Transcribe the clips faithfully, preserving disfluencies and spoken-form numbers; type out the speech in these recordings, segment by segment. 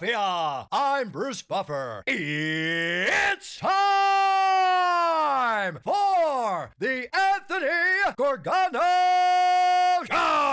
Philadelphia. I'm Bruce Buffer. It's time for the Anthony Gorgano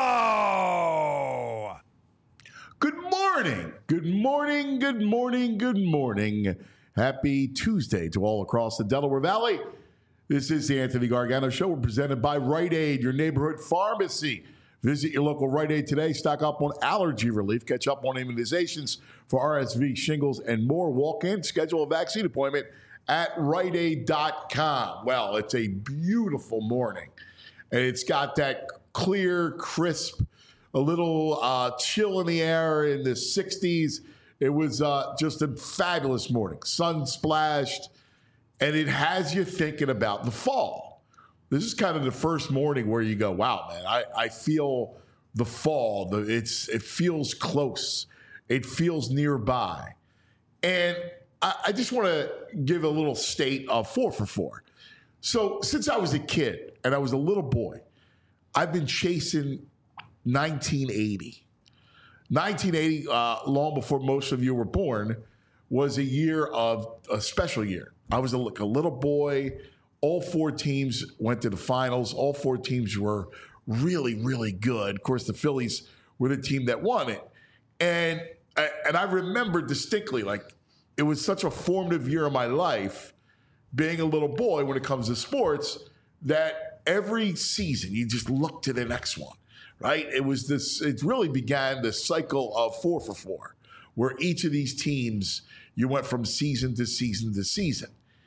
Show. Good morning. Good morning. Good morning. Good morning. Happy Tuesday to all across the Delaware Valley. This is the Anthony Gargano Show. We're presented by Rite Aid, your neighborhood pharmacy. Visit your local Rite Aid today. Stock up on allergy relief. Catch up on immunizations for R S V, shingles, and more. Walk in, schedule a vaccine appointment at rite aid dot com. Well, it's a beautiful morning, and it's got that clear, crisp, a little uh, chill in the air in the sixties. It was uh, just a fabulous morning. Sun splashed, and it has you thinking about the fall. This is kind of the first morning where you go, wow, man, I, I feel the fall. The, it's It feels close. It feels nearby. And I, I just want to give a little state of four for four. So since I was a kid and I was a little boy, I've been chasing nineteen eighty. nineteen eighty, uh, long before most of you were born, was a year of a special year. I was a, like a little boy. All four teams went to the finals. All four teams were really, really good. Of course, the Phillies were the team that won it. And, and I remember distinctly, like, it was such a formative year of my life, being a little boy when it comes to sports, that every season you just look to the next one, right? It was this, it really began the cycle of four for four, where each of these teams, you went from season to season to season.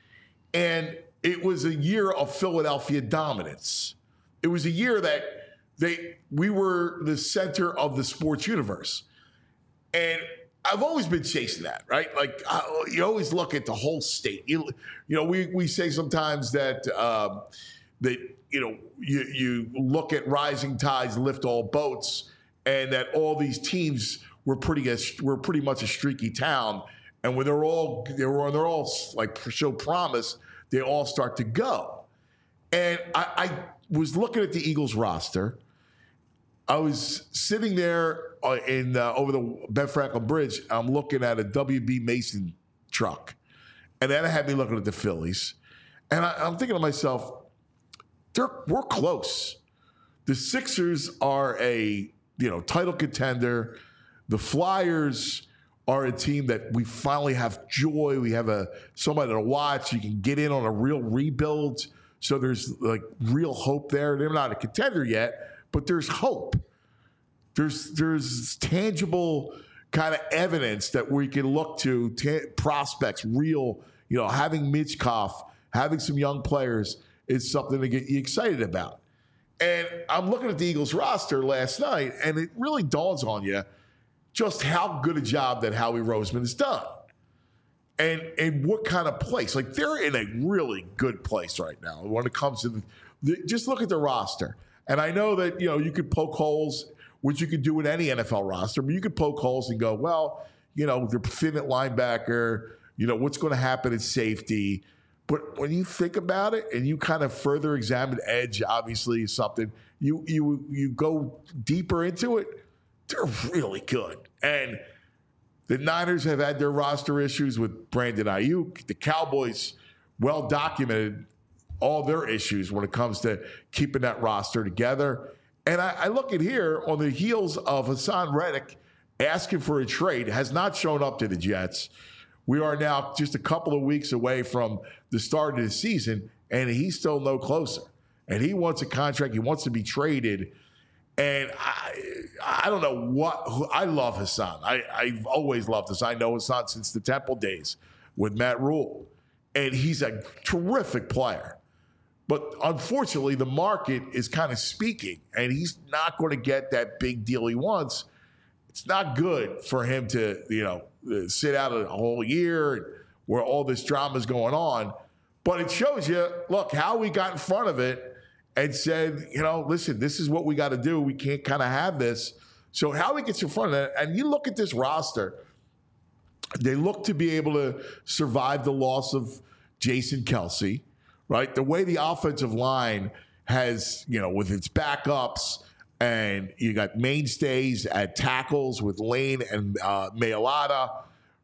And it was a year of Philadelphia dominance. It was a year that they we were the center of the sports universe. And I've always been chasing that, right? Like, uh, you always look at the whole state. You, you know, we we say sometimes that, um, that you know, you, you look at rising tides lift all boats, and that all these teams were pretty, were pretty much a streaky town. And when they're all, they were, they're all like show promise, they all start to go. And I, I was looking at the Eagles roster. I was sitting there in uh, over the Ben Franklin Bridge. I'm looking at a W B Mason truck. And then I had me looking at the Phillies. And I, I'm thinking to myself, they're, we're close. The Sixers are a you know title contender. The Flyers are a team that we finally have joy. We have a somebody to watch. You can get in on a real rebuild. So there's like real hope there. They're not a contender yet, but there's hope. There's there's tangible kind of evidence that we can look to, t- prospects, real, you know, having Mitchkoff, having some young players is something to get you excited about. And I'm looking at the Eagles roster last night, and it really dawns on you just how good a job that Howie Roseman has done. And and what kind of place. Like, they're in a really good place right now when it comes to the, the, just look at the roster. And I know that, you know, you could poke holes, which you could do in any N F L roster, but you could poke holes and go, well, you know, they're thin at linebacker, you know, what's going to happen at safety. But when you think about it and you kind of further examine edge, obviously is something, you you you go deeper into it, they're really good. And the Niners have had their roster issues with Brandon Ayuk. The Cowboys, well documented all their issues when it comes to keeping that roster together. And I, I look at here on the heels of Hassan Reddick asking for a trade, has not shown up to the Jets. We are now just a couple of weeks away from the start of the season, and he's still no closer. And he wants a contract. He wants to be traded. And I, I don't know what – I love Hassan. I, I've always loved Hassan. I know Hassan since the Temple days with Matt Rule. And he's a terrific player. But unfortunately, the market is kind of speaking, and he's not going to get that big deal he wants. It's not good for him to, you know, sit out a whole year where all this drama is going on. But it shows you, look, how we got in front of it and said, you know, listen, this is what we got to do. We can't kind of have this. So Howie gets in front of it, and you look at this roster, they look to be able to survive the loss of Jason Kelce, right? The way the offensive line has, you know, with its backups, and you got mainstays at tackles with Lane and uh, Mailata.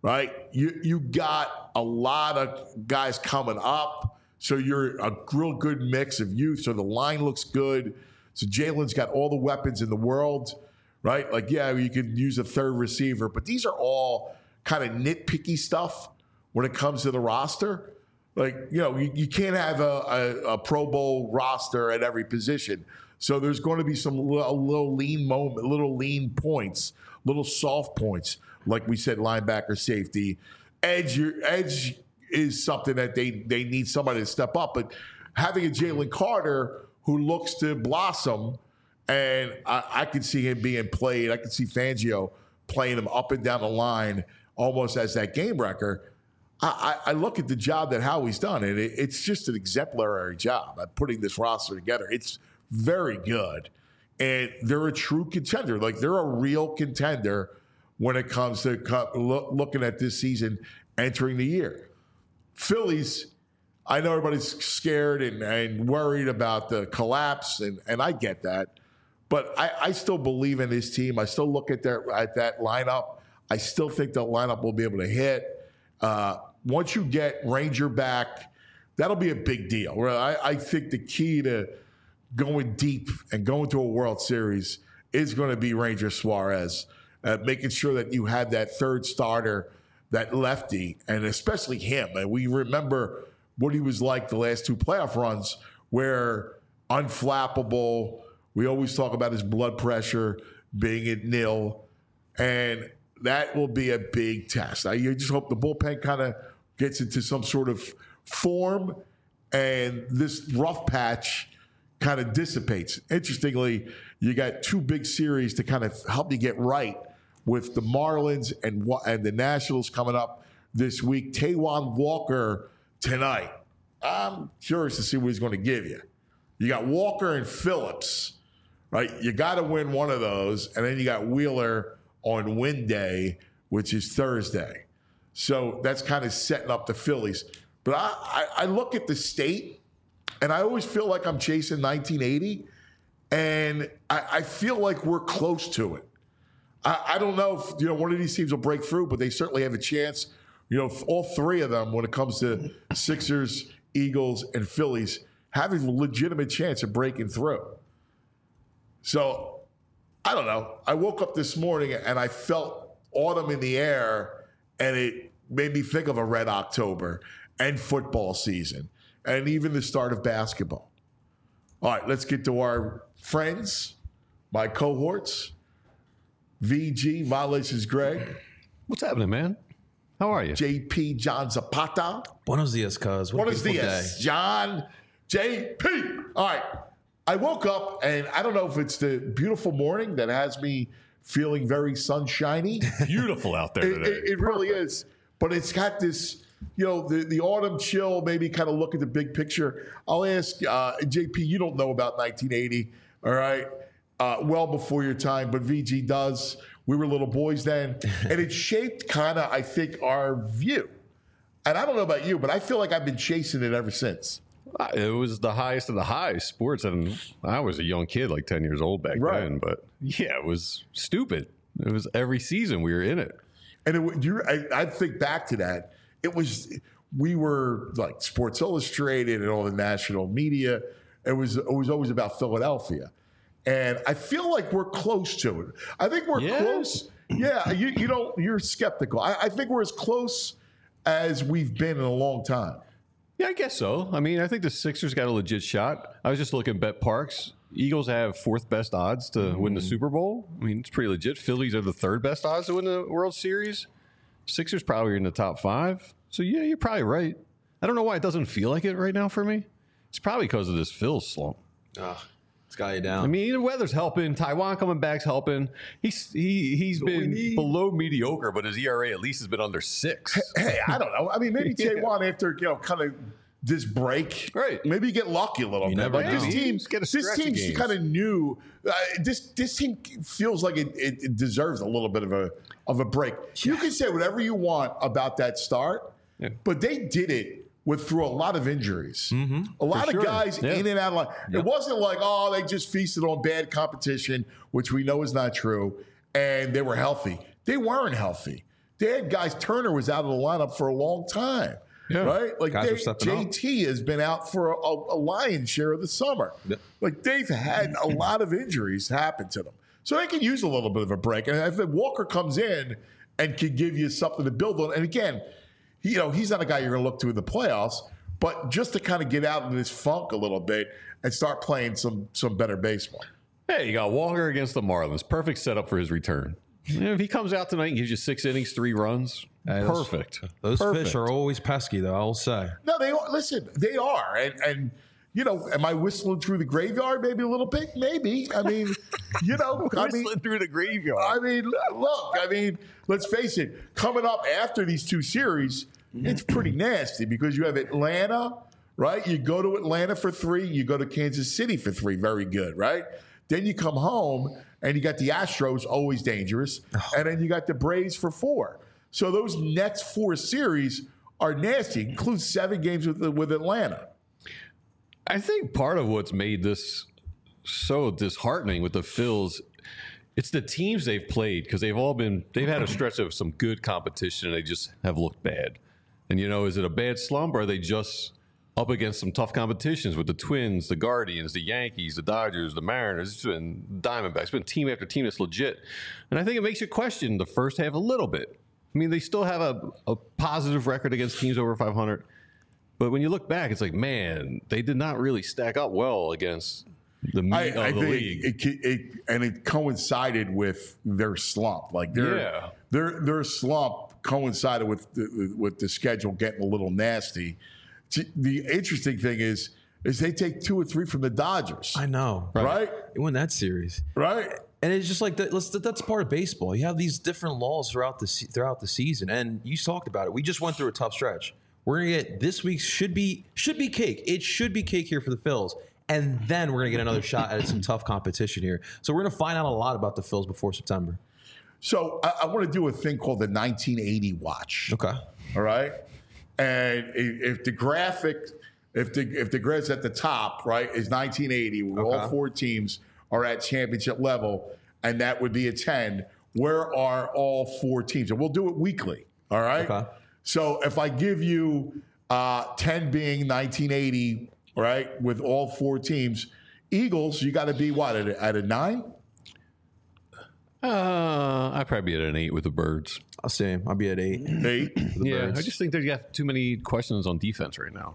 right? You you got a lot of guys coming up, so you're a real good mix of youth. So the line looks good. So Jalen's got all the weapons in the world, right? Like, yeah, you could use a third receiver, but these are all kind of nitpicky stuff when it comes to the roster. Like, you know, you, you can't have a, a, a Pro Bowl roster at every position. So there's going to be some little, little lean moment, little lean points, little soft points, like we said, linebacker, safety. Edge, your edge is something that they, they need somebody to step up. But having a Jalen Carter who looks to blossom, and I, I could see him being played. I could see Fangio playing him up and down the line almost as that game wrecker. I, I look at the job that Howie's done, and it, it's just an exemplary job at putting this roster together. It's very good, and they're a true contender. Like, they're a real contender when it comes to co- looking at this season entering the year. Phillies, I know everybody's scared and, and worried about the collapse, and, and I get that. But I, I still believe in this team. I still look at their at that lineup. I still think the lineup will be able to hit. Uh, once you get Ranger back, that'll be a big deal. I, I think the key to going deep and going to a World Series is going to be Ranger Suarez, uh, making sure that you have that third starter, that lefty, and especially him. And we remember what he was like the last two playoff runs, where unflappable. We always talk about his blood pressure being at nil, and that will be a big test. I you just hope the bullpen kind of gets into some sort of form, and this rough patch kind of dissipates. Interestingly, you got two big series to kind of help you get right with the Marlins and and the Nationals coming up this week. Taijuan Walker tonight. I'm curious to see what he's going to give you. You got Walker and Phillips, right? You got to win one of those, and then you got Wheeler on win day, which is Thursday. So that's kind of setting up the Phillies. But I, I, I look at the state, and I always feel like I'm chasing nineteen eighty, and I, I feel like we're close to it. I, I don't know if you know one of these teams will break through, but they certainly have a chance. You know, all three of them, when it comes to Sixers, Eagles, and Phillies, having a legitimate chance of breaking through. So I don't know. I woke up this morning and I felt autumn in the air, and it made me think of a red October and football season and even the start of basketball. All right, let's get to our friends, my cohorts. V G, Violence is Greg. What's happening, man? How are you? J P, John Zapata. Buenos dias, cuz. What Buenos dias, day. John. J P. All right. I woke up, and I don't know if it's the beautiful morning that has me feeling very sunshiny. Beautiful out there today. It, it, it really is. But it's got this, you know, the, the autumn chill, maybe kind of look at the big picture. I'll ask, uh, J P, you don't know about nineteen eighty, all right? Uh, well before your time, but V G does. We were little boys then. And it shaped kind of, I think, our view. And I don't know about you, but I feel like I've been chasing it ever since. It was the highest of the highs sports, and I was a young kid, like ten years old back right. then. But yeah, it was stupid. It was every season we were in it. And it, you, I, I think back to that. It was we were like Sports Illustrated and all the national media. It was it was always about Philadelphia, and I feel like we're close to it. I think we're yeah. close. Yeah, you you know you're skeptical. I, I think we're as close as we've been in a long time. Yeah, I guess so. I mean, I think the Sixers got a legit shot. I was just looking at Bet Parks. Eagles have fourth best odds to mm. win the Super Bowl. I mean, it's pretty legit. Phillies are the third best odds to win the World Series. Sixers probably are in the top five. So, yeah, you're probably right. I don't know why it doesn't feel like it right now for me. It's probably because of this Phil slump. Ugh, it's got you down. I mean, the weather's helping. Taijuan coming back's helping. He's he, he's That's been below mediocre, but his E R A at least has been under six. Hey, I don't know. I mean, maybe yeah. Taijuan after, you know, kind of this break, right? Maybe you get lucky a little you bit. Never like know. this team, this team kind of knew. Uh, this this team feels like it, it, it deserves a little bit of a of a break. Yeah. You can say whatever you want about that start, yeah. but they did it with through a lot of injuries. Mm-hmm. A lot For of sure. guys yeah. in and out of line. Yeah. It wasn't like, oh, they just feasted on bad competition, which we know is not true, and they were healthy. They weren't healthy. they had guys. Turner was out of the lineup for a long time. Yeah. Right? Like they, J T up. has been out for a, a lion's share of the summer. Yeah. Like they've had a lot of injuries happen to them. So they can use a little bit of a break. And if Walker comes in and can give you something to build on, and again, you know, he's not a guy you're going to look to in the playoffs, but just to kind of get out of this funk a little bit and start playing some some better baseball. Hey, you got Walker against the Marlins. Perfect setup for his return. You know, if he comes out tonight and gives you six innings, three runs, hey, perfect. Those, those perfect. fish are always pesky, though, I'll say. No, they are. Listen, they are. And, and you know, am I whistling through the graveyard maybe a little bit? Maybe. I mean, you know. whistling I mean, through the graveyard. I mean, look, I mean, let's face it. Coming up after these two series, it's pretty nasty because you have Atlanta, right? You go to Atlanta for three. You go to Kansas City for three. Very good, right? Then you come home, and you got the Astros, always dangerous, and then you got the Braves for four. So those next four series are nasty. Includes seven games with with Atlanta. I think part of what's made this so disheartening with the Phils, it's the teams they've played because they've all been they've had a stretch of some good competition and they just have looked bad. And you know, is it a bad slump or are they just up against some tough competitions with the Twins, the Guardians, the Yankees, the Dodgers, the Mariners, it's been Diamondbacks, it's been team after team that's legit. And I think it makes you question the first half a little bit. I mean, they still have a, a positive record against teams over five hundred. But when you look back, it's like, man, they did not really stack up well against the meat I, of I the think league. It, it, it, and it coincided with their slump. Like their, yeah. their, their slump coincided with the, with the schedule getting a little nasty. The interesting thing is, is they take two or three from the Dodgers. I know, right? right? They win that series, right? And it's just like that. Let's, that's part of baseball. You have these different laws throughout the throughout the season, and you talked about it. We just went through a tough stretch. We're gonna get this week should be should be cake. It should be cake here for the Phils, and then we're gonna get another shot at some tough competition here. So we're gonna find out a lot about the Phils before September. So I, I want to do a thing called the nineteen eighty watch. Okay. All right. And if the graphic, if the if the grad's at the top, right, is nineteen eighty, where okay. all four teams are at championship level, and that would be a ten, where are all four teams? And we'll do it weekly, all right? Okay. So if I give you uh, ten being nineteen eighty, right, with all four teams, Eagles, you got to be what, at a, at a nine? Uh, I'd probably be at an eight with the Birds. I'll say I'll be at eight. Eight. Yeah, Birds. I just think they got too many questions on defense right now.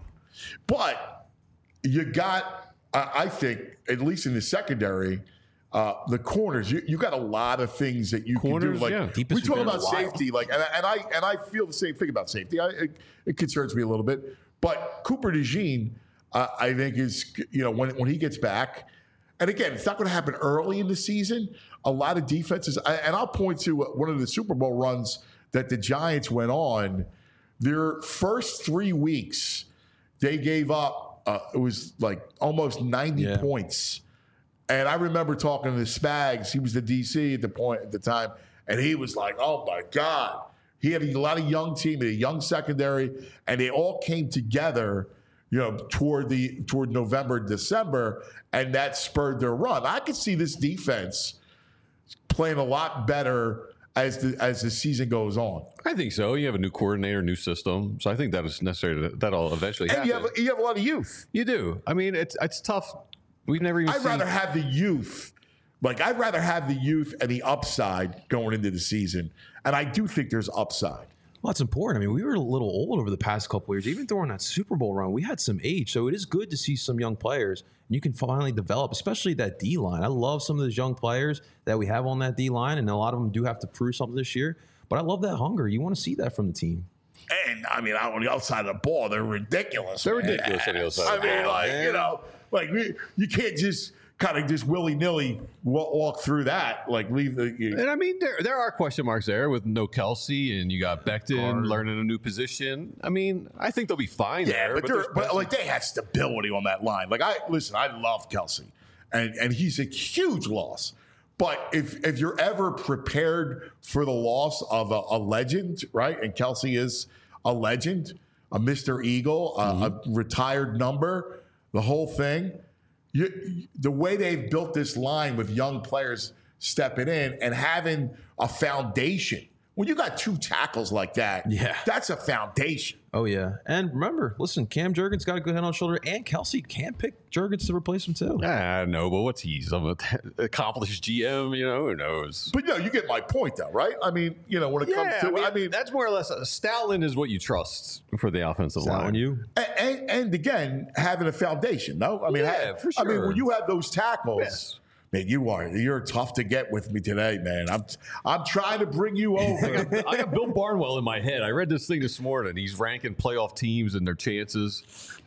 But you got, uh, I think, at least in the secondary, uh, the corners. You, you got a lot of things that you corners, can do. Like yeah. we talk about safety, like, and, and I and I feel the same thing about safety. I, it, it concerns me a little bit. But Cooper DeJean, uh, I think, is you know when when he gets back. And again, it's not going to happen early in the season. A lot of defenses, and I'll point to one of the Super Bowl runs that the Giants went on. Their first three weeks, they gave up, uh, it was like almost ninety yeah. points. And I remember talking to the Spags. He was the D C at the point at the time. And he was like, oh, my God. He had a lot of young team, a young secondary, and they all came together you know, toward the toward November, December, and that spurred their run. I could see this defense playing a lot better as the as the season goes on. I think so. You have a new coordinator, new system, so I think that is necessary. To, that'll eventually and happen. You have you have a lot of youth. You do. I mean, it's it's tough. We've never even. I'd seen... rather have the youth. Like I'd rather have the youth and the upside going into the season, and I do think there's upside. Well, that's important. I mean, we were a little old over the past couple of years. Even during that Super Bowl run, we had some age. So it is good to see some young players. And you can finally develop, especially that D-line. I love some of those young players that we have on that D-line, and a lot of them do have to prove something this year. But I love that hunger. You want to see that from the team. And, I mean, on the outside of the ball, they're ridiculous. They're man. ridiculous on the outside I of the mean, ball. like, man. you know, like we, you can't just kind of just willy-nilly walk through that, like leave the. You and I mean, there there are question marks there with no Kelsey, and you got Becton Card. learning a new position. I mean, I think they'll be fine yeah, there. but, but, but like they have stability on that line. Like I listen, I love Kelsey, and and he's a huge loss. But if if you're ever prepared for the loss of a, a legend, right? And Kelsey is a legend, a Mister Eagle, mm-hmm. a, a retired number, the whole thing. You, the way they've built this line with young players stepping in and having a foundation when you got two tackles like that, Yeah. that's a foundation. Oh, yeah. And remember, listen, Cam Jurgens got a good head on shoulder, and Kelsey can pick Jurgens to replace him, too. I know, but what's he? Some accomplished G M, you know, who knows? But, no, you get my point, though, right? I mean, you know, when it comes to, I mean, I mean, that's more or less, uh, Stoutland is what you trust for the offensive Is that line. on you? and, and, and again, having a foundation, no? I mean, Yeah, ha- for I mean, sure. when you have those tackles, Yes. man, you are, you're tough to get with me today, man. I'm, I'm trying to bring you over. I got Bill Barnwell in my head. I read this thing this morning. He's ranking playoff teams and their chances.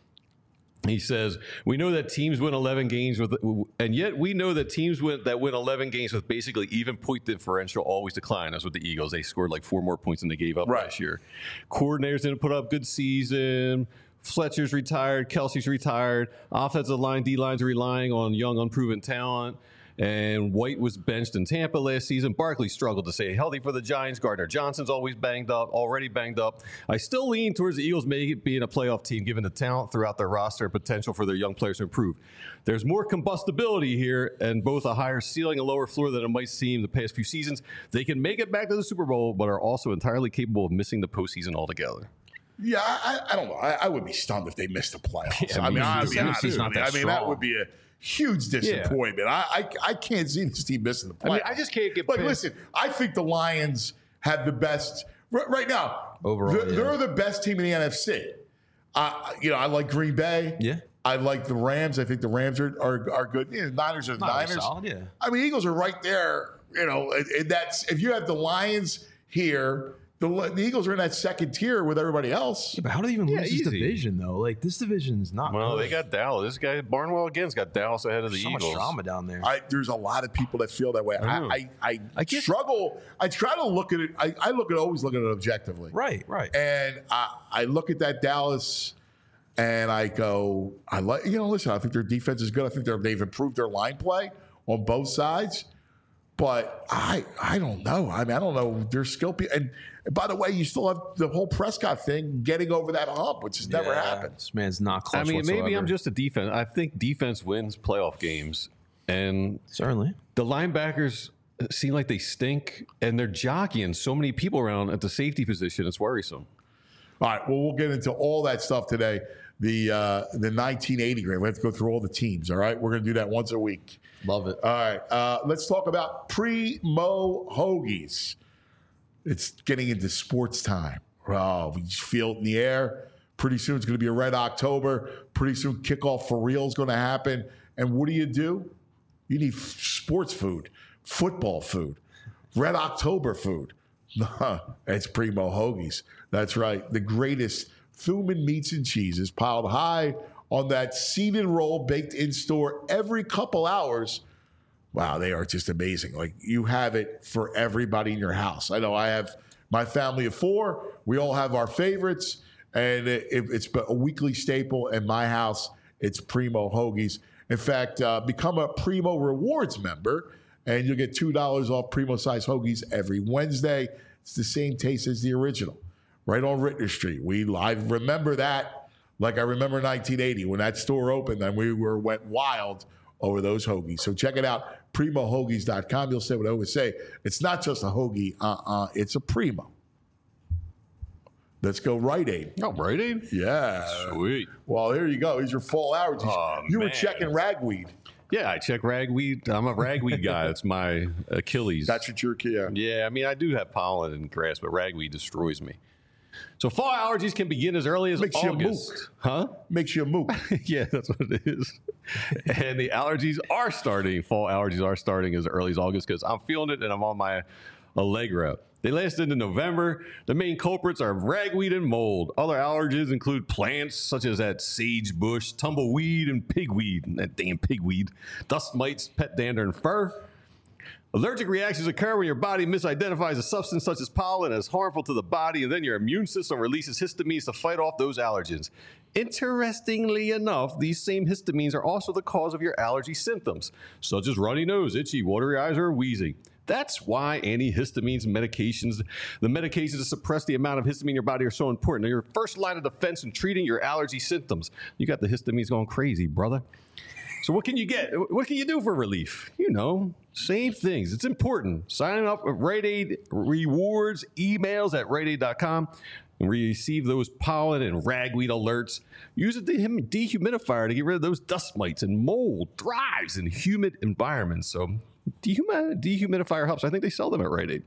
He says, we know that teams win eleven games with, and yet we know that teams win, that win eleven games with basically even point differential always decline. That's with the Eagles. They scored like four more points than they gave up Right. last year. Coordinators didn't put up good season. Fletcher's retired. Kelsey's retired. Offensive line, D-lines are relying on young, unproven talent. And White was benched in Tampa last season. Barkley struggled to stay healthy for the Giants. Gardner Johnson's always banged up, already banged up. I still lean towards the Eagles maybe being a playoff team, given the talent throughout their roster and potential for their young players to improve. There's more combustibility here and both a higher ceiling and lower floor than it might seem the past few seasons. They can make it back to the Super Bowl, but are also entirely capable of missing the postseason altogether. Yeah, I, I don't know. I, I would be stunned if they missed the playoffs. Yeah, I mean, me I'll too. be honest Tennessee's with not you. that I mean, that strong. would be a huge disappointment. I, I I can't see this team missing the playoffs. I mean, I just can't get Like, past- listen, I think the Lions have the best right, right now. Overall, they're, yeah. they're the best team in the N F C. Uh, you know, I like Green Bay. Yeah. I like the Rams. I think the Rams are are, are good. You know, Niners are the Niners Niners. solid, yeah. I mean, Eagles are right there. You know, and, and that's if you have the Lions here. The, the Eagles are in that second tier with everybody else. Yeah, but how do they even Yeah, lose this easy. division, though? Like, this division is not Well, good. they got Dallas. This guy, Barnwell, again's got Dallas ahead of the so Eagles. much drama down there. I, there's a lot of people that feel that way. I, know. I, I, I guess- struggle. I try to look at it. I, I look at always look at it objectively. Right, right. And I, I look at that Dallas, and I go, I like you know. Listen, I think their defense is good. I think they're, they've improved their line play on both sides. But I, I don't know. I mean, I don't know. Their skill, pe- and by the way, you still have the whole Prescott thing getting over that hump, which has never Yeah, happened. This man's not clutch I mean, maybe whatsoever. I'm just a defense. I think defense wins playoff games. And Certainly. the linebackers seem like they stink, and they're jockeying so many people around at the safety position. It's worrisome. All right. Well, we'll get into all that stuff today. The uh, the nineteen eighty grade. We have to go through all the teams. All right. We're going to do that once a week. Love it. All right. Uh, let's talk about Primo Hoagies. It's getting into sports time. Oh, we just feel it in the air. Pretty soon it's going to be a red October. Pretty soon kickoff for real is going to happen. And what do you do? You need f- sports food, football food, red October food. It's Primo Hoagies. That's right. The greatest Thuman meats and cheeses piled high on that seeded roll baked in store every couple hours. Wow, they are just amazing. Like, you have it for everybody in your house. I know I have my family of four. We all have our favorites, and it, it, it's a weekly staple in my house. It's Primo Hoagies. In fact, uh, become a Primo Rewards member, and you'll get two dollars off Primo-sized hoagies every Wednesday. It's the same taste as the original, right on Rittner Street. We I remember that like I remember nineteen eighty when that store opened, and we were went wild over those hoagies. So check it out, primo hoagies dot com. You'll say what I always say. It's not just a hoagie. Uh-uh. It's a Primo. Let's go Rite Aid. Oh, Rite Aid? Yeah. Sweet. Well, here you go. Here's your fall allergies. Oh, you were man. checking ragweed. Yeah, I check ragweed. I'm a ragweed guy. It's my Achilles. That's what you're, yeah. Yeah, I mean, I do have pollen and grass, but ragweed destroys me. So fall allergies can begin as early as Makes you August. mook. Huh? Makes you a mook. Yeah, that's what it is. And the allergies are starting. Fall allergies are starting as early as August because I'm feeling it and I'm on my Allegra. They last into November. The main culprits are ragweed and mold. Other allergens include plants such as that sage bush, tumbleweed, and pigweed. That damn pigweed. Dust mites, pet dander, and fur. Allergic reactions occur when your body misidentifies a substance such as pollen as harmful to the body, and then your immune system releases histamines to fight off those allergens. Interestingly enough, these same histamines are also the cause of your allergy symptoms, such as runny nose, itchy, watery eyes, or wheezing. That's why antihistamines and medications, the medications to suppress the amount of histamine in your body are so important. They're your first line of defense in treating your allergy symptoms. You got the histamines going crazy, brother. So what can you get? What can you do for relief? You know, same things. It's important. Signing up with Rite Aid rewards emails at rite aid dot com and receive those pollen and ragweed alerts. Use a dehum- dehumidifier to get rid of those dust mites and mold thrives in humid environments. So dehumi- dehumidifier helps. I think they sell them at Rite Aid.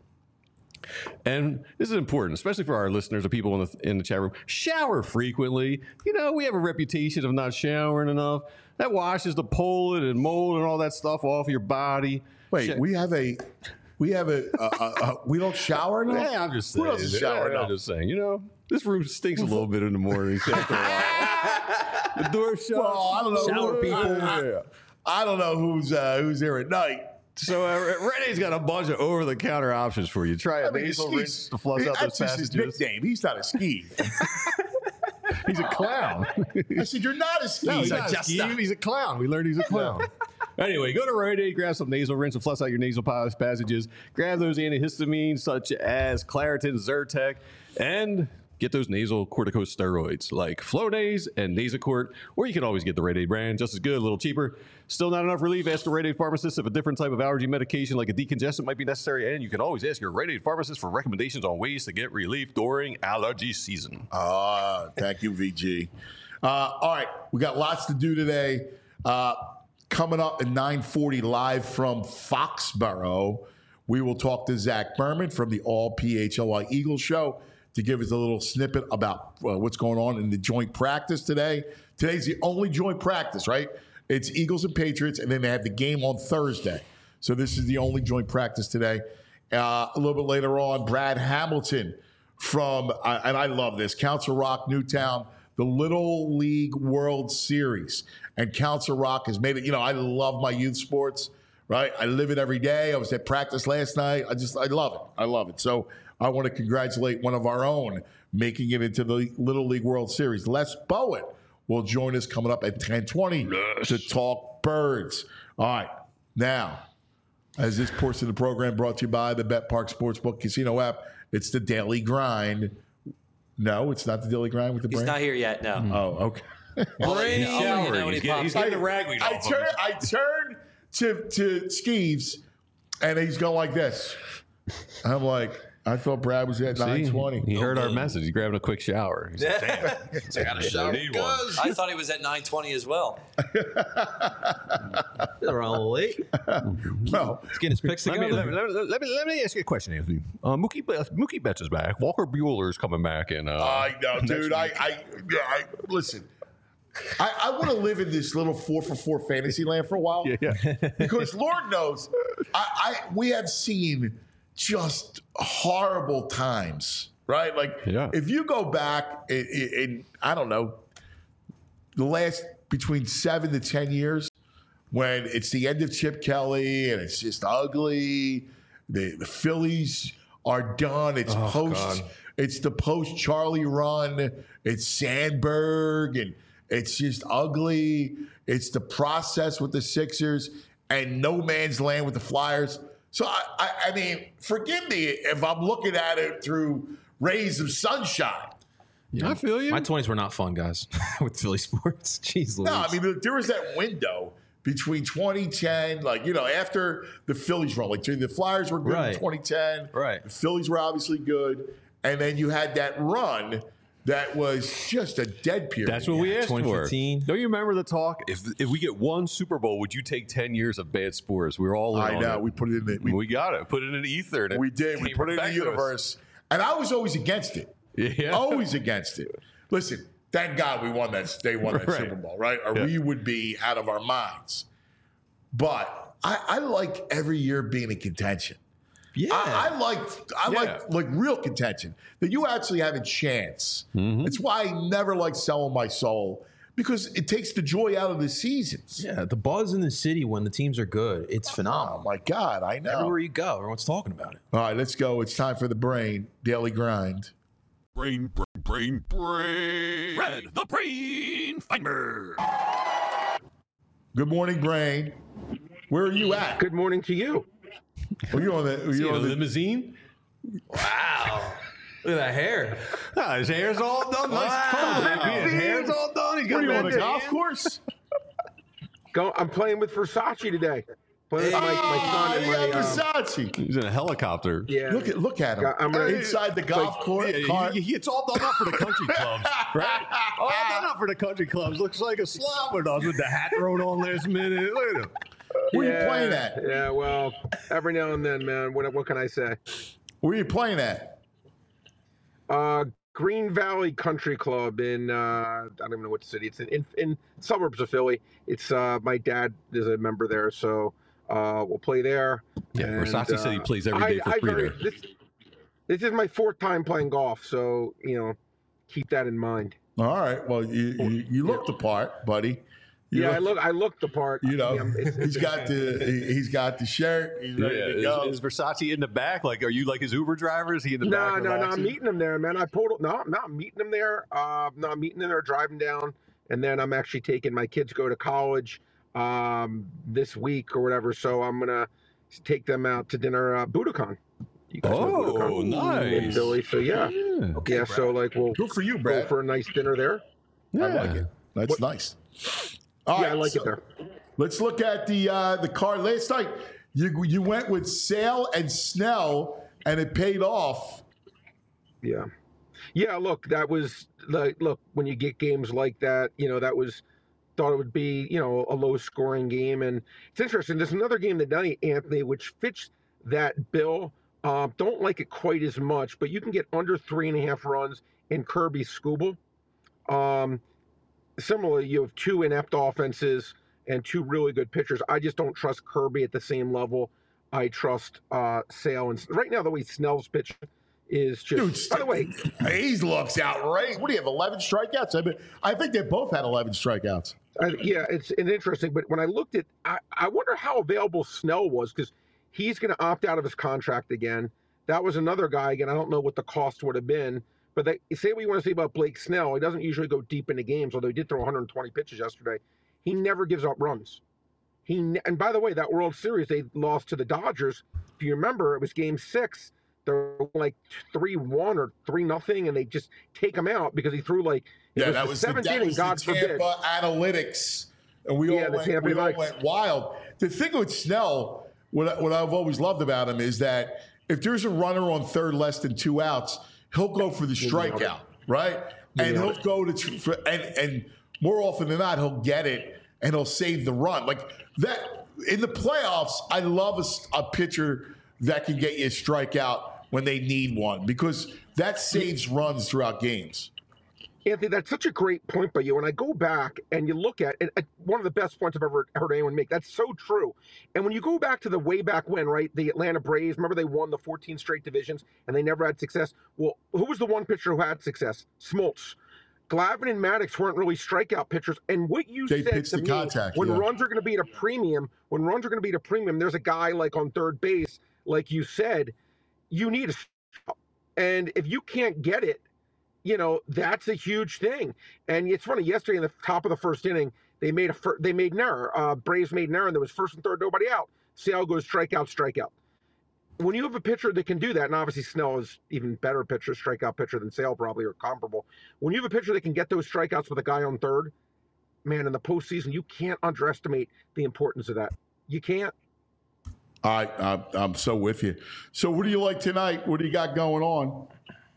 And this is important, especially for our listeners, the people in the, in the chat room. Shower frequently. You know, we have a reputation of not showering enough. That washes the pollen and mold and all that stuff off your body. Wait, Sh- we have a, we have a, uh, uh, uh, we don't shower enough? Yeah, I'm just saying. Who doesn't shower yeah, enough? I'm just saying, you know, this room stinks a little bit in the morning. After a while. The door shuts. Well, I don't know. Shower who- people. I, I, I don't know who's uh, who's there at night. So uh, Rite Aid's got a bunch of over-the-counter options for you. Try a I mean, nasal Skeev- rinse to flush out that's those just his passages. nickname. He's not a Skeev. He's a clown. I said, you're not a Skeev. No, he's a not jester. Skeev. He's a clown. We learned he's a clown. Anyway, go to Rite Aid, grab some nasal rinse and flush out your nasal pas- passages. Grab those antihistamines such as Claritin, Zyrtec, and get those nasal corticosteroids like Flonase and Nasacort, or you can always get the Rite Aid brand, just as good, a little cheaper. Still not enough relief? Ask the Rite Aid pharmacist if a different type of allergy medication like a decongestant might be necessary, and you can always ask your Rite Aid pharmacist for recommendations on ways to get relief during allergy season. Ah, thank you, V G. Uh, all right, we got lots to do today. Uh, coming up at nine forty live from Foxborough, we will talk to Zach Berman from the All P H L Y Eagles show to give us a little snippet about uh, what's going on in the joint practice today. Today's the only joint practice, right? It's Eagles and Patriots, and then they have the game on Thursday. So this is the only joint practice today. Uh, a little bit later on, Brad Hamilton from, uh, and I love this, Council Rock, Newtown, the Little League World Series. And Council Rock has made it, you know, I love my youth sports, right? I live it every day. I was at practice last night. I just, I love it. I love it. So I want to congratulate one of our own making it into the Little League World Series. Les Bowen will join us coming up at ten twenty to talk birds. All right. Now, as this portion of the program brought to you by the Bet Park Sportsbook Casino app, it's the Daily Grind. No, it's not the Daily Grind with the He's brain? not here yet, no. Oh, okay. I'll let you know- I'll let you know showering. when he He's getting- pops he's up. getting the ragweed I off of turn, him. I turn to, to Skeeves, and he's going like this. I'm like, I thought Brad was at nine twenty. He heard our message. He's grabbing a quick shower. He's like, damn. I got a shower. need one. I thought he was at nine twenty as well. They're a little late. Well, He's getting his picks Let me, together. let, me, let, me, let, me, let me ask you a question, Anthony. Uh, Mookie, Betts, Mookie Betts is back. Walker Bueller's coming back. And, uh, I know, next dude. I, week. I, yeah, I listen. I, I want to live in this little four for four fantasy land for a while. Yeah, yeah. Because Lord knows, I, I we have seen just horrible times, right? Like, Yeah. if you go back in, in, in, I don't know, the last between seven to ten years, when it's the end of Chip Kelly and it's just ugly, the the Phillies are done. It's Oh, post. God. It's the post Charlie run. It's Sandberg and. It's just ugly. It's the process with the Sixers and no man's land with the Flyers. So, I, I, I mean, forgive me if I'm looking at it through rays of sunshine. I feel you. My twenties were not fun, guys, with Philly sports. Jeez, No, I Louise. mean, there was that window between twenty ten, like, you know, after the Phillies run. Like, the Flyers were good Right. in twenty ten. Right. The Phillies were obviously good. And then you had that run that was just a dead period. That's what we asked twenty for. fifteen. Don't you remember the talk? If if we get one Super Bowl, would you take ten years of bad sports? We were all in I on know. it. We put it in the. We, We, got it. Put it in the ether. And it we did. We came put it in back the to us. universe. And I was always against it. Yeah. Always against it. Listen, thank God we won that. They won that Right. Super Bowl, right? Or Yeah. we would be out of our minds. But I, I like every year being in contention. Yeah. I, I like I Yeah. like like real contention that you actually have a chance. Mm-hmm. It's why I never like selling my soul because it takes the joy out of the seasons. yeah, the buzz in the city when the teams are good, it's Oh phenomenal. my God, I know. Everywhere you go, everyone's talking about it. All right, let's go. It's time for the brain daily grind. Brain, brain, brain, brain. Red, the brain finder. Good morning, brain. Where are you at? Good morning to you. Are you on the? Are See you a on the? limousine? Wow. Look at that hair. Ah, his hair's all done. Nice comb, baby. His hair's all done. He's got What are you on red the golf tan. course? Go, I'm playing with Versace today. Playing with my, my son and Oh, my. yeah, Um, Versace. He's in a helicopter. yeah. Look at look at him. I'm ready. Inside the golf course. Yeah, car. he- he- it's all done up for the country clubs, right? All done up for the country clubs. Looks like a slobber does with the hat thrown on last minute. Look at him. Where yeah, you playing at? Yeah, well, every now and then, man. What what can I say? Where you playing at? Uh, Green Valley Country Club in uh, I don't even know what city it's in. In, in suburbs of Philly. It's uh, my dad is a member there, so uh, we'll play there. Yeah, And, Versace said he uh, plays every day I- for I free very- there. This, this is my fourth time playing golf, so you know, keep that in mind. All right. Well, you you, you look the part, buddy. You yeah, I look. I look the part. You know, Yeah, it's- he's got the he- he's got the shirt. He's ready Yeah, to is, go. is Versace in the back? Like, are you like his Uber driver? Is he in the No, back? no, no. I'm relaxing? meeting him there, man. I pulled. No, I'm not meeting him there. Uh, no, I'm meeting him there, driving down, and then I'm actually taking my kids go to college um, this week or whatever. So I'm gonna take them out to dinner. Uh, Budokan. You guys know Oh, Budokan? In nice. Philly. So yeah, Yeah. yeah. So like we'll Good for you, go Brad. for a nice dinner there. I like it. That's nice. All Yeah, right, I like so it there. Let's look at the uh, the card last night. You you went with Sale and Snell, and it paid off. Yeah. Yeah, look, that was like look, when you get games like that, you know, that was thought it would be, you know, a low scoring game. And it's interesting. There's another game tonight, Anthony, which fits that bill. Um, don't like it quite as much, but you can get under three and a half runs in Kirby Scooble. Um, similarly, you have two inept offenses and two really good pitchers. I just don't trust Kirby at the same level I trust uh, Sale. And right now, the way Snell's pitch is just. Dude, by the way, Hayes looks outrageous. What do you have? eleven strikeouts. I mean, I think they both had eleven strikeouts. Uh, yeah, it's, it's interesting. But when I looked at, I, I wonder how available Snell was because he's going to opt out of his contract again. That was another guy. Again, I don't know what the cost would have been. But they say what you want to say about Blake Snell. He doesn't usually go deep into games, although he did throw one hundred twenty pitches yesterday. He never gives up runs. He ne- and by the way, that World Series they lost to the Dodgers. If you remember, it was Game Six. They're like three one or three nothing, and they just take him out because he threw like it Yeah, was that the was the, seventh that inning. was God the forbid. Tampa analytics, and we Yeah, all the went, Tampa we all Bucks. went wild. The thing with Snell, what, what I've always loved about him is that if there's a runner on third less than two outs, he'll go for the strikeout, right? And he'll go to tr- for, and and more often than not, he'll get it and he'll save the run. Like that in the playoffs, I love a, s- a pitcher that can get you a strikeout when they need one because that saves runs throughout games. Anthony, that's such a great point by you. And I go back and you look at it, uh, one of the best points I've ever heard anyone make. That's so true. And when you go back to the way back when, right, the Atlanta Braves, remember they won the fourteen straight divisions and they never had success? Well, who was the one pitcher who had success? Smoltz. Glavine and Maddox weren't really strikeout pitchers. And what you They said pitched to the me, contact, when yeah. runs are going to be at a premium, when runs are going to be at a premium, there's a guy like on third base, like you said, you need a strikeout. And if you can't get it, you know, that's a huge thing. And it's funny, yesterday in the top of the first inning, they made a fir- they made an error. Uh, Braves made an error, and there was first and third, nobody out. Sale goes strikeout, strikeout. When you have a pitcher that can do that, and obviously Snell is even better pitcher, strikeout pitcher than Sale probably, or comparable. When you have a pitcher that can get those strikeouts with a guy on third, man, in the postseason, you can't underestimate the importance of that. You can't. All right, I'm, I'm so with you. So, what do you like tonight? What do you got going on?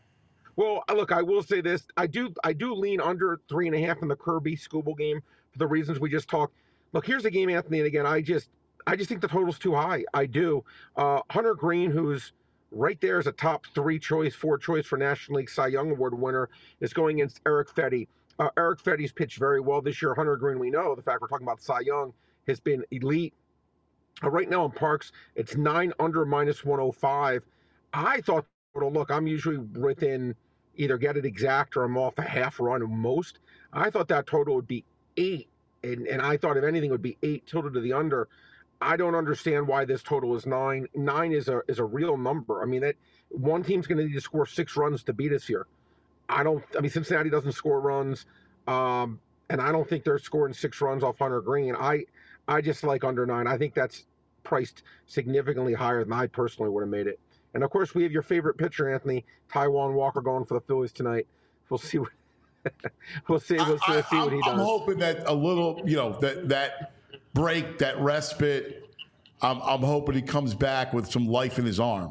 Well, look, I will say this: I do, I do lean under three and a half in the Kirby Scooble game for the reasons we just talked. Look, here's the game, Anthony, and again, I just, I just think the total's too high. I do. Uh, Hunter Green, who's right there as a top three choice, four choice for National League Cy Young Award winner, is going against Eric Fetty. Uh, Eric Fetty's pitched very well this year. Hunter Green, we know the fact we're talking about Cy Young, has been elite. Uh, right now in Parks, it's nine under minus one oh five. I thought, well, look, I'm usually within either get it exact or I'm off a half run at most. I thought that total would be eight, and, and I thought if anything it would be eight tilted to the under. I don't understand why this total is nine. Nine is a is a real number. I mean, that one team's going to need to score six runs to beat us here. I don't. I mean, Cincinnati doesn't score runs, um, and I don't think they're scoring six runs off Hunter Green. I I just like under nine. I think that's priced significantly higher than I personally would have made it. And of course, we have your favorite pitcher, Anthony, Taijuan Walker, going for the Phillies tonight. We'll see what we'll see. We'll see, I, see what he am does. hoping that a little, you know, that that break, that respite, I'm, I'm hoping he comes back with some life in his arm.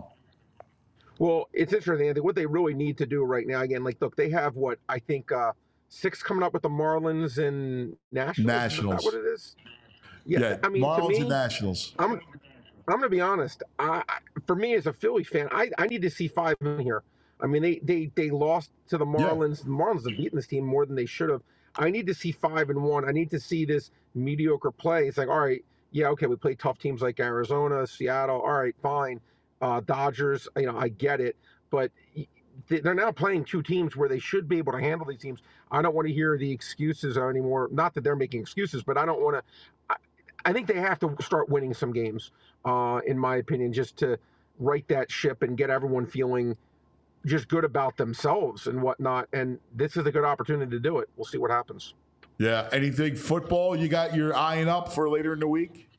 Well, it's interesting. I think what they really need to do right now, again, like, look, they have what I think uh, six coming up with the Marlins and Nationals. Nationals. Is that what it is? Yeah, Yeah, I mean, Marlins to me, and Nationals. I'm, I'm going to be honest. I, I, for me, as a Philly fan, I, I need to see five in here. I mean, they they they lost to the Marlins. The Marlins have beaten this team more than they should have. I need to see five and one. I need to see this mediocre play. It's like, all right, yeah, okay, we play tough teams like Arizona, Seattle. All right, fine. Uh, Dodgers, you know, I get it, but they're now playing two teams where they should be able to handle these teams. I don't want to hear the excuses anymore. Not that they're making excuses, but I don't want to. I, I think they have to start winning some games, uh, in my opinion, just to right that ship and get everyone feeling just good about themselves and whatnot. And this is a good opportunity to do it. We'll see what happens. Yeah. Anything football you got your eyeing up for later in the week?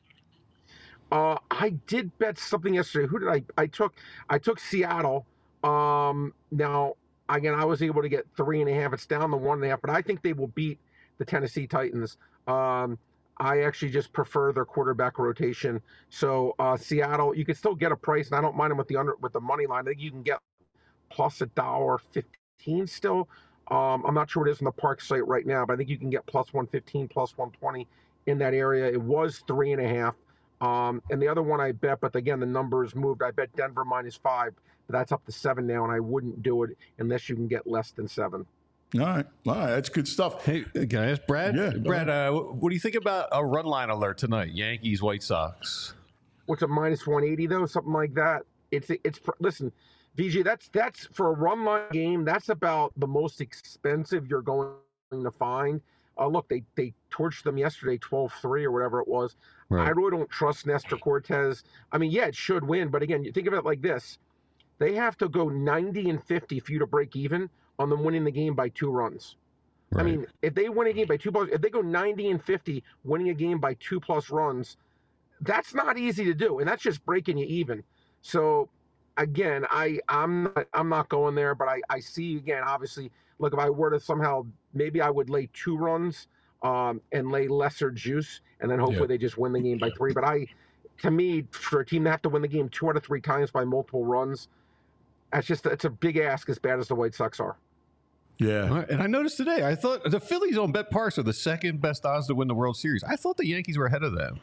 Uh, I did bet something yesterday. Who did I? I took I took Seattle. Um, now again, I was able to get three and a half. It's down to one and a half, but I think they will beat the Tennessee Titans. Um, I actually just prefer their quarterback rotation. So uh, Seattle, you can still get a price, and I don't mind them with the under with the money line. I think you can get plus a dollar fifteen still. Um, I'm not sure what it is on the Park site right now, but I think you can get plus one fifteen, plus one twenty in that area. It was three and a half. Um, and the other one I bet, but again, the numbers moved. I bet Denver minus five, but that's up to seven now, and I wouldn't do it unless you can get less than seven. All right. All right. That's good stuff. Hey, can I ask Brad? Yeah, go Brad, uh, what do you think about a run line alert tonight? Yankees, White Sox. What's a minus one eighty though? Something like that. It's it's listen, V G. That's that's for a run line game. That's about the most expensive you're going to find. Uh, look, they they torched them yesterday, twelve three or whatever it was. Right. I really don't trust Nestor Cortez. I mean, yeah, it should win, but again, you think of it like this: they have to go ninety and fifty for you to break even on them winning the game by two runs. Right. I mean, if they win a game by two plus, if they go ninety and fifty, winning a game by two plus runs, that's not easy to do, and that's just breaking you even. So, again, I I'm not, I'm not going there, but I I see again. Obviously, look, if I were to somehow, maybe I would lay two runs um, and lay lesser juice, and then hopefully Yeah. they just win the game by three. But I, to me, for a team to have to win the game two out of three times by multiple runs, that's just it's a big ask. As bad as the White Sox are. Yeah. All right, and I noticed today, I thought the Phillies on Bet Parks are the second best odds to win the World Series. I thought the Yankees were ahead of them.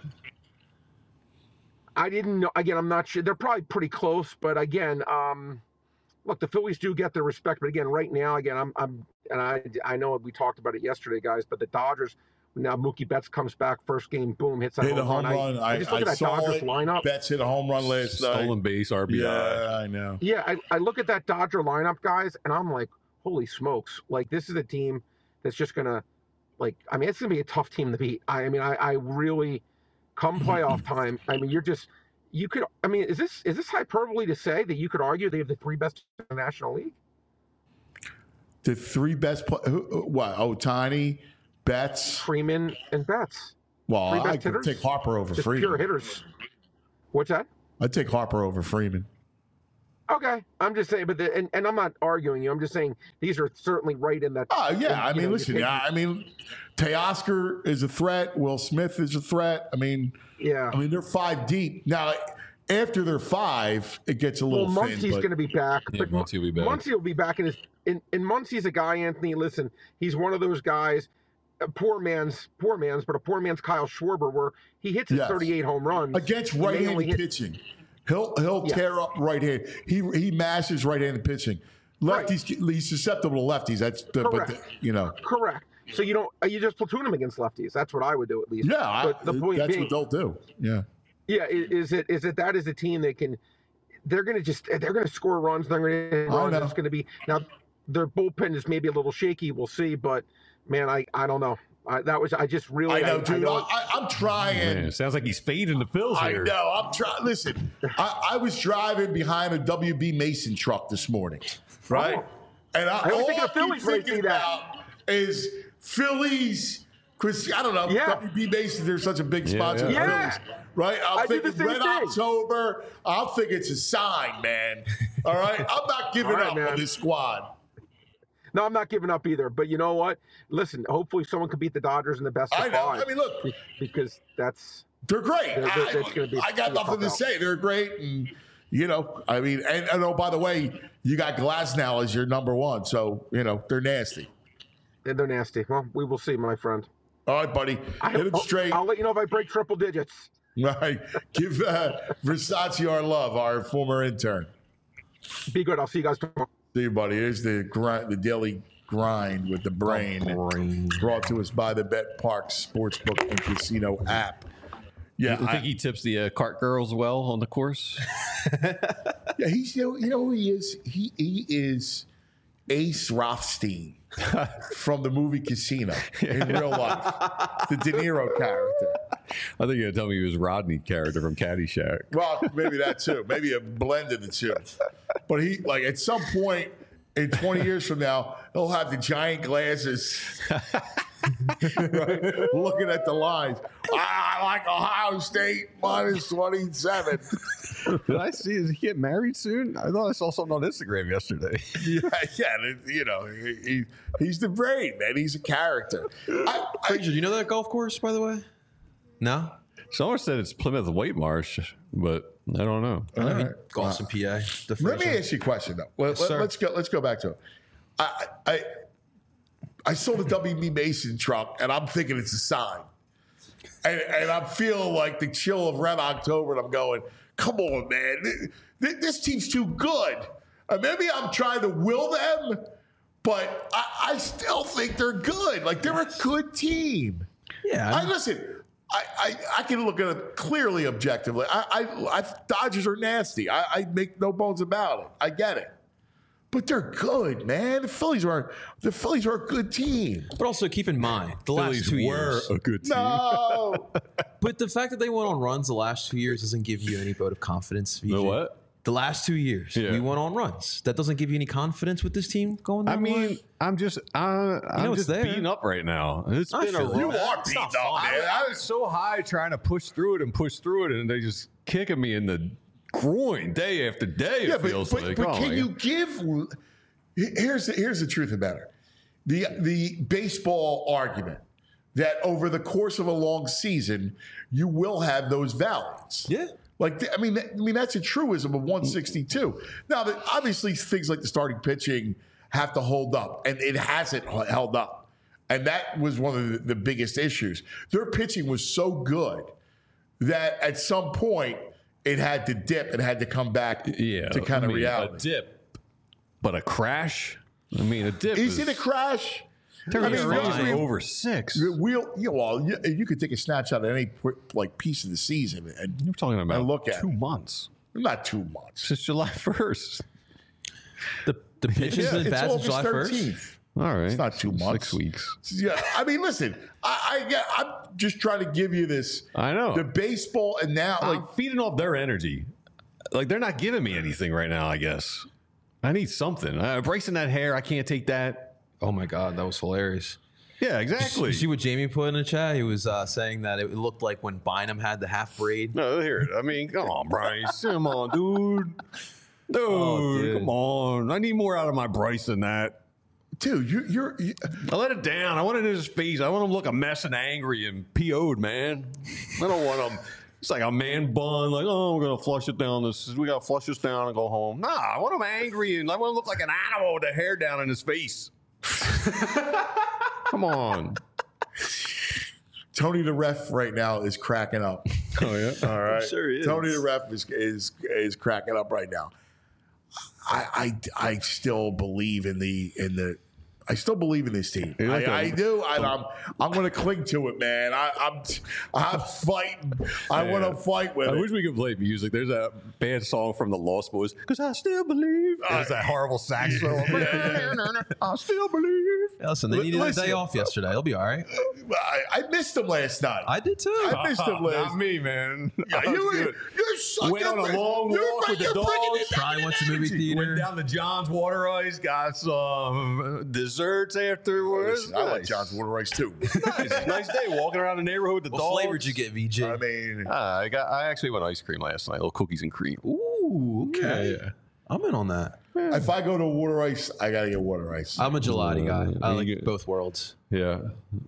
I didn't know. Again, I'm not sure. They're probably pretty close, but again, um, look, the Phillies do get their respect. But again, right now, again, I'm, I'm, and I, I know we talked about it yesterday, guys. But the Dodgers now, Mookie Betts comes back, first game, boom, hits that Hit a home home run. run. I, I I, just look I at that saw Dodgers it. lineup. Betts hit a home run last night. Stolen base, R B I. Yeah, I know. Yeah, I, I look at that Dodger lineup, guys, and I'm like, holy smokes! Like this is a team that's just gonna, like, I mean, it's gonna be a tough team to beat. I, I mean, I, I really, come playoff time. I mean, you're just. You could, I mean, is this is this hyperbole to say that you could argue they have the three best in the National League? The three best, play, who, who- what? Ohtani, Betts. Freeman and Betts, Well, three I best could hitters? take Harper over just Freeman. pure hitters. What's that? I'd take Harper over Freeman. Okay, I'm just saying, but the, and, and I'm not arguing you. I'm just saying these are certainly right in that. Oh, yeah. in, I you mean, know, listen, you take- yeah, I mean, Teoscar is a threat. Will Smith is a threat. I mean, yeah. I mean, they're five deep. Now, after they're five, it gets a Well, little Muncie's thin. but- going to be back. Yeah, but Muncie will be back. Muncie will be back in his. And, and Muncie's a guy, Anthony. Listen, he's one of those guys. A poor man's poor man's, but a poor man's Kyle Schwarber, where he hits his Yes. thirty-eight home runs Against and they only right-handed hit- pitching. He'll he'll Yeah. tear up right hand. He he mashes right-handed pitching. Lefties, he's susceptible to lefties. That's the, but Correct. the, you know. Correct. So you don't you just platoon him against lefties. That's what I would do at least. Yeah, I, But the point that's being, what they'll do. Yeah. yeah, i- is it is it that is a team that can they're going to just they're going to score runs. They're going to I runs. know. It's going to be now their bullpen is maybe a little shaky. We'll see, but man, I I don't know. I, that was I just really I know, I, dude. I don't- I, I'm trying. Man, sounds like he's fading the Phils I here. know. I'm trying. Listen, I, I was driving behind a W B Mason truck this morning, right? Oh. And I, I always all think I of Phillies keep when I thinking see that. about is Phillies. Because I don't know, Yeah. W B Mason, they're such a big Yeah, sponsor yeah. of Yeah. Phillies, right? I'm I do the thinking same Red thing. October. I'm thinking it's a sign, man. All right, I'm not giving All right, up man. on this squad. No, I'm not giving up either. But you know what? Listen, hopefully someone can beat the Dodgers in the best of I know. five. I mean, look, be- because that's they're great. They're- they're- I, it's gonna be- I got it's gonna nothing to pop out. say. They're great, and you know, I mean, and, and oh, by the way, you got Glass now as your number one, so you know they're nasty. they're nasty. Well, we will see, my friend. All right, buddy, I, hit him straight. I'll let you know if I break triple digits. Right, give uh, Versace our love, our former intern. Be good. I'll see you guys tomorrow. See you, buddy. Here's the grind, the daily grind with the brain, Brain. brought to us by the Bet Park Sportsbook and Casino app. Yeah, I I- think he tips the uh, cart girls well on the course. yeah, he's you know, you know who he is. He he is Ace Rothstein from the movie Casino in real life, the De Niro character. I think you're gonna tell me he was Rodney character from Caddyshack. Well, maybe that too. Maybe a blend of the two. But he like at some point in twenty years from now, he'll have the giant glasses. Right? Looking at the lines. I like Ohio State minus twenty-seven. Did I see? Is he get married soon? I thought I saw something on Instagram yesterday. Yeah, yeah, you know, he, he, he's the brain, man. He's a character. I, I, Frazier, you know that golf course, by the way? No? Someone said it's Plymouth White Marsh, but I don't know. all right. Golf's P A. The Let me Frazier. ask you a question though. Let, sir. us go. Let's go back to it. I, I I saw the W B Mason truck, and I'm thinking it's a sign, and, and I'm feeling like the chill of Red October, and I'm going, "Come on, man, this, this team's too good." Uh, maybe I'm trying to will them, but I, I still think they're good. Like they're a good team. Yeah. I listen. I, I, I can look at it clearly objectively. I, I, I Dodgers are nasty. I, I make no bones about it. I get it, but they're good, man. The Phillies are the Phillies are a good team. But also keep in mind, the last Phillies two were years. a good team. No, But the fact that they went on runs the last two years doesn't give you any vote of confidence. V J. The what? The last two years, Yeah. we went on runs. That doesn't give you any confidence with this team going I down the mean, line? I'm just, uh, I'm know it's just there. beaten up right now. It's I been a feel it. rough. you are It's beaten not up, fun. man. I, I was so high trying to push through it and push through it, and they just kicking me in the groin day after day. It Yeah, but, feels but, like. but Oh, can my you God. give? Here's the, here's the truth about it. The the baseball argument that over the course of a long season you will have those valleys. Yeah. Like I mean, I mean that's a truism of one sixty-two. Now, that obviously things like the starting pitching have to hold up, and it hasn't held up, and that was one of the, the biggest issues. Their pitching was so good that at some point it had to dip and had to come back Yeah, to kind I of mean, reality. A dip, but a crash. I mean, a dip Is is it a crash? They're I mean, range really, over six. We'll, you know, well, you, you could take a snapshot of any like piece of the season, and You're talking about look at two it. months not two months. since July first. The, the pitch has Yeah, been it's bad since August July first. thirteenth. All right, It's not two months. Six weeks. Yeah, I mean, listen, I, I get- I'm just trying to give you this. I know. The baseball and now, like, I'm feeding off their energy. Like they're not giving me anything right now. I guess I need something. Uh, bracing that hair, I can't take that. Oh my God, that was hilarious. Yeah, exactly. You see what Jamie put in the chat? He was uh, saying that it looked like when Bynum had the half braid. No, here. I mean, come on, Bryce. Come on, dude. Dude, Oh, dude. come on. I need more out of my Bryce than that. dude, you, you're. You, I let it down. I want it in his face. I want him to look a mess and angry and P O'd, man. I don't want him. It's like a man bun, like, oh, we're going to flush it down. This We got to flush this down and go home. Nah, I want him angry and I want him to look like an animal with the hair down in his face. Come on. Tony the ref right now is cracking up. Oh, yeah. All right, sure he is. Tony the ref is is is cracking up right now. I I, I still believe in the in the. I still believe in this team. You're like I, a- I do. And I'm I'm going to cling to it, man. I, I'm I'm fighting. I want to fight with I it. wish we could play music. There's a bad song from the Lost Boys, because I still believe. There's that horrible sax solo. I still believe. Yeah, listen, they Li- needed listen. a day off yesterday. They'll be all right. I, I missed him last night. I did too. I missed him last. Not me, man. Yeah, I was you, good. you're sucking Went on a up- long you're walk bring- with the you're bringing dogs. it back Probably in went to movie energy. theater. Went down to John's Water Ice, got some desserts afterwards. Listen, I like Nice. John's Water Rice too. nice, nice day walking around the neighborhood with the What dogs. flavor did you get, V J? I mean, Ah, I got. I actually went ice cream last night. Little cookies and cream. Ooh, okay. Yeah, yeah. I'm in on that. If I go to water ice, I gotta get water ice. I'm a gelati guy. I you like get- both worlds. Yeah.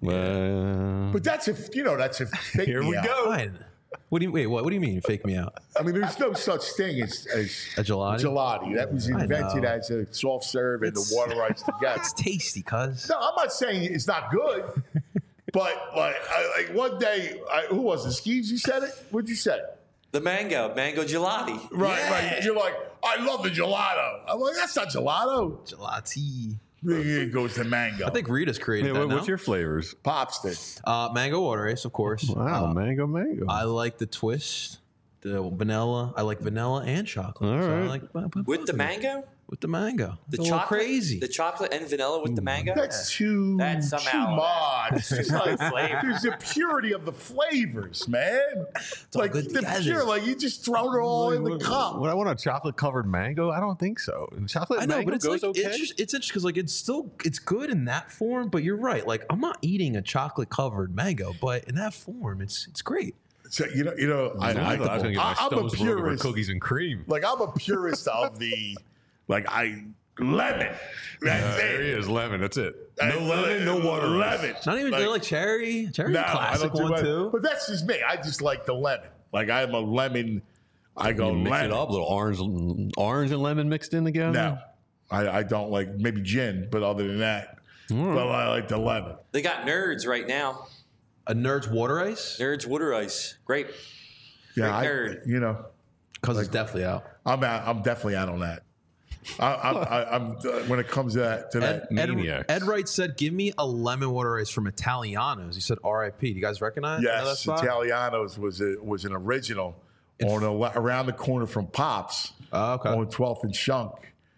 Well, But that's if you know that's if fake here me we out. go. Fine. What do you wait? What? What do you mean? Fake me out? I mean, there's no such thing as, as A gelati? gelati. That was I invented know. as a soft serve and the It's- water ice together. It's tasty, cuz. No, I'm not saying it's not good, but like, I, like one day, I, who was it? Skeeves, you said it. What'd you say? The mango, mango gelati. Right, Yeah. right. You're like, I love the gelato. I'm like, that's not gelato. Gelati. It goes to mango. I think Rita's created Yeah, that what- now. what's your flavors? Popstick. uh, mango water ice, of course. Wow, Uh, mango, mango. I like the twist, the vanilla. I like vanilla and chocolate. All So I right. like I put With both the of them. mango? With the mango. The It's a little chocolate? crazy. The chocolate and vanilla with the mango? That's too, That's too somehow- much. It's like, Flavor. there's the purity of the flavors, man. all like good the together. pure, like you just throw it all in the cup. Would I want a chocolate covered mango? I don't think so. And chocolate I know, mango but it's goes like okay. it's just it's interesting because like it's still it's good in that form. But you're right. Like I'm not eating a chocolate covered mango, but in that form, it's it's great. So you know, you know, I, Nah, I, I thought I was gonna get my I, I'm a stones broken for purist. cookies and cream. Like I'm a purist of the, like I lemon. That's Uh, it. there he is, lemon. That's it. I- No lemon, no water. Lemon. Not even Like, like, like cherry, cherry no, classic I don't do one that. too. But that's just me. I just like the lemon. Like I'm a lemon. I go You mix lemon. it up, little orange, orange and lemon mixed in together. No, I, I don't like maybe gin, but other than that, well, I like the lemon. They got nerds right now. A Nerd's water ice Nerds water ice. Great. Yeah, I, Great nerd. you know, because it's definitely out. I'm out, I'm definitely out on that. I, I'm, I, I'm uh, when it comes to that to Ed, that. Ed, Maniacs. Ed Wright said, "Give me a lemon water ice from Italianos." He said, "R I P" Do you guys recognize? know that Yes, spot? Italianos was a, was an original on a, around the corner from Pops Oh, okay. on twelfth and Shunk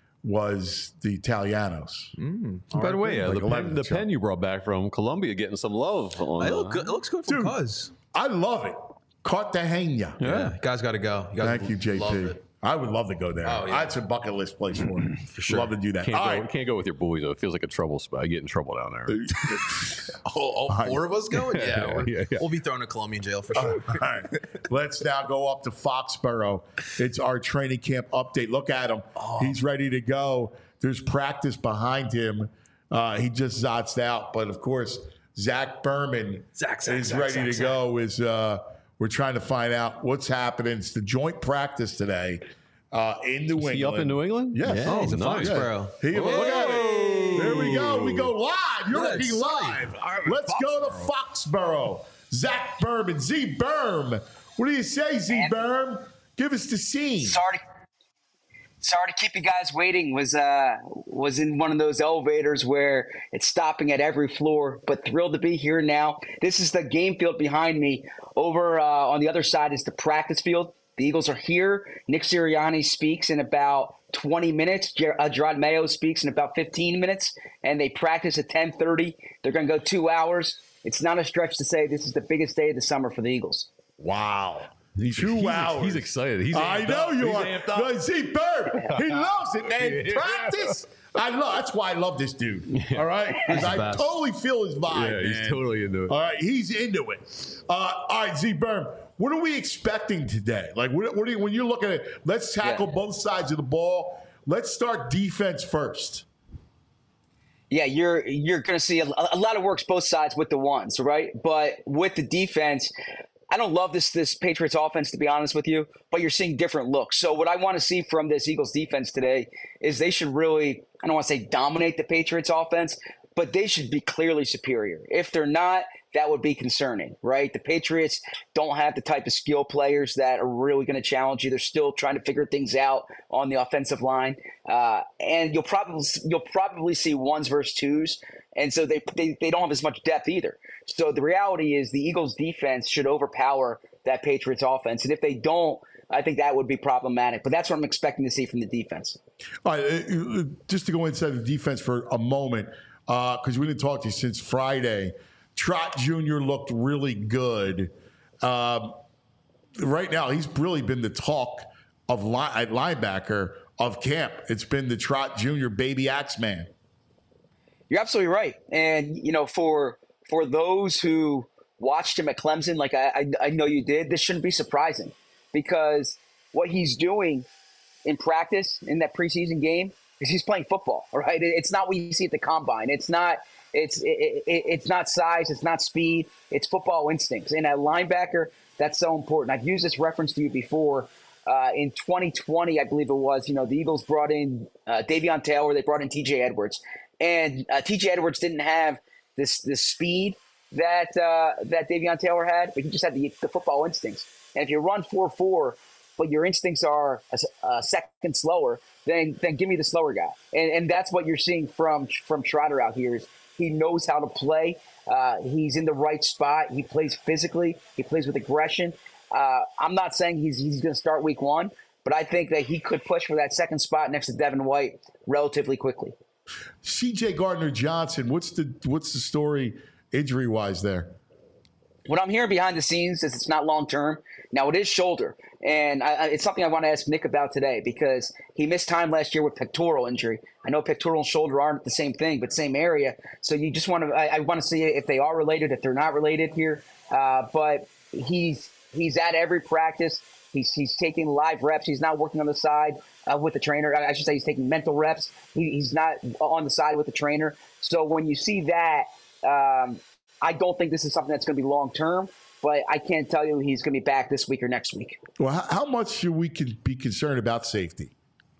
was the Italianos. By the way, uh, Like the, eleven pen, the chunk. pen you brought back from Colombia getting some love. On, It, uh, look good. It looks good from Dude. Cuz. I love it. Cartagena. Yeah, guys got to go. You guys Thank you, J love P. it. I would love to go there. Oh, yeah. That's a bucket list place for me. for sure. Love to do that. Can't All go, right. can't go with your boys though. It feels like a trouble spot. I get in trouble down there. All, all four of us going? Yeah, we're- yeah, yeah. we'll be thrown to Colombian jail for sure. All right. Let's now go up to Foxborough. It's our training camp update. Look at him. Oh. He's ready to go. There's practice behind him. Uh, he just zotzed out. But of course, Zach Berman Zach, Zach, is Zach, ready Zach, to go. Is uh, we're trying to find out what's happening. It's the joint practice today uh, in New England. Is he up in New England? Yes. Yeah, Oh, he's a nice. Foxborough. He, look at it. There we go. We go live. You're Yeah, looking it's live. Let's go to Foxborough. Zach Berman, Z Berm. What do you say, Z Berm? Give us the scene. Sorry, to, sorry to keep you guys waiting. Was uh was in one of those elevators where it's stopping at every floor, but thrilled to be here now. This is the game field behind me. Over uh, on the other side is the practice field. The Eagles are here. Nick Sirianni speaks in about twenty minutes. Ger- uh, Gerard Mayo speaks in about fifteen minutes, and they practice at ten thirty. They're going to go two hours. It's not a stretch to say this is the biggest day of the summer for the Eagles. Wow. He's, Two he's, hours. He's excited. He's I amped know up. you He's are. amped up. No, Z Berm, he loves it, man. Yeah. Practice. I love. That's why I love this dude. All right, because I best. totally feel his vibe. Yeah, he's man. totally into it. All right, he's into it. Uh, all right, Z Berm, what are we expecting today? Like, what, what are you, when you're looking at? Let's tackle Yeah. both sides of the ball. Let's start defense first. Yeah, you're you're going to see a, a lot of works both sides with the ones, right? But with the defense, I don't love this this Patriots offense, to be honest with you, but you're seeing different looks. So what I want to see from this Eagles defense today is they should really, I don't want to say dominate the Patriots offense, but they should be clearly superior. If they're not, that would be concerning, right? The Patriots don't have the type of skill players that are really going to challenge you. They're still trying to figure things out on the offensive line, uh, and you'll probably you'll probably see ones versus twos, and so they, they they don't have as much depth either. So the reality is the Eagles' defense should overpower that Patriots offense, and if they don't, I think that would be problematic. But that's what I'm expecting to see from the defense. All right, uh, uh, just to go inside the defense for a moment, because we didn't talk to you since Friday. Trot Junior looked really good. Um, right now, he's really been the talk of li- at linebacker of camp. It's been the Trot Junior baby axe man. You're absolutely right. And, you know, for for those who watched him at Clemson, like I, I, I know you did, this shouldn't be surprising because what he's doing in practice in that preseason game because he's playing football, right? It- It's not what you see at the combine. It's not it's it, it, it's not size, it's not speed, it's football instincts. And at linebacker, that's so important. I've used this reference to you before. Uh, in twenty twenty, I believe it was, you know, the Eagles brought in uh, Davion Taylor, they brought in T J Edwards, and uh, T J Edwards didn't have this this speed that uh, that Davion Taylor had, but he just had the, the football instincts. And if you run four four, but your instincts are a, a second slower, then then give me the slower guy. And and that's what you're seeing from from Trotter out here. Is he knows how to play. Uh, he's in the right spot. He plays physically. He plays with aggression. Uh, I'm not saying he's he's going to start week one, but I think that he could push for that second spot next to Devin White relatively quickly. C J Gardner-Johnson, what's the what's the story injury-wise there? What I'm hearing behind the scenes is it's not long term. Now it is shoulder, and I, I, it's something I want to ask Nick about today because he missed time last year with pectoral injury. I know pectoral and shoulder aren't the same thing, but same area. So you just want to I, I want to see if they are related, if they're not related here. Uh, but he's he's at every practice. He's he's taking live reps. He's not working on the side uh, with the trainer. I should say he's taking mental reps. He, he's not on the side with the trainer. So when you see that. Um, I don't think this is something that's going to be long term, but I can't tell you he's going to be back this week or next week. Well, how, how much should we can be concerned about safety?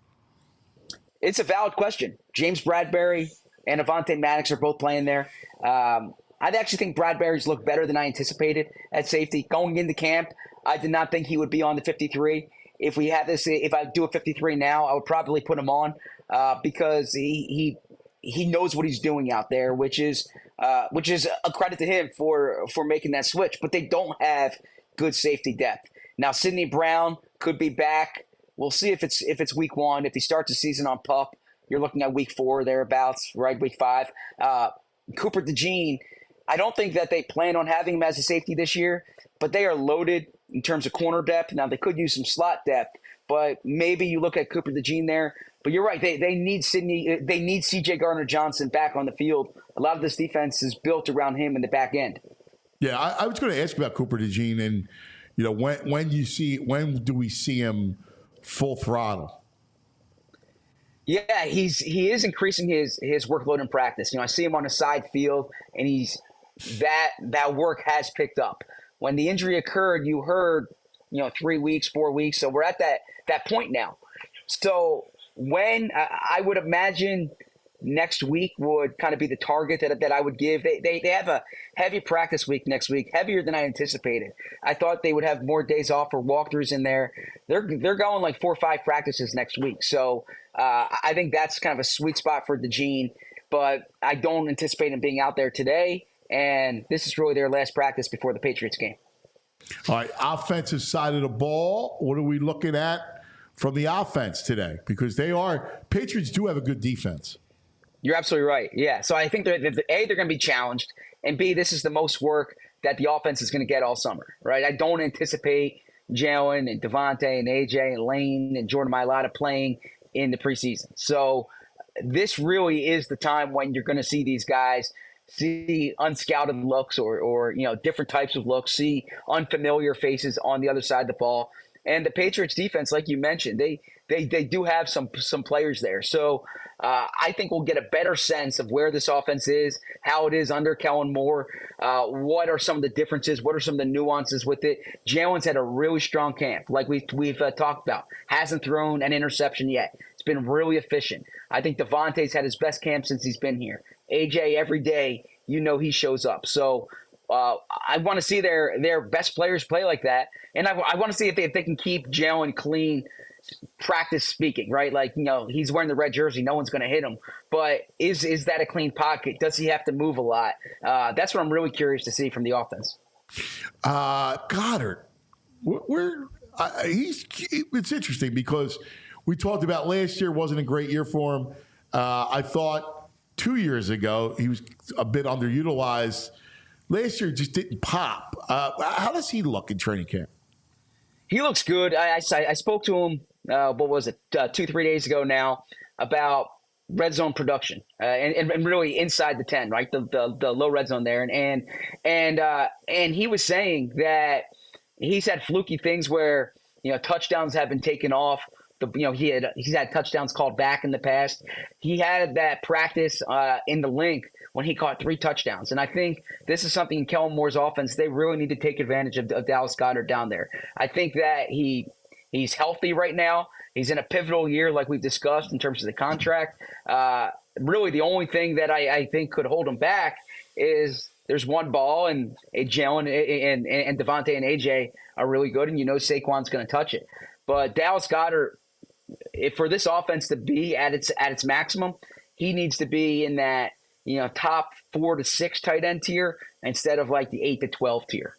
It's a valid question. James Bradbury and Avonte Maddox are both playing there. Um, I actually think Bradbury's looked better than I anticipated at safety. Going into camp, I did not think he would be on the fifty-three. If we had this, if I do a fifty-three now, I would probably put him on uh, because he he he knows what he's doing out there, which is. Uh, which is a credit to him for, for making that switch. But they don't have good safety depth. Now, Sidney Brown could be back. We'll see if it's if it's week one. If he starts the season on PUP, you're looking at week four, thereabouts, right, week five. Uh, Cooper DeJean, I don't think that they plan on having him as a safety this year, but they are loaded in terms of corner depth. Now, they could use some slot depth, but maybe you look at Cooper DeJean there. But you're right. They they need Sidney. They need C J Gardner-Johnson back on the field. A lot of this defense is built around him in the back end. Yeah, I, I was going to ask about Cooper DeJean, and you know when when you see when do we see him full throttle? Yeah, he's he is increasing his his workload in practice. You know, I see him on the side field, and he's that that work has picked up. When the injury occurred, you heard you know three weeks, four weeks. So we're at that that point now. So. When uh, I would imagine next week would kind of be the target that, that I would give. They, they they have a heavy practice week next week, heavier than I anticipated. I thought they would have more days off for walkthroughs in there. They're they're going like four or five practices next week. So uh, I think that's kind of a sweet spot for DeJean, but I don't anticipate him being out there today. And this is really their last practice before the Patriots game. All right, offensive side of the ball, what are we looking at from the offense today? Because they are Patriots do have a good defense. You're absolutely right. Yeah. So I think they're, they're A, they're going to be challenged, and B, this is the most work that the offense is going to get all summer, right? I don't anticipate Jalen and Devontae and A J and Lane and Jordan Mailata playing in the preseason. So this really is the time when you're going to see these guys see unscouted looks or, or you know different types of looks, see unfamiliar faces on the other side of the ball. And the Patriots defense, like you mentioned, they they they do have some some players there. So uh, I think we'll get a better sense of where this offense is, how it is under Kellen Moore, uh, what are some of the differences, what are some of the nuances with it. Jalen's had a really strong camp, like we've, we've uh, talked about. Hasn't thrown an interception yet. It's been really efficient. I think Devontae's had his best camp since he's been here. A J, every day, you know he shows up. So uh, I want to see their their best players play like that. And I, I want to see if they, if they can keep Jalen clean, practice speaking, right? Like, you know, he's wearing the red jersey. No one's going to hit him. But is is that a clean pocket? Does he have to move a lot? Uh, that's what I'm really curious to see from the offense. Uh, Goddard, we're, uh, he's it's interesting because we talked about last year wasn't a great year for him. Uh, I thought two years ago he was a bit underutilized. Last year just didn't pop. Uh, how does he look in training camp? He looks good. I, I, I spoke to him, uh, what was it, uh, two, three days ago now, about red zone production uh, and, and really inside the ten, right? The, the the low red zone there. And and and, uh, and he was saying that he's had fluky things where, you know, touchdowns have been taken off The, you know, he had he's had touchdowns called back in the past. He had that practice uh, in the link when he caught three touchdowns. And I think this is something in Kellen Moore's offense they really need to take advantage of, of Dallas Goedert down there. I think that he he's healthy right now. He's in a pivotal year, like we've discussed, in terms of the contract. Uh, really, the only thing that I, I think could hold him back is there's one ball, and Jalen and, and, and Devontae and A J are really good, and you know Saquon's going to touch it. But Dallas Goedert, if for this offense to be at its at its maximum, he needs to be in that you know top four to six tight end tier instead of like the eight to twelve tier.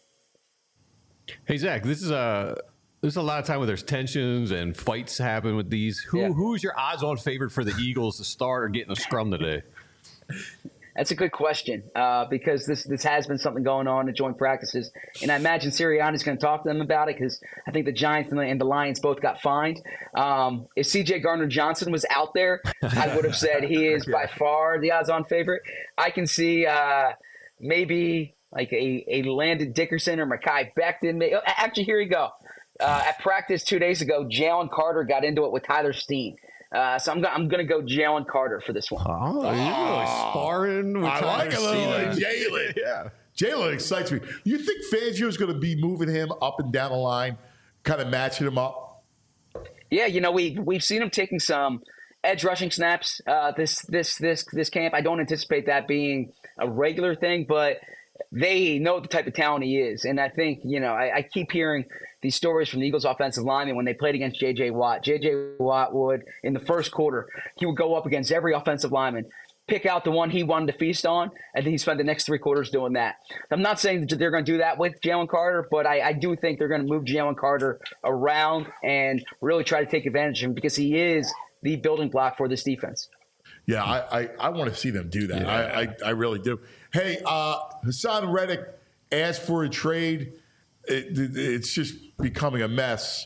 Hey Zach, this is a there's a lot of time where there's tensions and fights happen with these. Who Yeah. who's your odds-on favorite for the Eagles to start or get in a scrum today? That's a good question uh, because this this has been something going on in joint practices, and I imagine Sirianni's going to talk to them about it because I think the Giants and the, and the Lions both got fined. Um, if C J Gardner-Johnson was out there, I would have said he is by far the odds-on favorite. I can see uh, maybe like a, a Landon Dickerson or Mekhi Becton. May- Actually, here you go. Uh, at practice two days ago, Jalen Carter got into it with Tyler Steen. Uh, so I'm, go- I'm going to go Jalen Carter for this one. Oh, you're really sparring with I like a Tyler little Steen. Jalen. Yeah. Jalen excites me. You think Fangio's going to be moving him up and down the line, kind of matching him up? Yeah, you know, we we've seen him taking some edge rushing snaps uh, this this this this camp. I don't anticipate that being a regular thing, but they know the type of talent he is, and I think you know I, I keep hearing these stories from the Eagles offensive lineman when they played against J J Watt. J J Watt would in the first quarter he would go up against every offensive lineman, pick out the one he wanted to feast on, and then he spent the next three quarters doing that. I'm not saying that they're going to do that with Jalen Carter, but I, I do think they're going to move Jalen Carter around and really try to take advantage of him because he is the building block for this defense. Yeah, I, I, I want to see them do that. I, I, I really do. Hey, uh, Hassan Reddick asked for a trade. It, it, it's just becoming a mess.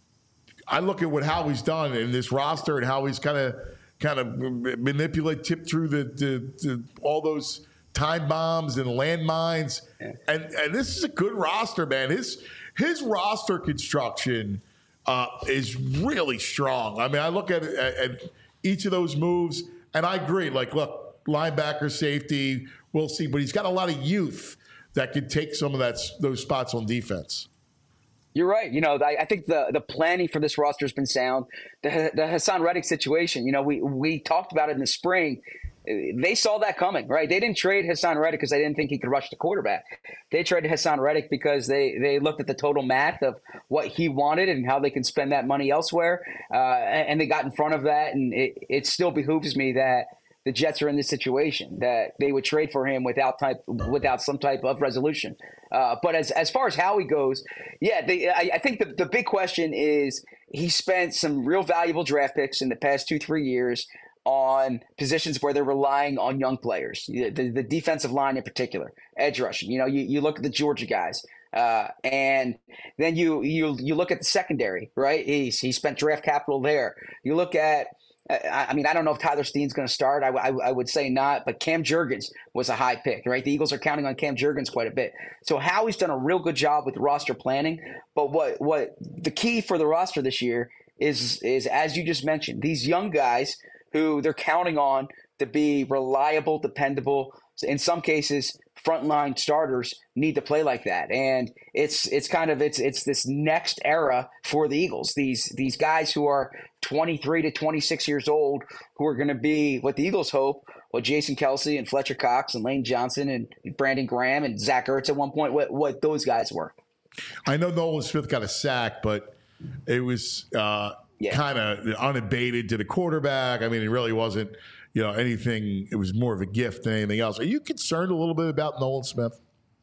I look at what Howie's done in this roster and how he's kind of kind of manipulate, tip through the, the, the all those time bombs and landmines. Yeah. And and this is a good roster, man. His his roster construction uh, is really strong. I mean, I look at, at, at each of those moves, and I agree. Like, look, linebacker, safety, we'll see. But he's got a lot of youth that could take some of that those spots on defense. You're right. You know, I, I think the the planning for this roster has been sound. The, the Hassan Reddick situation, you know, we, we talked about it in the spring. They saw that coming, right? They didn't trade Hassan Reddick because they didn't think he could rush the quarterback. They traded Hassan Reddick because they, they looked at the total math of what he wanted and how they can spend that money elsewhere. Uh, and, and they got in front of that. And it, it still behooves me that the Jets are in this situation, that they would trade for him without type without some type of resolution. Uh, but as as far as Howie goes, yeah, they, I, I think the, the big question is he spent some real valuable draft picks in the past two, three years on positions where they're relying on young players, the, the, the defensive line in particular, edge rushing. You know, you, you look at the Georgia guys, uh, and then you you you look at the secondary, right? He's, he spent draft capital there. You look at I mean, I don't know if Tyler Steen's going to start. I, I, I would say not, but Cam Jurgens was a high pick, right? The Eagles are counting on Cam Jurgens quite a bit. So Howie's done a real good job with roster planning. But what what the key for the roster this year is, is as you just mentioned, these young guys who they're counting on to be reliable, dependable, in some cases, frontline starters need to play like that. And it's it's kind of it's it's this next era for the Eagles. These these guys who are twenty-three to twenty-six years old, who are going to be what the Eagles hope, what Jason Kelsey and Fletcher Cox and Lane Johnson and Brandon Graham and Zach Ertz at one point, what what those guys were. I know Nolan Smith got a sack, but it was uh, yeah. kind of unabated to the quarterback. I mean, it really wasn't. You know, anything, it was more of a gift than anything else. Are you concerned a little bit about Nolan Smith?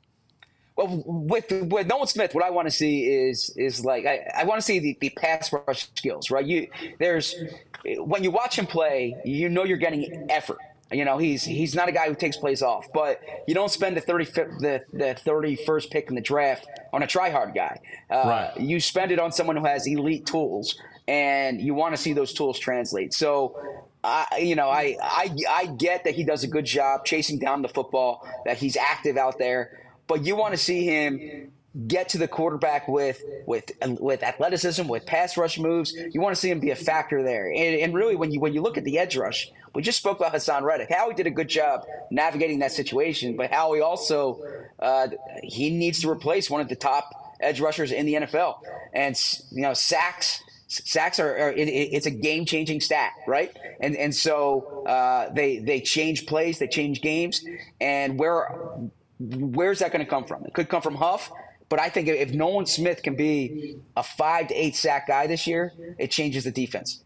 Well, with with Nolan Smith, what I want to see is is like I, I want to see the, the pass rush skills, right? You there's when you watch him play, you know you're getting effort. You know, he's he's not a guy who takes plays off, but you don't spend the thirty the the thirty-first pick in the draft on a try-hard guy. Uh, right. You spend it on someone who has elite tools, and you want to see those tools translate. So. I, you know, I, I I get that he does a good job chasing down the football, that he's active out there, but you want to see him get to the quarterback with with with athleticism, with pass rush moves. You want to see him be a factor there. And, and really, when you when you look at the edge rush, we just spoke about Hassan Reddick. Howie did a good job navigating that situation, but Howie also uh, he needs to replace one of the top edge rushers in the N F L. And you know, sacks. Sacks are, are it, it's a game-changing stat, right? And and so uh, they they change plays, they change games, and where where's that going to come from? It could come from Huff, but I think if Nolan Smith can be a five to eight sack guy this year, it changes the defense.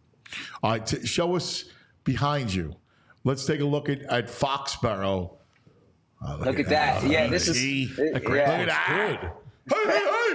All right, t- show us behind you. Let's take a look at, at Foxborough. Oh, look, look at that. that. Yeah, this is he, it, look yeah. at that. Good. Hey,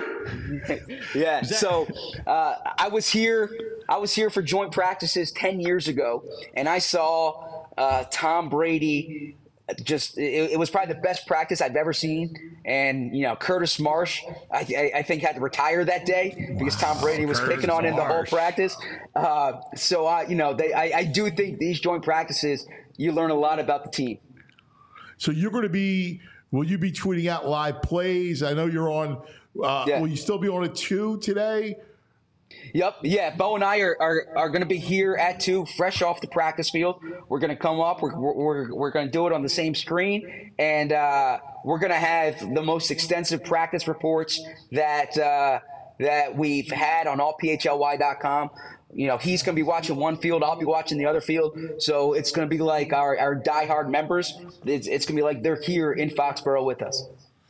hey, hey. Yeah. So uh, I was here. I was here for joint practices ten years ago, and I saw uh, Tom Brady. Just it, it was probably the best practice I've ever seen. And you know, Curtis Marsh, I, I, I think had to retire that day because Tom Brady was Curtis picking on him the whole practice. Uh, so I, you know, they, I, I do think these joint practices, you learn a lot about the team. So you're going to be. Will you be tweeting out live plays? I know you're on. Uh, yeah. Will you still be on at two today? Yep. Yeah. Bo and I are, are, are going to be here at two, fresh off the practice field. We're going to come up. We're, we're, we're going to do it on the same screen. And uh, we're going to have the most extensive practice reports that uh, that we've had on all P H L Y dot com. You know, he's going to be watching one field. I'll be watching the other field. So it's going to be like our, our diehard members. It's, it's going to be like they're here in Foxborough with us.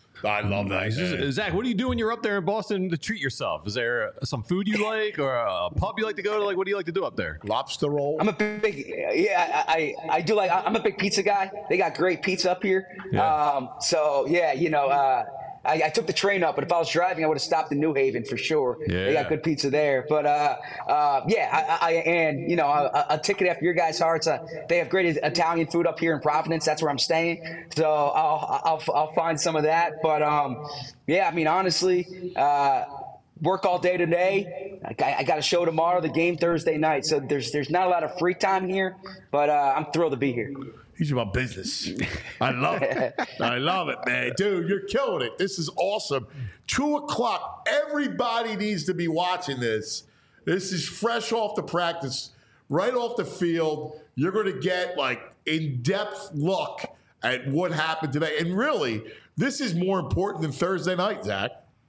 I love that. Man. Zach, what do you do when you're up there in Boston to treat yourself? Is there some food you like or a pub you like to go to? Like, what do you like to do up there? Lobster roll. I'm a big, yeah, I, I, I do like, I'm a big pizza guy. They got great pizza up here. Yeah. Um, so, yeah, you know, uh, I, I took the train up, but if I was driving, I would have stopped in New Haven for sure. Yeah. They got good pizza there. But, uh, uh, yeah, I, I and, you know, a, a ticket after your guys' hearts. Uh, they have great Italian food up here in Providence. That's where I'm staying. So I'll, I'll, I'll find some of that. But, um, yeah, I mean, honestly, uh, work all day today. I, I got a show tomorrow, the game Thursday night. So there's there's not a lot of free time here, but uh, I'm thrilled to be here. He's about business. I love it. I love it, man. Dude, you're killing it. This is awesome. Two o'clock. Everybody needs to be watching this. This is fresh off the practice, right off the field. You're going to get like in-depth look at what happened today. And really, this is more important than Thursday night, Zach.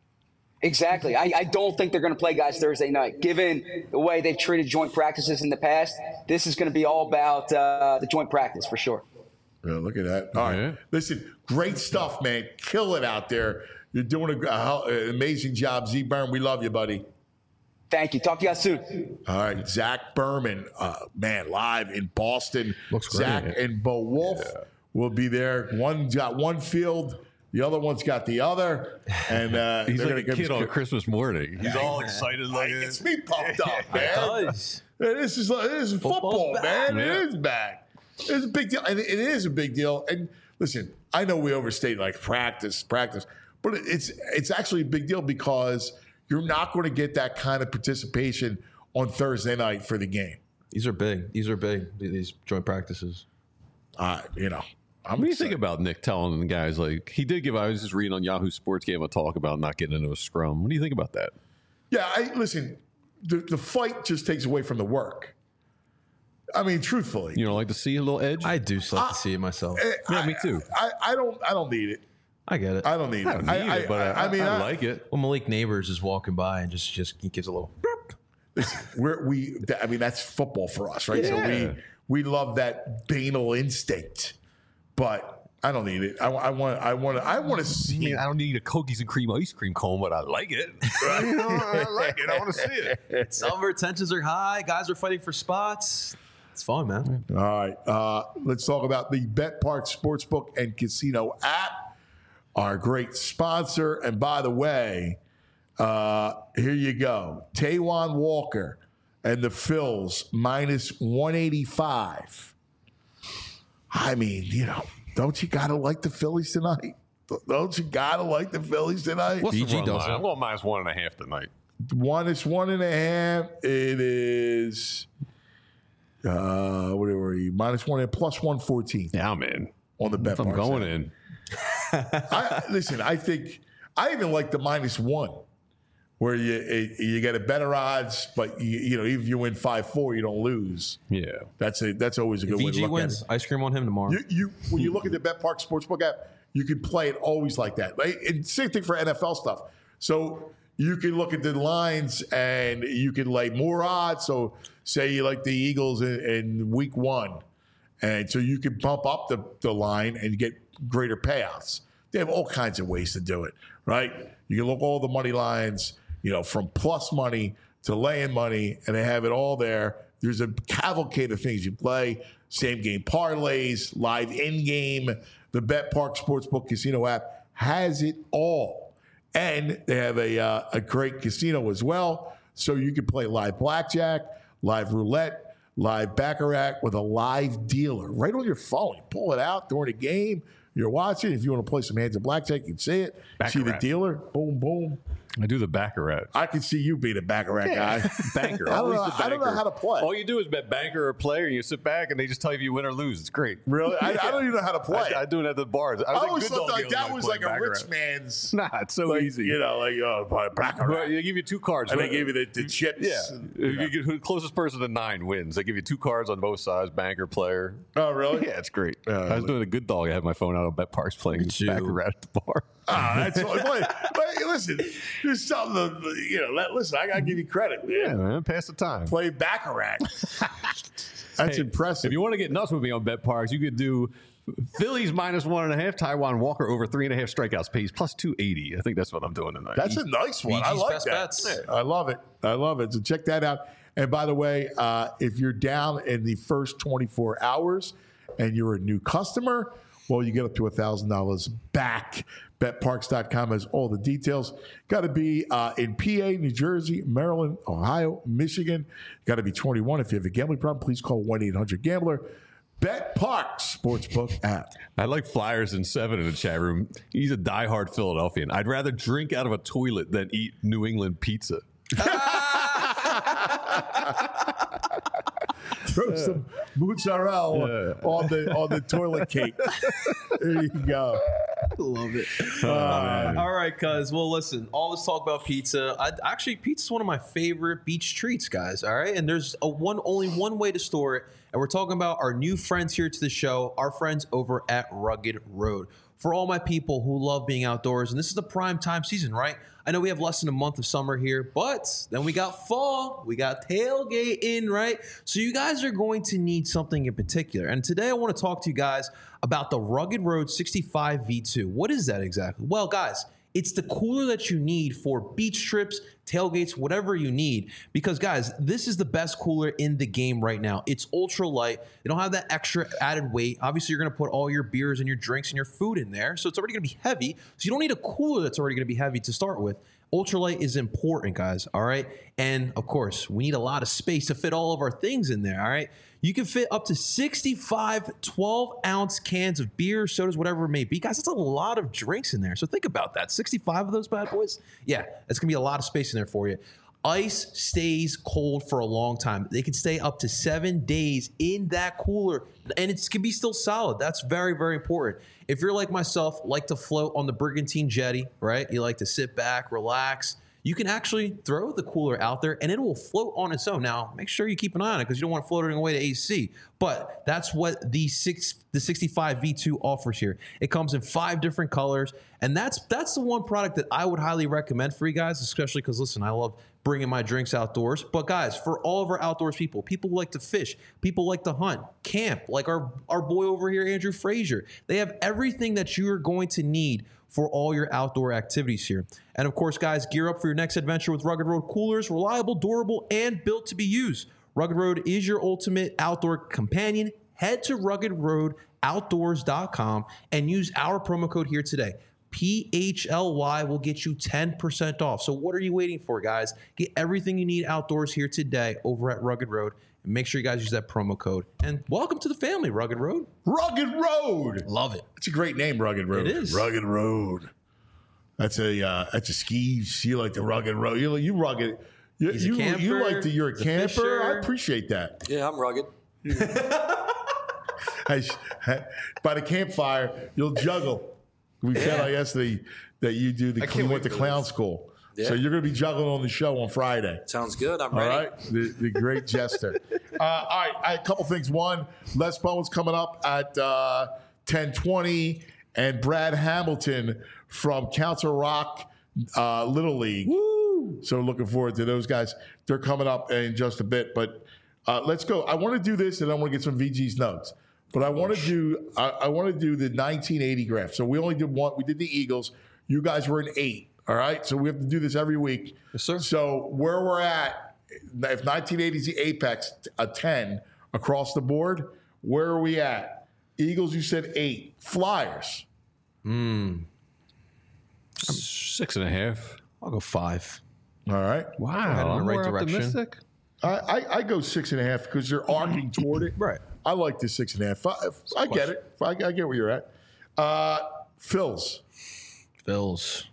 Exactly. I, I don't think they're going to play guys Thursday night. Given the way they've treated joint practices in the past, this is going to be all about uh, the joint practice for sure. Yeah, look at that. All Yeah. right. Listen, great stuff, man. Kill it out there. You're doing a, uh, an amazing job. Z Burn, we love you, buddy. Thank you. Talk to you guys soon. All right. Zach Berman, uh, man, live in Boston. Looks great. Zach and Bo Wolf will be there. One's got one field. The other one's got the other, and uh, He's they're like gonna a give kid us- on Christmas morning. He's all excited like It this. gets me pumped up, man. does. This is like, this is football, Football's man. back. It is back. It's a big deal, and it is a big deal. And listen, I know we overstate like practice, practice, but it's it's actually a big deal because you're not going to get that kind of participation on Thursday night for the game. These are big. These are big. These joint practices. Uh, you know, I'm What do you excited. think about Nick telling the guys, like, he did give, I was just reading on Yahoo Sports, gave him a talk about not getting into a scrum. What do you think about that? Yeah, I listen. The, the fight just takes away from the work. I mean, truthfully, You know, like to see a little edge? I do like to see it myself. Eh, yeah, I, me too. I, I don't. I don't need it. I get it. I don't need I it. don't need I, it, but I, I, I mean, I, I, like it. Well, Malik Neighbors is walking by and just just he gives a little. we're, we. I mean, that's football for us, right? So Yeah. we we love that banal instinct, but I don't need it. I, I want. I want. I want to I see. mean, I don't need a cookies and cream ice cream cone, but I like it. You know, I like it. I want to see it. Summer tensions are high. Guys are fighting for spots. It's fun, man. All right, uh, let's talk about the Bet Park Sportsbook and Casino app, our great sponsor. And by the way, uh, here you go. Taiwan Walker and the Phils minus one eighty-five. I mean, you know, don't you got to like the Phillies tonight? Don't you got to like the Phillies tonight? What's B the G run does line? it. I'm going minus one and a half tonight. One is one and a half. It is, uh, what are we? Minus one and plus one fourteen Yeah, I'm in. on the Bet I'm Park going side. in. I, listen, I think I even like the minus one, where you it, you get a better odds, but you, you know, even if you win five four, you don't lose. Yeah. That's a that's always a good way to V G look wins. at Ice cream on him tomorrow. it. You, you when you look at the BetPark Sportsbook app, you can play it always like that. Right? And same thing for N F L stuff. So you can look at the lines and you can lay more odds. So say you like the Eagles in, in week one, and so you can bump up the, the line and get greater payouts. They have all kinds of ways to do it, right? You can look all the money lines, you know, from plus money to lay-in money, and they have it all there. There's a cavalcade of things you play, same game parlays, live in-game. The BetPark Sportsbook Casino app has it all. And they have a, uh, a great casino as well. So you can play live blackjack, live roulette, live baccarat with a live dealer right on your phone. You pull it out during a game. You're watching. If you want to play some hands of blackjack, you can see it. Baccarat. See the dealer. Boom, boom. I do the baccarat. I can see you being a baccarat guy. Banker. I don't, Always know, the I don't know banker. how to play. All you do is bet banker or player, and you sit back, and they just tell you if you win or lose. It's great. Really? I, I don't even know how to play. I, I do it at the bars. I, I was always a good thought dog like the other that night was playing like a rich baccarat. man's. Nah, it's so like, easy. You know, like, oh, baccarat. But they give you two cards. And they give you the, the chips. Yeah. and, If you you know. get who the closest person to nine wins. They give you two cards on both sides, banker, player. Oh, really? Yeah, it's great. Uh, I was doing a good dog. I had my phone out on Bet Parks playing you. baccarat at the bar. Ah, that's all. But, but listen, there's something. To, you know, let, listen, I gotta give you credit, man. Yeah, man, pass the time. Play baccarat. That's Hey, impressive. If you want to get nuts with me on Bet Parks, you could do Phillies minus one and a half, Taiwan Walker over three and a half strikeouts pays plus two eighty. I think that's what I'm doing tonight. That's a nice one. I V G's like best that. bets. I love it. I love it. So check that out. And by the way, uh, if you're down in the first twenty-four hours and you're a new customer, well, you get up to one thousand dollars back. Bet Parks dot com has all the details. Got to be uh, in P A, New Jersey, Maryland, Ohio, Michigan. Got to be twenty-one. If you have a gambling problem, please call one eight hundred gambler. Bet Parks Sportsbook app. I like Flyers in seven in the chat room. He's a diehard Philadelphian. I'd rather drink out of a toilet than eat New England pizza. Throw some mozzarella Yeah. on the on the toilet cake. There you go. Love it. Uh, All right, cuz. Well, listen, all this talk about pizza. I, actually, pizza is one of my favorite beach treats, guys. All right, and there's a one only one way to store it, and we're talking about our new friends here to the show, our friends over at Rugged Road. For all my people who love being outdoors, and this is the prime time season, right? I know we have less than a month of summer here, but then we got fall, we got tailgating, right? So you guys are going to need something in particular. And today I want to talk to you guys about the Rugged Road sixty-five V two. What is that exactly? Well, guys, it's the cooler that you need for beach trips, tailgates, whatever you need. Because, guys, this is the best cooler in the game right now. It's ultra light. They don't have that extra added weight. Obviously, you're going to put all your beers and your drinks and your food in there. So it's already going to be heavy. So you don't need a cooler that's already going to be heavy to start with. Ultralight is important, guys, all right? And, of course, we need a lot of space to fit all of our things in there, all right? You can fit up to sixty-five twelve-ounce cans of beer, sodas, whatever it may be. Guys, that's a lot of drinks in there. So think about that. sixty-five of those bad boys? Yeah, that's going to be a lot of space in there for you. Ice stays cold for a long time. They can stay up to seven days in that cooler, and it can be still solid. That's very, very important. If you're like myself, like to float on the Brigantine Jetty, right? You like to sit back, relax. You can actually throw the cooler out there and it will float on its own. Now, make sure you keep an eye on it because you don't want to float it away to A C. But that's what the six, the sixty-five V two offers here. It comes in five different colors, and that's that's the one product that I would highly recommend for you guys, especially because, listen, I love bringing my drinks outdoors. But, guys, for all of our outdoors people, people who like to fish, people who like to hunt, camp, like our, our boy over here, Andrew Frazier, they have everything that you are going to need for all your outdoor activities here. And of course, guys, gear up for your next adventure with Rugged Road coolers, reliable, durable, and built to be used. Rugged Road is your ultimate outdoor companion. Head to rugged road outdoors dot com and use our promo code here today. P H L Y will get you ten percent off. So what are you waiting for, guys? Get everything you need outdoors here today over at Rugged Road. And make sure you guys use that promo code. And welcome to the family, Rugged Road. Rugged Road. Love it. It's a great name, Rugged Road. It is. Rugged Road. That's a uh, that's a skis. You like the Rugged Road. You you rugged. You He's a you, camper. you like the you're a He's a camper. fisher. I appreciate that. Yeah, I'm rugged. I sh- By the campfire, you'll juggle. We found out yesterday that you do the I can't you wait went to for clown this. school. Yeah. So you're going to be juggling on the show on Friday. Sounds good. I'm All ready. right, the, the great jester. uh, all right, I, a couple things. One, Les Bowen's coming up at uh, ten twenty, and Brad Hamilton from Council Rock uh, Little League. Woo! So looking forward to those guys. They're coming up in just a bit, but uh, let's go. I want to do this, and I want to get some V G's notes. But I want to do I, I want to do the nineteen eighty graph. So we only did one. We did the Eagles. You guys were in eight. All right, so we have to do this every week. Yes, sir. So where we're at, if nineteen eighty is the apex, a ten across the board, where are we at? Eagles, you said eight. Flyers. Six and a half. I'll go five. All right. Wow, headed in the I'm right more direction. optimistic. I, I, I go six and a half because they're arcing toward it. Right. I like the six and a half. Five, I get it. I, I get where you're at. Uh, Phils. Bills.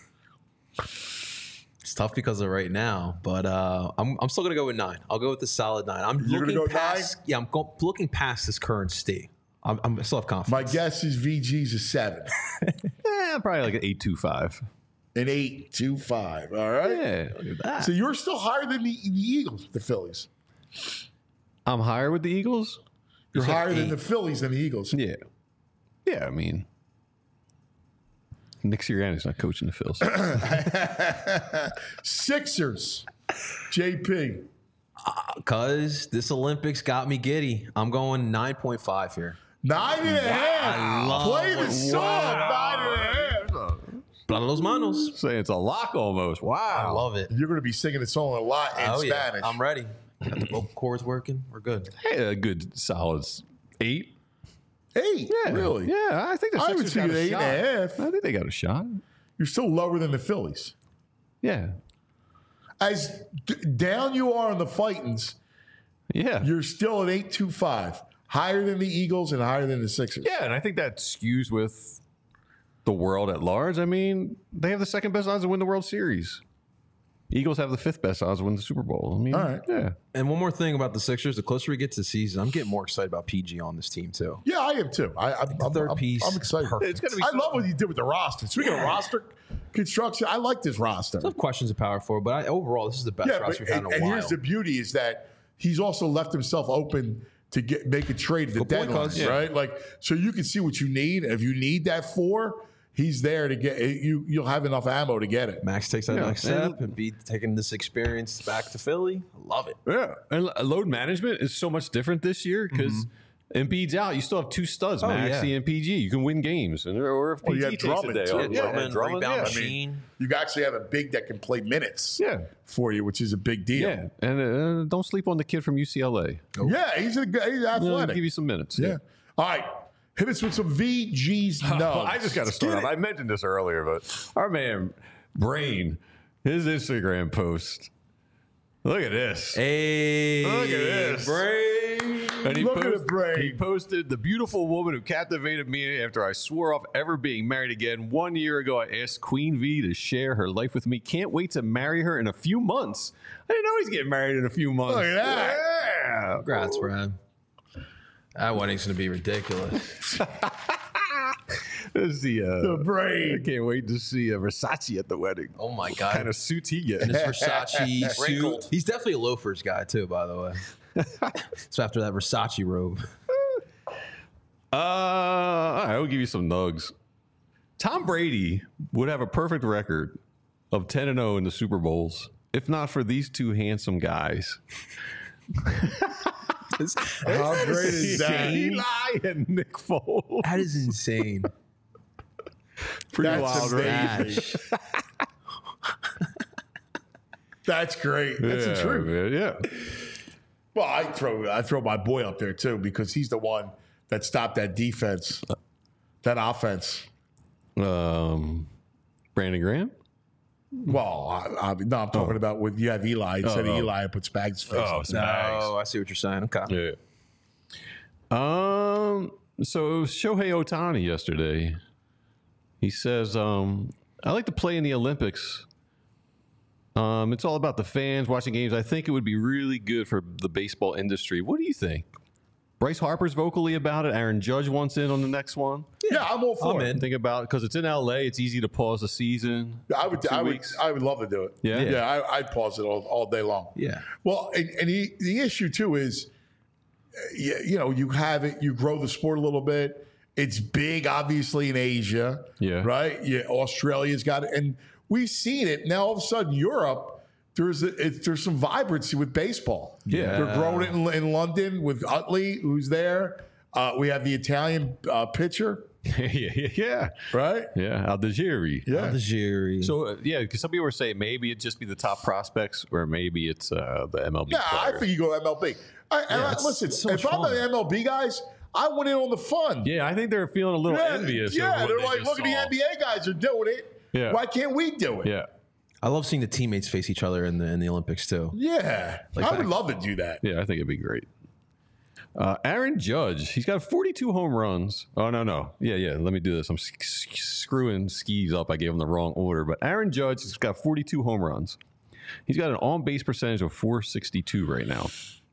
It's tough because of right now, but uh, I'm I'm still gonna go with nine. I'll go with the solid nine. I'm You're gonna looking go past. Yeah, I'm go, looking past this current state. I'm, I'm I still have confidence. My guess is V G's a seven. Eh, probably like an eight two five. An eight, two, five. All right. Yeah, look at that. So you're still higher than the, the Eagles, the Phillies. I'm higher with the Eagles. You're said higher than eight. the Phillies than the Eagles. Yeah, yeah. I mean, Nick Sirianni's not coaching the Phils. Sixers. J P. Because this Olympics got me giddy. I'm going nine point five here. Nine and a half. love Play the it. song. Nine and a half. Blood los manos. Say it's a lock almost. I Wow. love it. You're going to be singing the song a lot in oh Spanish. yeah, I'm ready. Got the vocal cords working. We're good. Hey, a good solid eight. Eight. Yeah, Really? Yeah, I think the I would Sixers see got an a eight shot. and a half. I think they got a shot. You're still lower than the Phillies. Yeah, As d- down you are on the Fightins, yeah, you're still at eight two five. Higher than the Eagles and higher than the Sixers. yeah. And I think that skews with the world at large. I mean, they have the second best odds to win the World Series. Eagles have the fifth best odds to win the Super Bowl. I mean, All right. yeah. And one more thing about the Sixers: the closer we get to the season, I'm getting more excited about P G on this team too. Yeah, I am too. I, I'm, I'm, third I'm, piece, I'm excited. perfect. It's gonna be I so- love what you did with the roster. Speaking of roster construction, I like this roster. I have questions of power for, but I, overall, this is the best Yeah, roster but, we've had and, in a and while. here's the beauty is that he's also left himself open to get make a trade at the Good point, deadline, Cuz. Yeah. right? Like, so you can see what you need. If you need that four, he's there to get you. You'll have enough ammo to get it. Max takes that Yeah, next and- step and be taking this experience back to Philly. I love it. Yeah, and lo- load management is so much different this year because Embiid's out. You still have two studs, Oh, Maxey yeah. and P G. You can win games, and or if Well, P you G got takes a Drummond, day too. off, Yeah, Drummond, Drummond, rebound yeah. machine. You actually have a big that can play minutes. Yeah. for you, which is a big deal. Yeah, and uh, don't sleep on the kid from U C L A. Yeah, he's a he's He'll athletic. give you some minutes. yeah. All right, hit us with some V G's. No, Well, I just got to start off. I mentioned this earlier, but our man Brain, his Instagram post. Look at this. Hey, Look at this. Brain. And he, Look at post- it, Brain. he posted the beautiful woman who captivated me after I swore off ever being married again. One year ago, I asked Queen V to share her life with me. Can't wait to marry her in a few months. I didn't know he's getting married in a few months. Look at that. Yeah. Congrats, Brad. That wedding's gonna be ridiculous. This is the, uh, The Brain. I can't wait to see uh, Versace at the wedding. Oh my What god. kind of suits he gets? This Versace suit. Wrinkled. He's definitely a loafers guy too, by the way. So after that Versace robe. Uh, all right, I'll give you some nugs. Tom Brady would have a perfect record of ten and oh in the Super Bowls if not for these two handsome guys. How great is that? Eli and Nick Foles. That is insane. Pretty That's wild, right? amazing. That's great. That's yeah, the truth. man, yeah. Well, I throw I throw my boy up there too because he's the one that stopped that defense, that offense. Um, Brandon Graham. Well, I, I, no, I'm talking about with you have Eli instead Oh, of oh. Eli, I put Spags' face. Oh, on. Spags. Oh, I see what you're saying. Okay. Yeah. Um. So it was Shohei Ohtani yesterday. He says, um, "I like to play in the Olympics. Um, it's all about the fans watching games. I think it would be really good for the baseball industry. What do you think?" Bryce Harper's vocally about it. Aaron Judge wants in on the next one. Yeah, I'm all for I'm it. in. Think about because it's in L A. It's easy to pause the season. I would, Two I would, weeks. I would love to do it. Yeah? yeah. I, I'd pause it all, all day long. Yeah. Well, and, and the, the issue too is, uh, you, you know, you have it, you grow the sport a little bit. It's big, obviously, in Asia. Yeah. Right. Yeah. Australia's got it, and we've seen it. Now, all of a sudden, Europe, there's a, it, there's some vibrancy with baseball. Yeah. They're growing it in, in London with Utley, who's there. Uh, we have the Italian uh, pitcher. yeah, yeah, yeah, Right. yeah. Aldigeri. Yeah. Aldigeri. So uh, yeah, because some people were saying maybe it just be the top prospects, or maybe it's uh, the M L B. Yeah, I players. think you go M L B. I, and Yeah, I, it's- listen, it's so if much I'm fun. the M L B guys, I went in on the fun. Yeah, I think they're feeling a little yeah, envious. yeah, of what they're they like, just look at the saw. N B A guys are doing it. Yeah. Why can't we do it? Yeah, I love seeing the teammates face each other in the in the Olympics too. Yeah. Like I that. would love to do that. yeah. I think it'd be great. Uh, Aaron Judge, he's got forty-two home runs. Oh no, no, yeah, yeah. Let me do this. I'm s- s- screwing skis up. I gave him the wrong order, but Aaron Judge has got forty-two home runs. He's got an on-base percentage of four sixty-two right now.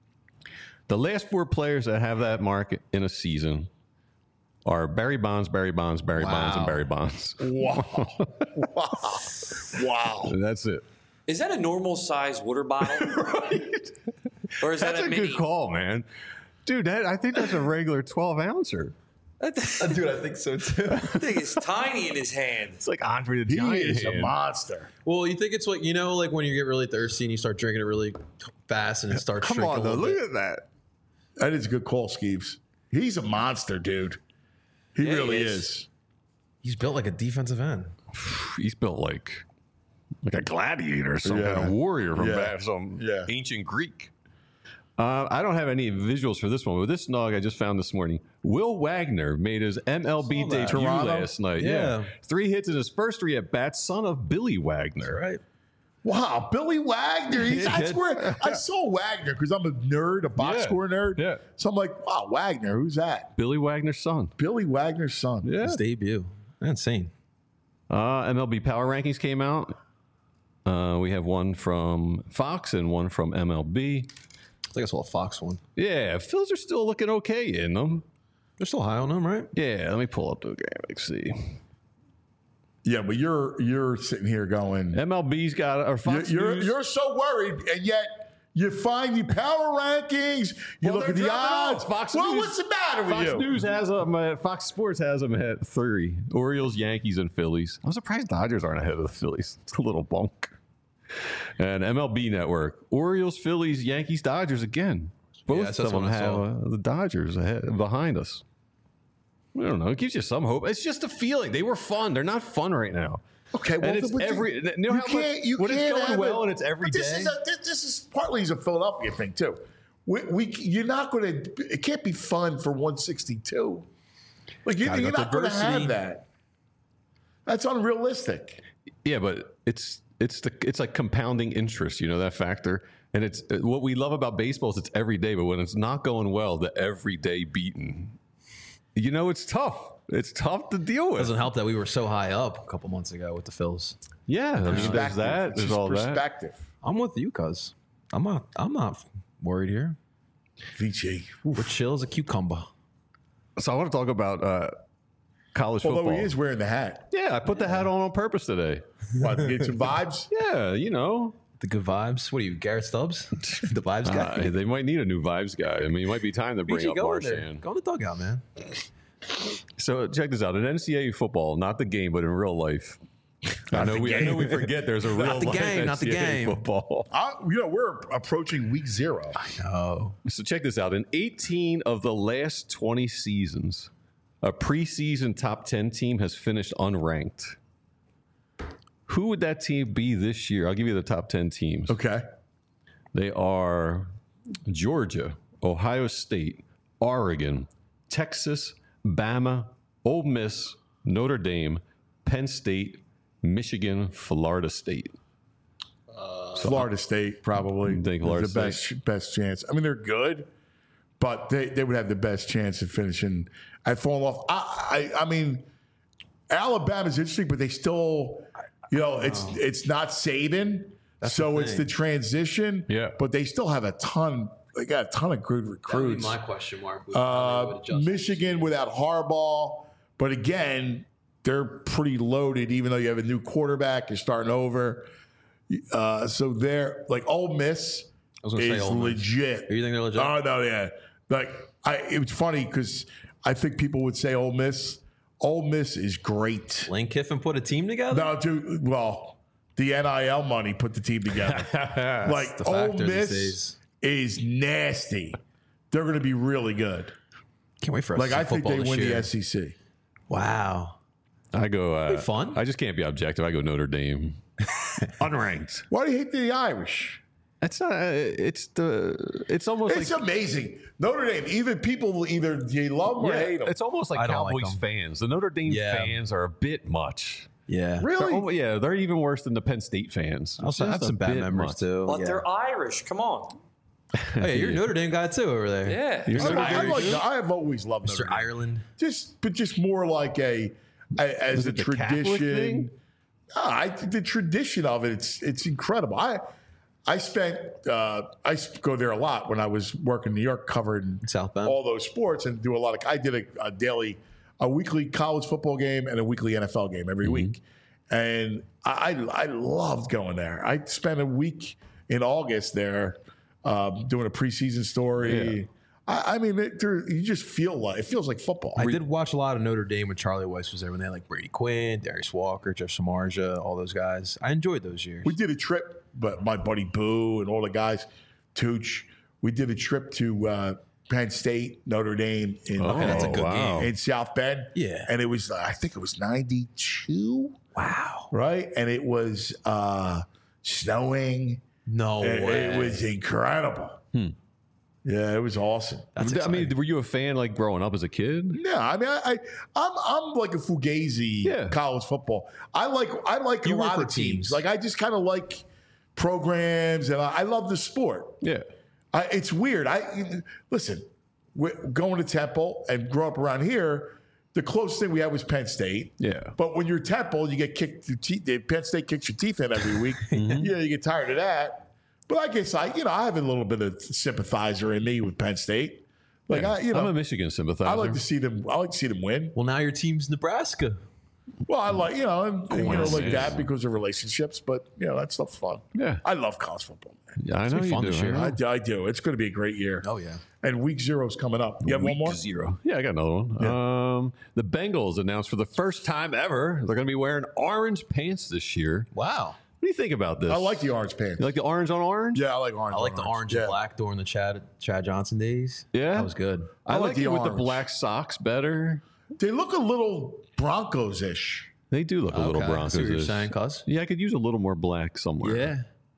The last four players that have that mark in a season are Barry Bonds, Barry Bonds, Barry Bonds, and Wow. Barry Bonds. Wow. wow. Wow. That's it. Is that a normal size water bottle? Or is That's that a, a mini? good call, man. Dude, that, I think that's a regular twelve ouncer. Dude, I think so too. That thing is tiny in his hand. It's like Andre the He Giant. is a hand. monster. Well, you think it's like, you know, like when you get really thirsty and you start drinking it really fast and it starts Come shrinking on, a though. little Look bit. at that. That is a good call, Skeeves. He's a monster, dude. He Yeah, he really is. is. He's built like a defensive end. He's built like like a gladiator, some Yeah. kind of warrior from Yeah. back, some Yeah. ancient Greek. Uh, I don't have any visuals for this one, but this nog I just found this morning. Will Wagner made his M L B Saw that. debut Toronto? last night. Yeah. Yeah. Three hits in his first three at bats, son of Billy Wagner. Right. Wow, Billy Wagner. He's, Yeah, that's kid. where I saw Wagner because I'm a nerd, a box Yeah. score nerd. Yeah. So I'm like, wow, Wagner, who's that? Billy Wagner's son. Billy Wagner's son. Yeah. His debut. Insane. Uh, M L B power rankings came out. Uh, we have one from Fox and one from M L B. I think I saw a Fox one. Yeah, Phils are still looking okay in them. They're still high on him, right? Yeah, let me pull up the game. Let's see. Yeah, but you're you're sitting here going, M L B's got or you're, Fox you're, News. you're so worried, and yet you find the power rankings, you Well, look at they're the dropping odds. off. Fox well, News- what's the matter with Fox you? News has them. Uh, Fox Sports has them at three. Orioles, Yankees, and Phillies. I'm surprised Dodgers aren't ahead of the Phillies. It's a little bunk. And M L B Network: Orioles, Phillies, Yankees, Dodgers again. Both that's of them what I have saw. uh, the Dodgers ahead behind us. I don't know. It gives you some hope. It's just a feeling. They were fun. They're not fun right now. Okay, well, And it's but every- you, you know how much- can't, you when it's can't going have well it- and it's every but this day? Is a, this, this is partly a Philadelphia thing too. We, we you're not going to. It can't be fun for one sixty-two. Like you, Gotta you're go not going to diversity. have that. That's unrealistic. Yeah, but it's it's the it's like compounding interest, you know, that factor. And it's what we love about baseball is it's every day, but when it's not going well, the everyday beating, you know, it's tough. It's tough to deal with. Doesn't help that we were so high up a couple months ago with the Phils. Yeah, I mean, there's Perspective. that. It's There's just all that. perspective. I'm with you, cuz. I'm not I'm not worried here. V J. We're chill as a cucumber. So I want to talk about uh, college Although football. he is wearing the hat. Yeah, I put the hat on on purpose today. What, to get some vibes? Yeah, you know, The good vibes. What are you, Garrett Stubbs? the vibes uh, guy. they might need a new vibes guy. I mean, it might be time to bring B G, up go in there. Marshan. Go in the dugout, man. So check this out: in N C double A football, not the game, but in real life. I know we I know we forget there's a real the life game, not the N C double A game. football. I, you know, we're approaching week zero. Oh. So check this out: in eighteen of the last twenty seasons, a preseason top ten team has finished unranked. Who would that team be this year? I'll give you the top ten teams. Okay. They are Georgia, Ohio State, Oregon, Texas, Bama, Ole Miss, Notre Dame, Penn State, Michigan, Florida State. Florida State probably You think is Florida the best best chance. I mean, they're good, but they, they would have the best chance of finishing at falling off. I, I I mean, Alabama's interesting, but they still, you know, it's it's not Saban, so the it's thing. the transition. Yeah. but they still have a ton. They got a ton of good recruits. question mark. Uh, Michigan without Harbaugh, But again, they're pretty loaded, even though you have a new quarterback, you're starting over. Uh, so they're like Ole Miss I was gonna say is Ole Miss. legit. You think they're legit? Oh no, yeah. Like I, it was funny because I think people would say Ole Miss. Ole Miss is great. Lane Kiffin put a team together? No, dude. Well, the N I L money put the team together. Like the Ole factor these Miss days. is nasty. They're going to be really good. Can't wait for us Like to see I think football they this win year. the S E C. Wow. I go. Uh, Be fun. I just can't be objective. I go Notre Dame. Unranked. Why do you hate the Irish? It's not. Uh, it's the. It's almost It's like. amazing. Notre Dame. Even people will either you love them or Yeah, hate them. it's almost like I don't like Cowboys them. fans. The Notre Dame Yeah. fans are a bit much. Yeah. They're Really? almo- yeah, they're even worse than the Penn State fans. I also It's have just some a bad bit members much. too. But yeah. they're Irish. Come on. Oh, yeah, you're a Notre Dame guy too over there. Yeah. You're I, Notre I, Dame like, too? I have always loved Notre Mister Dame. Ireland. Just, but just more like a, a as Is a it the Catholic tradition. thing? Ah, I, the tradition of it, it's it's incredible. I I spent uh, I used to go there a lot when I was working in New York, covering South Bend. all those sports, and do a lot of. I did a, a daily, a weekly college football game and a weekly N F L game every week, and I I loved going there. I spent a week in August there, um, doing a preseason story. Yeah. I, I mean, it, there, you just feel like it feels like football. I did watch a lot of Notre Dame when Charlie Weiss was there when they had like Brady Quinn, Darius Walker, Jeff Samardzija, all those guys. I enjoyed those years. We did a trip, but my buddy Boo and all the guys, Tooch, we did a trip to uh, Penn State, Notre Dame in, Oh, that's a good wow. game. in South Bend. Yeah. And it was, uh, I think it was ninety-two, Wow. right? And it was uh, snowing. No It, way. it was incredible. Yeah, it was awesome. That's I mean, exciting. were you a fan like growing up as a kid? Yeah, I mean, I, I I'm I'm like a fugazi Yeah. college football. I like I like You a root lot for of teams. teams. Like I just kind of like programs, and I, I love the sport. Yeah. I, it's weird. I listen. We're going to Temple and grow up around here. The closest thing we had was Penn State. Yeah. But when you're Temple, you get kicked. Your teeth, Penn State kicks your teeth in every week. Yeah, you get tired of that. But I guess I, you know, I have a little bit of sympathizer in me with Penn State. Like I, you know, I'm a Michigan sympathizer. I like to see them. I like to see them win. Well, now your team's Nebraska. Well, I like you know, and, and, you know, like Coincidence. that because of relationships. But you know, that stuff's fun. Yeah. I love college football. Man. Yeah, I know be you fun do. this year. I I, know. do- I do. It's going to be a great year. Oh yeah. And week zero's coming up. You have one Week more? Zero. Yeah, I got another one. Um, the Bengals announced for the first time ever they're going to be wearing orange pants this year. Wow. What do you think about this? I like the orange pants. You like the orange on orange? Yeah, I like orange. I like on the orange Yeah. and black during the Chad Chad Johnson days. Yeah? That was good. I, I like like the it with the orange. black socks better. They look a little Broncos-ish. They do look a little Okay, I Broncos. see what you're saying, cuz. Yeah, I could use a little more black somewhere. Yeah.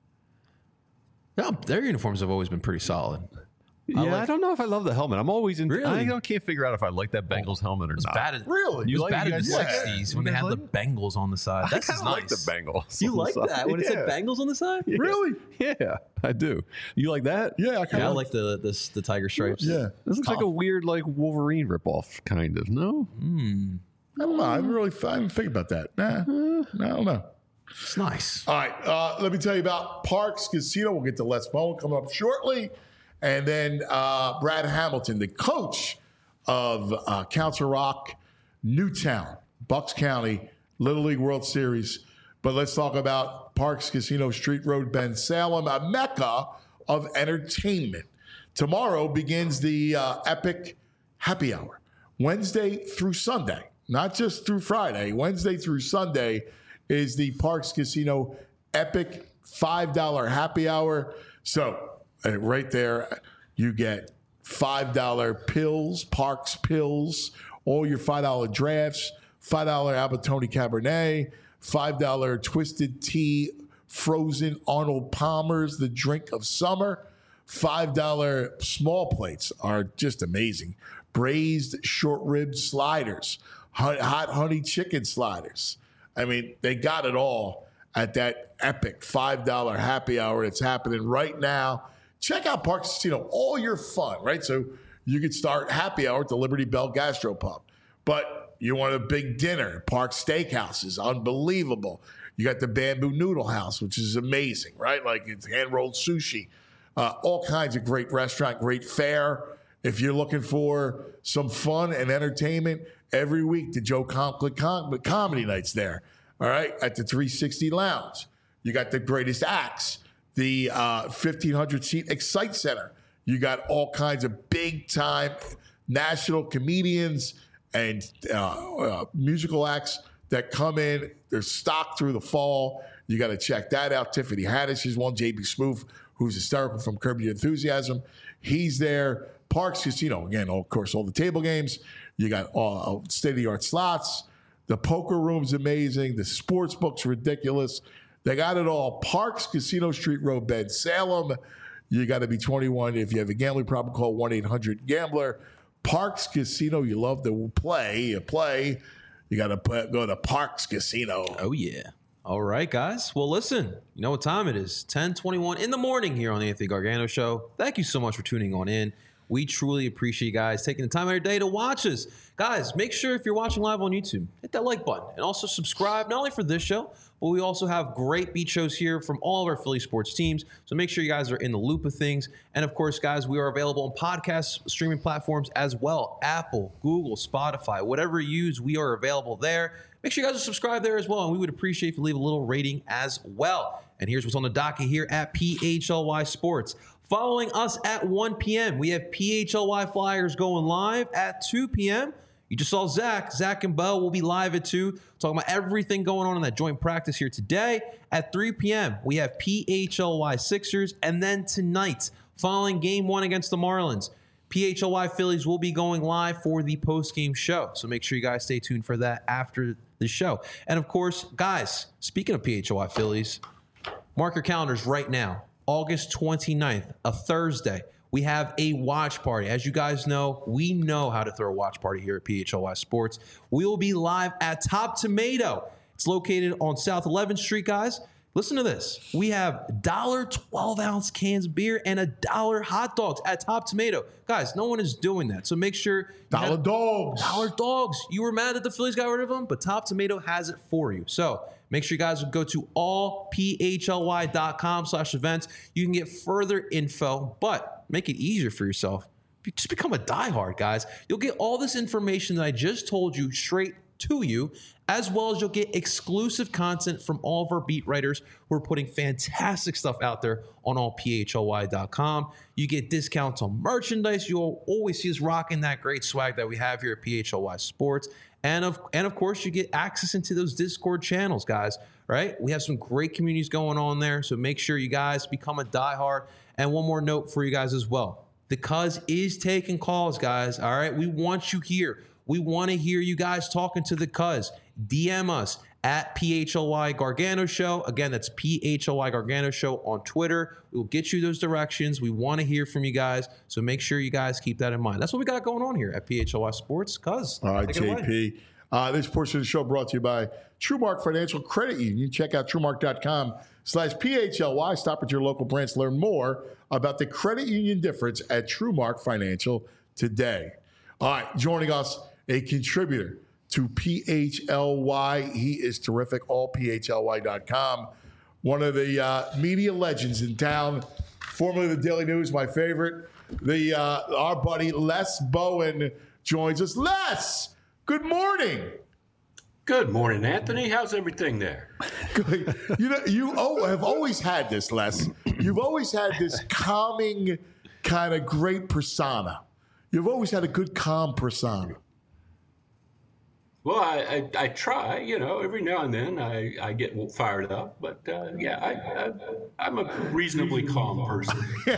No, their uniforms have always been pretty solid. Yeah, I, like- don't know if I love the helmet. I'm always in. Really? I don't, can't figure out if I like that Bengals helmet or It was not. bad. At, Really? It You was like- bad you in the guys like it? sixties You when they guys had the like Bengals on the side. I That's kind just of nice. like the Bengals. You on the like side. that when it said Yeah. Bengals on the side? Yeah. Really? Yeah, I do. You like that? Yeah, I kind Yeah, I of like the the, the tiger stripes. Yeah. This looks like a weird like Wolverine ripoff, kind of. No. I don't know. I haven't really I haven't think about that. Nah, I don't know. It's nice. All right, uh, let me tell you about Parks Casino. We'll get to Les Bowen coming up shortly. And then uh, Brad Hamilton, the coach of uh, Council Rock, Newtown, Bucks County, Little League World Series. But let's talk about Parks Casino, Street Road, Ben Salem, a mecca of entertainment. Tomorrow begins the uh, Epic Happy Hour, Wednesday through Sunday, not just through Friday. Wednesday through Sunday is the Parks Casino Epic five dollar Happy Hour. So uh, right there, you get five dollar pills, Parks pills, all your five dollar drafts, five dollar Albertoni Cabernet, five dollar Twisted Tea, frozen Arnold Palmer's, the drink of summer. five dollar small plates are just amazing. Braised short rib sliders, hot, hot honey chicken sliders. I mean, they got it all at that epic five dollar happy hour that's happening right now. Check out Parks Casino, all your fun, right? So you could start happy hour at the Liberty Bell Gastropub. But you want a big dinner, Parks Steakhouse is unbelievable. You got the Bamboo Noodle House, which is amazing, right? Like it's hand-rolled sushi. Uh, all kinds of great restaurant, great fare. If you're looking for some fun and entertainment, every week the Joe Conklin Com- Comedy Night's there, all right, at the three sixty Lounge. You got the greatest acts, the uh, fifteen hundred seat Excite Center. You got all kinds of big-time national comedians and uh, uh, musical acts that come in. They're stocked through the fall. You got to check that out. Tiffany Haddish is one. J B Smoove, who's hysterical from Curb Your Enthusiasm, he's there. Parks Casino, again, of course, all the table games. You got all state-of-the-art slots. The poker room's amazing. The sports book's ridiculous. They got it all. Parks Casino, Street Road, Bed, Salem. You got to be twenty-one. If you have a gambling problem, call one eight hundred gambler. Parks Casino, you love to play. You play. You got to go to Parks Casino. Oh, yeah. All right, guys. Well, listen, you know what time it is. ten twenty-one in the morning here on the Anthony Gargano Show. Thank you so much for tuning on in. We truly appreciate you guys taking the time of your day to watch us. Guys, make sure if you're watching live on YouTube, hit that like button. And also subscribe, not only for this show, but we also have great beat shows here from all of our Philly sports teams. So make sure you guys are in the loop of things. And of course, guys, we are available on podcast streaming platforms as well. Apple, Google, Spotify, whatever you use, we are available there. Make sure you guys are subscribed there as well. And we would appreciate if you leave a little rating as well. And here's what's on the docket here at P H L Y Sports. Following us at one p.m., we have P H L Y Flyers going live at two p.m. You just saw Zach. Zach and Bo will be live at two, talking about everything going on in that joint practice here today. At three p.m., we have P H L Y Sixers. And then tonight, following game one against the Marlins, P H L Y Phillies will be going live for the post-game show. So make sure you guys stay tuned for that after the show. And of course, guys, speaking of P H L Y Phillies, mark your calendars right now. August twenty-ninth, a Thursday, we have a watch party. As you guys know, we know how to throw a watch party here at P H L Y Sports. We will be live at Top Tomato. It's located on South eleventh Street, guys. Listen to this. We have one dollar twelve ounce cans of beer and a dollar hot dogs at Top Tomato. Guys, no one is doing that. So make sure. Dollar dogs. Dollar dogs. You were mad that the Phillies got rid of them, but Top Tomato has it for you. So make sure you guys go to all p h l y dot com slash events. You can get further info, but make it easier for yourself. Just become a diehard, guys. You'll get all this information that I just told you straight to you, as well as you'll get exclusive content from all of our beat writers who are putting fantastic stuff out there on all p h l y dot com. You get discounts on merchandise. You'll always see us rocking that great swag that we have here at P H L Y Sports. And of, and of course, you get access into those Discord channels, guys, right? We have some great communities going on there, so make sure you guys become a diehard. And one more note for you guys as well. The Cuz is taking calls, guys, all right? We want you here. We want to hear you guys talking to the Cuz. D M us at P H L Y Gargano Show. Again, that's P H L Y Gargano Show on Twitter. We'll get you those directions. We want to hear from you guys, so make sure you guys keep that in mind. That's what we got going on here at P H L Y Sports. Cuz. All right, J P. Uh, this portion of the show brought to you by TrueMark Financial Credit Union. Check out truemark dot com slash P H L Y. Stop at your local branch to learn more about the credit union difference at TrueMark Financial today. All right, joining us, a contributor to P H L Y. He is terrific, all p h l y dot com. One of the uh, media legends in town, formerly the Daily News, my favorite. The uh, our buddy Les Bowen joins us. Les, good morning. Good morning, Anthony. How's everything there? Good. You know, you oh, have always had this, Les. You've always had this calming, kind of great persona. You've always had a good, calm persona. Well, I, I, I try, you know, every now and then I, I get fired up. But, uh, yeah, I, I, I'm a reasonably calm person.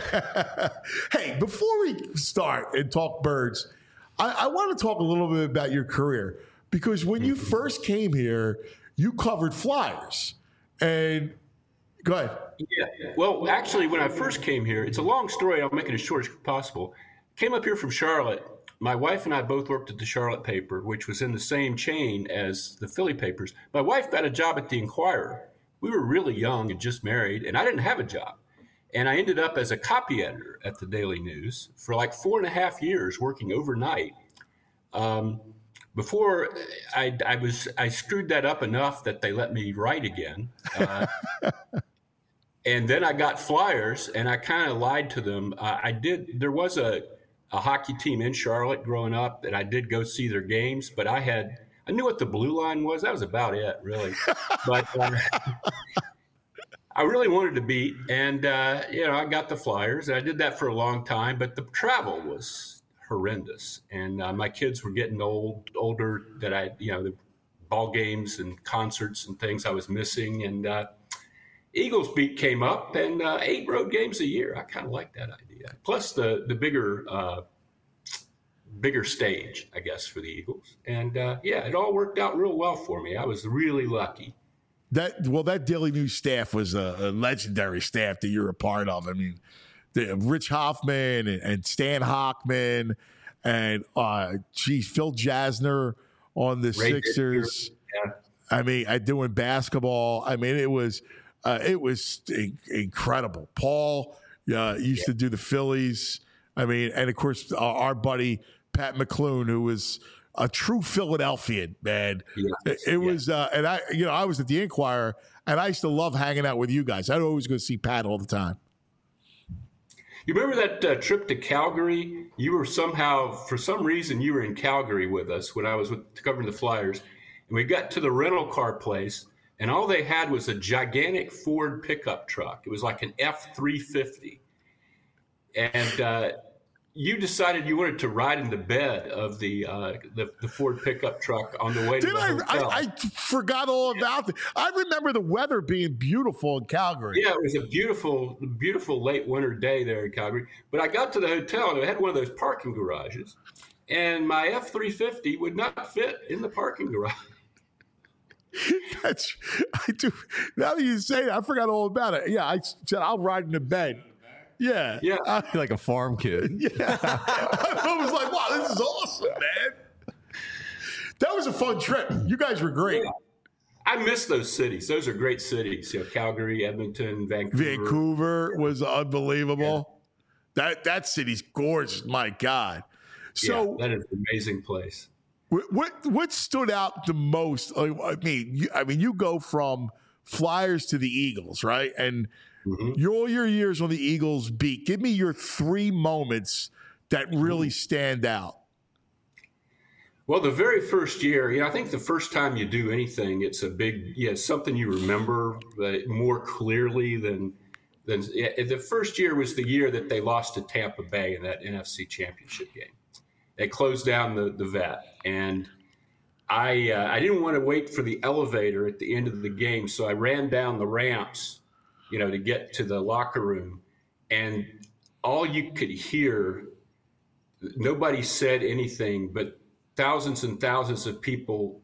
Hey, before we start and talk birds, I, I want to talk a little bit about your career. Because when you first came here, you covered Flyers. And go ahead. Yeah. Well, actually, when I first came here, it's a long story. I'll make it as short as possible. Came up here from Charlotte. My wife and I both worked at the Charlotte paper, which was in the same chain as the Philly papers. My wife got a job at the Inquirer. We were really young and just married, and I didn't have a job. And I ended up as a copy editor at the Daily News for like four and a half years working overnight. Um, before I, I was, I screwed that up enough that they let me write again. Uh, and then I got Flyers, and I kind of lied to them. Uh, I did. There was a a hockey team in Charlotte growing up, and I did go see their games, but I had I knew what the blue line was. That was about it, really. But uh, I really wanted to beat, and uh, you know, I got the Flyers. I did that for a long time, but the travel was horrendous, and uh, my kids were getting old, older. That I, you know, the ball games and concerts and things I was missing, and uh, Eagles beat came up, and uh, eight road games a year. I kind of like that idea. Plus the the bigger uh, bigger stage, I guess, for the Eagles. And uh, yeah, it all worked out real well for me. I was really lucky. That well, that Daily News staff was a, a legendary staff that you're a part of. I mean, the, Rich Hoffman and, and Stan Hockman and uh, geez, Phil Jasner on the Ray Sixers. Yeah. I mean, I doing basketball. I mean, it was uh, it was in- incredible. Paul uh, used yeah. to do the Phillies. I mean, and of course, uh, our buddy Pat McClune, who was a true Philadelphian, man. Yes. It, it yeah. was, uh, and I, you know, I was at the Inquirer, and I used to love hanging out with you guys. I'd always go see Pat all the time. You remember that uh, trip to Calgary? You were somehow, for some reason, you were in Calgary with us when I was with, covering the Flyers, and we got to the rental car place, and all they had was a gigantic Ford pickup truck. It was like an F three fifty, and uh, you decided you wanted to ride in the bed of the uh, the, the Ford pickup truck on the way to Did the I, hotel. I, I forgot all about it. I remember the weather being beautiful in Calgary. Yeah, it was a beautiful, beautiful late winter day there in Calgary. But I got to the hotel, and it had one of those parking garages, and my F three fifty would not fit in the parking garage. That's I do. Now that you say it, I forgot all about it. Yeah, I said I'll ride in the bed. Yeah. Yeah. Uh, You're like a farm kid. Yeah. I was like, wow, this is awesome, man. That was a fun trip. You guys were great. Yeah. I miss those cities. Those are great cities. You know, Calgary, Edmonton, Vancouver. Vancouver was unbelievable. Yeah. That that city's gorgeous. My God. So yeah, that is an amazing place. What what, what stood out the most? I mean, you, I mean, you go from Flyers to the Eagles, right? And mm-hmm. your, all your years on the Eagles beat. Give me your three moments that really stand out. Well, the very first year, you know, I think the first time you do anything, it's a big, yeah, something you remember more clearly than than the first year was the year that they lost to Tampa Bay in that N F C Championship game. They closed down the, the vet, and I uh, I didn't want to wait for the elevator at the end of the game, so I ran down the ramps, you know, to get to the locker room, and all you could hear, nobody said anything, but thousands and thousands of people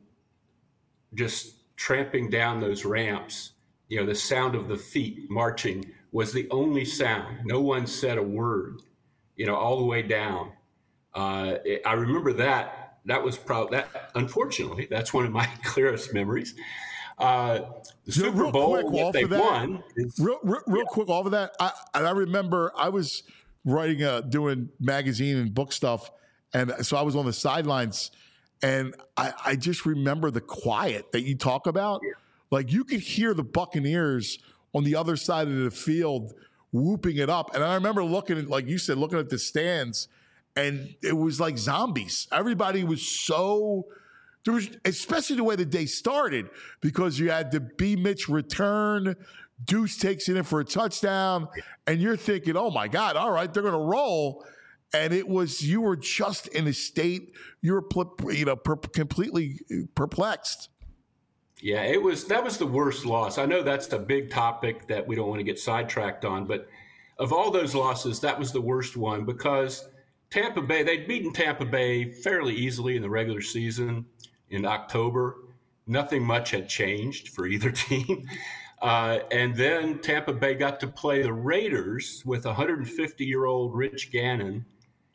just tramping down those ramps. You know, the sound of the feet marching was the only sound. No one said a word, you know, all the way down. Uh, I remember that. That was probably that. Unfortunately, that's one of my clearest memories. Uh, the yeah, Super Bowl quick, that they that, won. Is, real, real, real yeah. quick, off of that, I, I remember I was writing, uh, doing magazine and book stuff, and so I was on the sidelines, and I, I just remember the quiet that you talk about. Yeah. Like you could hear the Buccaneers on the other side of the field whooping it up, and I remember looking at, like you said, looking at the stands. And it was like zombies. Everybody was so, there was, especially the way the day started, because you had the B. Mitch return, Deuce takes it in for a touchdown, and you're thinking, oh my God, all right, they're going to roll. And it was, you were just in a state, you were, you know, per, completely perplexed. Yeah, it was, that was the worst loss. I know that's a big topic that we don't want to get sidetracked on, but of all those losses, that was the worst one because Tampa Bay, they'd beaten Tampa Bay fairly easily in the regular season in October. Nothing much had changed for either team. Uh, and then Tampa Bay got to play the Raiders with one hundred fifty-year-old Rich Gannon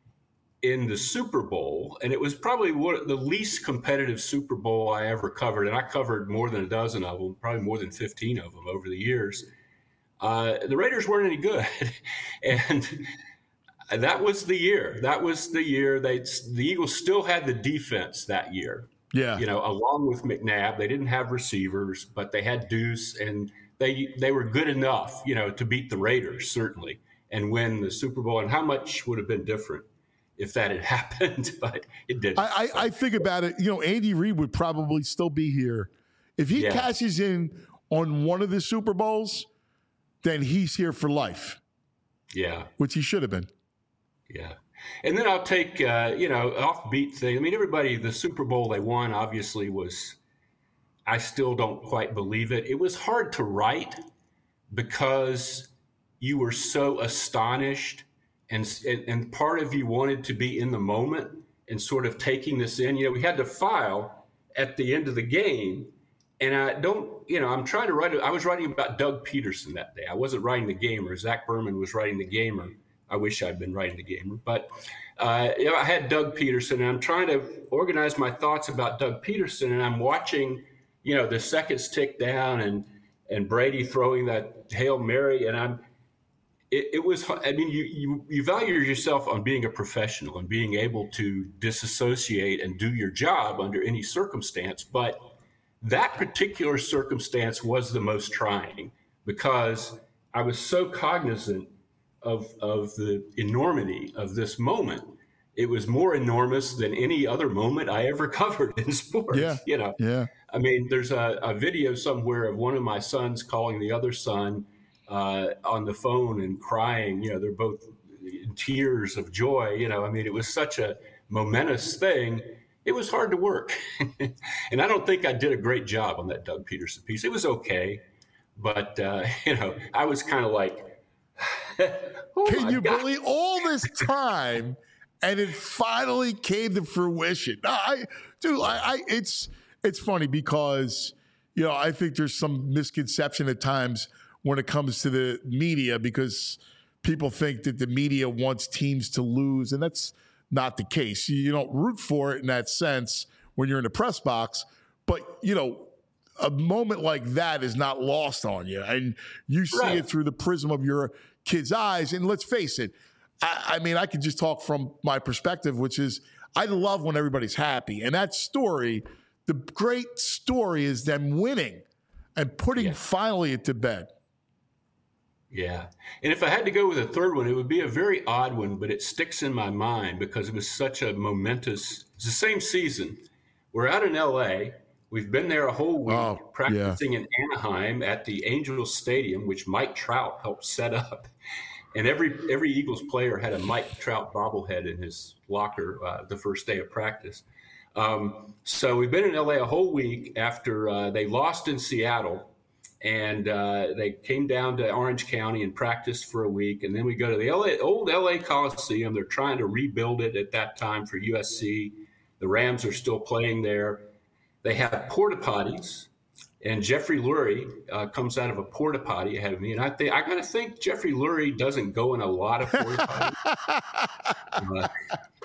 in the Super Bowl. And it was probably one, the least competitive Super Bowl I ever covered. And I covered more than a dozen of them, probably more than fifteen of them over the years. Uh, the Raiders weren't any good. and that was the year. That was the year they the Eagles still had the defense that year. Yeah, you know, along with McNabb, they didn't have receivers, but they had Deuce, and they they were good enough, you know, to beat the Raiders certainly and win the Super Bowl. And how much would have been different if that had happened, but it didn't. I, I, I think about it. You know, Andy Reid would probably still be here if he Yeah. cashes in on one of the Super Bowls. Then he's here for life, Yeah. which he should have been. Yeah. And then I'll take, uh, you know, offbeat thing. I mean, everybody, the Super Bowl they won obviously was, I still don't quite believe it. It was hard to write because you were so astonished and, and, and part of you wanted to be in the moment and sort of taking this in. You know, we had to file at the end of the game. And I don't, you know, I'm trying to write, I was writing about Doug Peterson that day. I wasn't writing the Gamer. Zach Berman was writing the Gamer. I wish I'd been writing the Gamer. But uh, you know, I had Doug Peterson, and I'm trying to organize my thoughts about Doug Peterson, and I'm watching, you know, the seconds tick down and and Brady throwing that Hail Mary, and I'm, it, it was, I mean, you, you, you value yourself on being a professional and being able to disassociate and do your job under any circumstance, but that particular circumstance was the most trying because I was so cognizant of of the enormity of this moment. It was more enormous than any other moment I ever covered in sports. Yeah. You know, Yeah. I mean, there's a, a video somewhere of one of my sons calling the other son uh, on the phone and crying. You know, they're both in tears of joy. You know, I mean, it was such a momentous thing. It was hard to work. And I don't think I did a great job on that Doug Peterson piece. It was okay. But, uh, you know, I was kind of like, oh Can you God. believe all this time and it finally came to fruition? No, I, dude, I, I, it's, it's funny because, you know, I think there's some misconception at times when it comes to the media because people think that the media wants teams to lose, and that's not the case. You don't root for it in that sense when you're in the press box, but, you know, a moment like that is not lost on you, and you see Right. it through the prism of your kid's eyes. And let's face it, I, I mean, I can just talk from my perspective, which is I love when everybody's happy. And that story, the great story is them winning and putting Yeah. finally it to bed. Yeah. And if I had to go with a third one, it would be a very odd one, but it sticks in my mind because it was such a momentous, it's the same season. We're out in L A. We've been there a whole week Oh, practicing in Anaheim at the Angels Stadium, which Mike Trout helped set up. And every every Eagles player had a Mike Trout bobblehead in his locker uh, the first day of practice. Um, so we've been in L A a whole week after uh, they lost in Seattle. And uh, they came down to Orange County and practiced for a week. And then we go to the L A, old L A Coliseum. They're trying to rebuild it at that time for U S C. The Rams are still playing there. They have porta potties. And Jeffrey Lurie uh, comes out of a porta potty ahead of me. And I think I got to think Jeffrey Lurie doesn't go in a lot of porta potties. uh,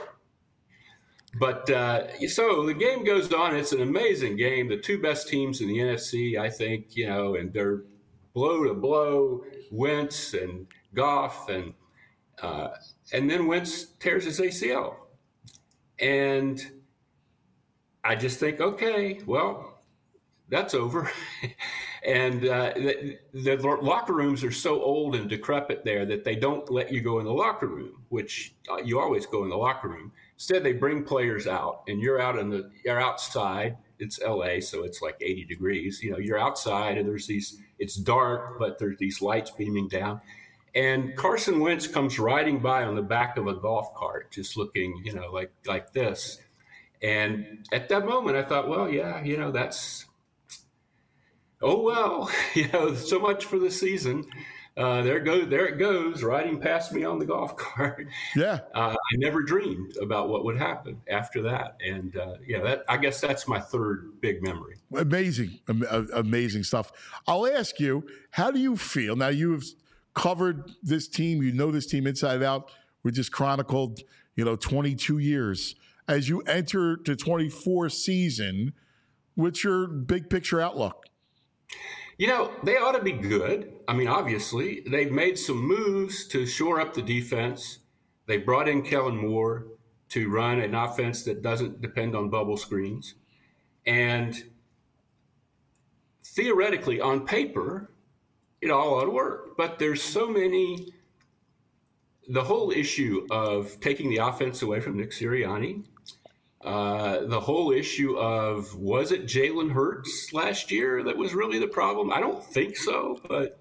But uh, so the game goes on. It's an amazing game. The two best teams in the N F C, I think, you know, and they're blow to blow. Wentz and Goff, and uh, and then Wentz tears his A C L, and I just think, okay, well, that's over. And uh, the, the locker rooms are so old and decrepit there that they don't let you go in the locker room, which uh, you always go in the locker room. Instead, they bring players out, and you're out in the you're outside. It's L A, so it's like eighty degrees. You know, you're outside, and there's these. It's dark, but there's these lights beaming down. And Carson Wentz comes riding by on the back of a golf cart, just looking, you know, like like this. And at that moment, I thought, well, yeah, you know, that's. Oh well, you know, so much for the season. Uh, there goes, there it goes, riding past me on the golf cart. Yeah, uh, I never dreamed about what would happen after that, and uh, yeah, that I guess that's my third big memory. amazing, am- amazing stuff. I'll ask you, how do you feel now? You've covered this team, you know this team inside out. We just chronicled, you know, twenty-two years as you enter the twenty-four season. What's your big picture outlook? You know, they ought to be good. I mean, obviously, they've made some moves to shore up the defense. They brought in Kellen Moore to run an offense that doesn't depend on bubble screens. And theoretically, on paper, it all ought to work. But there's so many the whole issue of taking the offense away from Nick Sirianni, uh, the whole issue of was it Jalen Hurts last year that was really the problem? I don't think so, but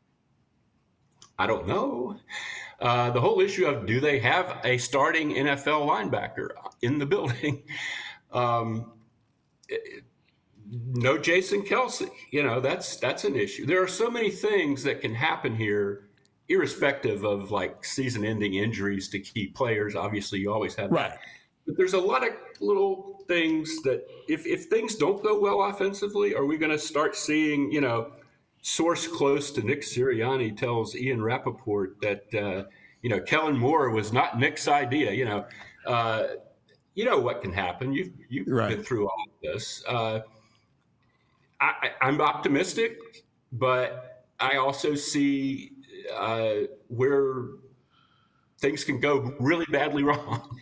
I don't know. Uh, the whole issue of do they have a starting N F L linebacker in the building? um, it, no Jason Kelsey. You know, that's that's an issue. There are so many things that can happen here, irrespective of like season-ending injuries to key players. Obviously, you always have Right. that. But there's a lot of little things that if, if things don't go well offensively, are we going to start seeing, you know, source close to Nick Sirianni tells Ian Rappaport that, uh, you know, Kellen Moore was not Nick's idea. You know, uh, you know what can happen. You've, you've Right. been through all of this. Uh, I, I- I'm optimistic, but I also see uh, where things can go really badly wrong.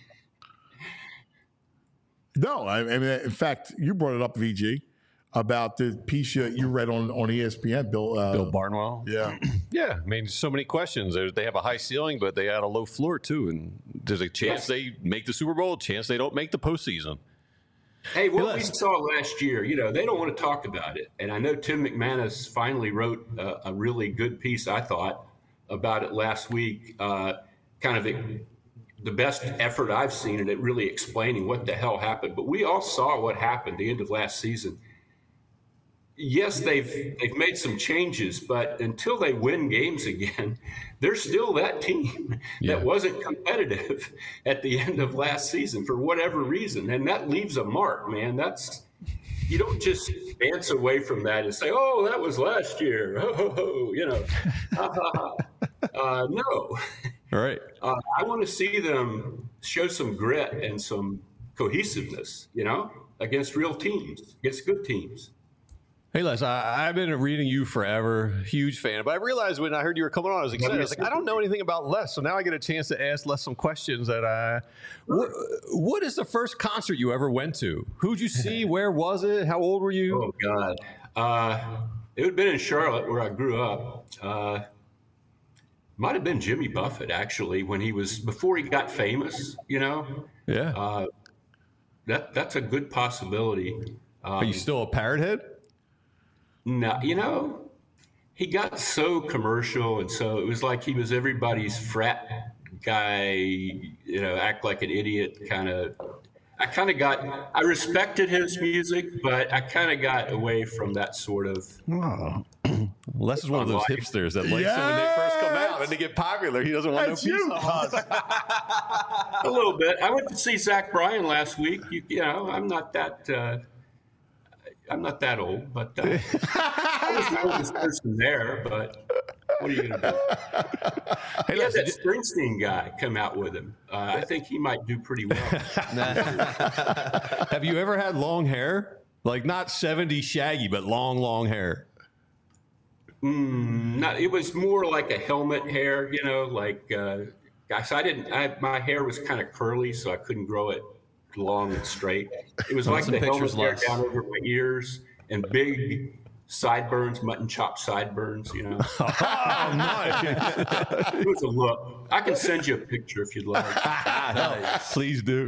No, I, I mean, in fact, you brought it up, V G, about the piece you, you read on, on E S P N, Bill. Uh, Bill Barnwell. Yeah. Yeah, I mean, so many questions. They're, they have a high ceiling, but they got a low floor too. And there's a chance Yes. they make the Super Bowl, a chance they don't make the postseason. Hey, what we listen. saw last year, you know, they don't want to talk about it. And I know Tim McManus finally wrote a, a really good piece, I thought, about it last week. Uh, kind of a, the best effort I've seen in it, really explaining what the hell happened. But we all saw what happened the end of last season. Yes, they've they've made some changes, but until they win games again, they're still that team Yeah. that wasn't competitive at the end of last season for whatever reason, and that leaves a mark, man. That's you don't just dance away from that and say, "Oh, that was last year," ho, ho, ho, you know. uh, no, All right. uh, I want to see them show some grit and some cohesiveness, you know, against real teams, against good teams. Hey, Les, I, I've been reading you forever, huge fan. But I realized when I heard you were coming on, I was excited. I was like, I don't know anything about Les, so now I get a chance to ask Les some questions. That I, what, what is the first concert you ever went to? Who'd you see? Where was it? How old were you? Oh God, uh, it would have been in Charlotte where I grew up. Uh, might have been Jimmy Buffett actually when he was before he got famous. You know, Yeah. uh, that that's a good possibility. Um, Are you still a parrot head? No, you know, he got so commercial, and so it was like he was everybody's frat guy, you know, act like an idiot kind of. I kind of got, I respected his music, but I kind of got away from that sort of. Oh. Les is one of those Life. hipsters that likes them when they first come out and they get popular. He doesn't want That's no piece you, of them. A little bit. I went to see Zach Bryan last week. You, you know, I'm not that. Uh, I'm not that old, but uh, I was the oldest person there. But what are you going to do? Hey, He had Les, that did Springsteen guy come out with him. Uh, I think he might do pretty well. have you ever had long hair? Like not seventies shaggy, but long, long hair. Mm, not, it was more like a helmet hair, you know, like, uh, gosh, I didn't, I, my hair was kind of curly, so I couldn't grow it long and straight. It was like some the helmet pictures, hair Les. down over my ears and big sideburns, mutton chop sideburns, you know. Oh, nice. It was a look. I can send you a picture if you'd like. Please do.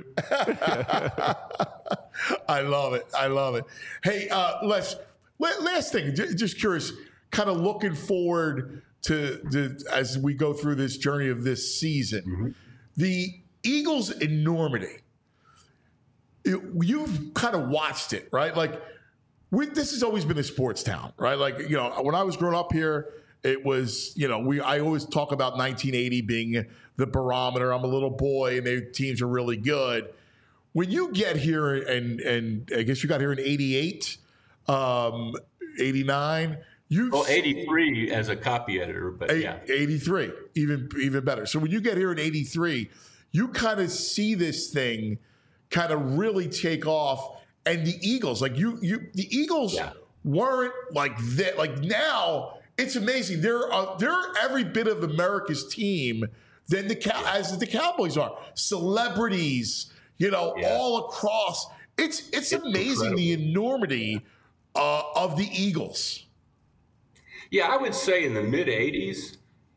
I love it. I love it. Hey, uh, Les, la- last thing, j- just curious, kind of looking forward to, to as we go through this journey of this season, Mm-hmm. the Eagles' enormity. It- you've kind of watched it, right? Like, we, this has always been a sports town, right? Like, you know, when I was growing up here, it was, you know, we. I always talk about nineteen eighty being the barometer. I'm a little boy, and their teams are really good. When you get here, and and I guess you got here in eighty-eight, um, eighty-nine. You Well, eighty-three as a copy editor, but yeah. eighty-three, even even better. So when you get here in eighty-three, you kind of see this thing kind of really take off. And the Eagles, like you, you, the Eagles Yeah. weren't like that. Like now, it's amazing. They're uh, they're every bit of America's team than the Cow- as the Cowboys are. Celebrities, you know, Yeah. all across. It's it's, It's amazing incredible. the enormity uh, of the Eagles. Yeah, I would say in the mid eighties,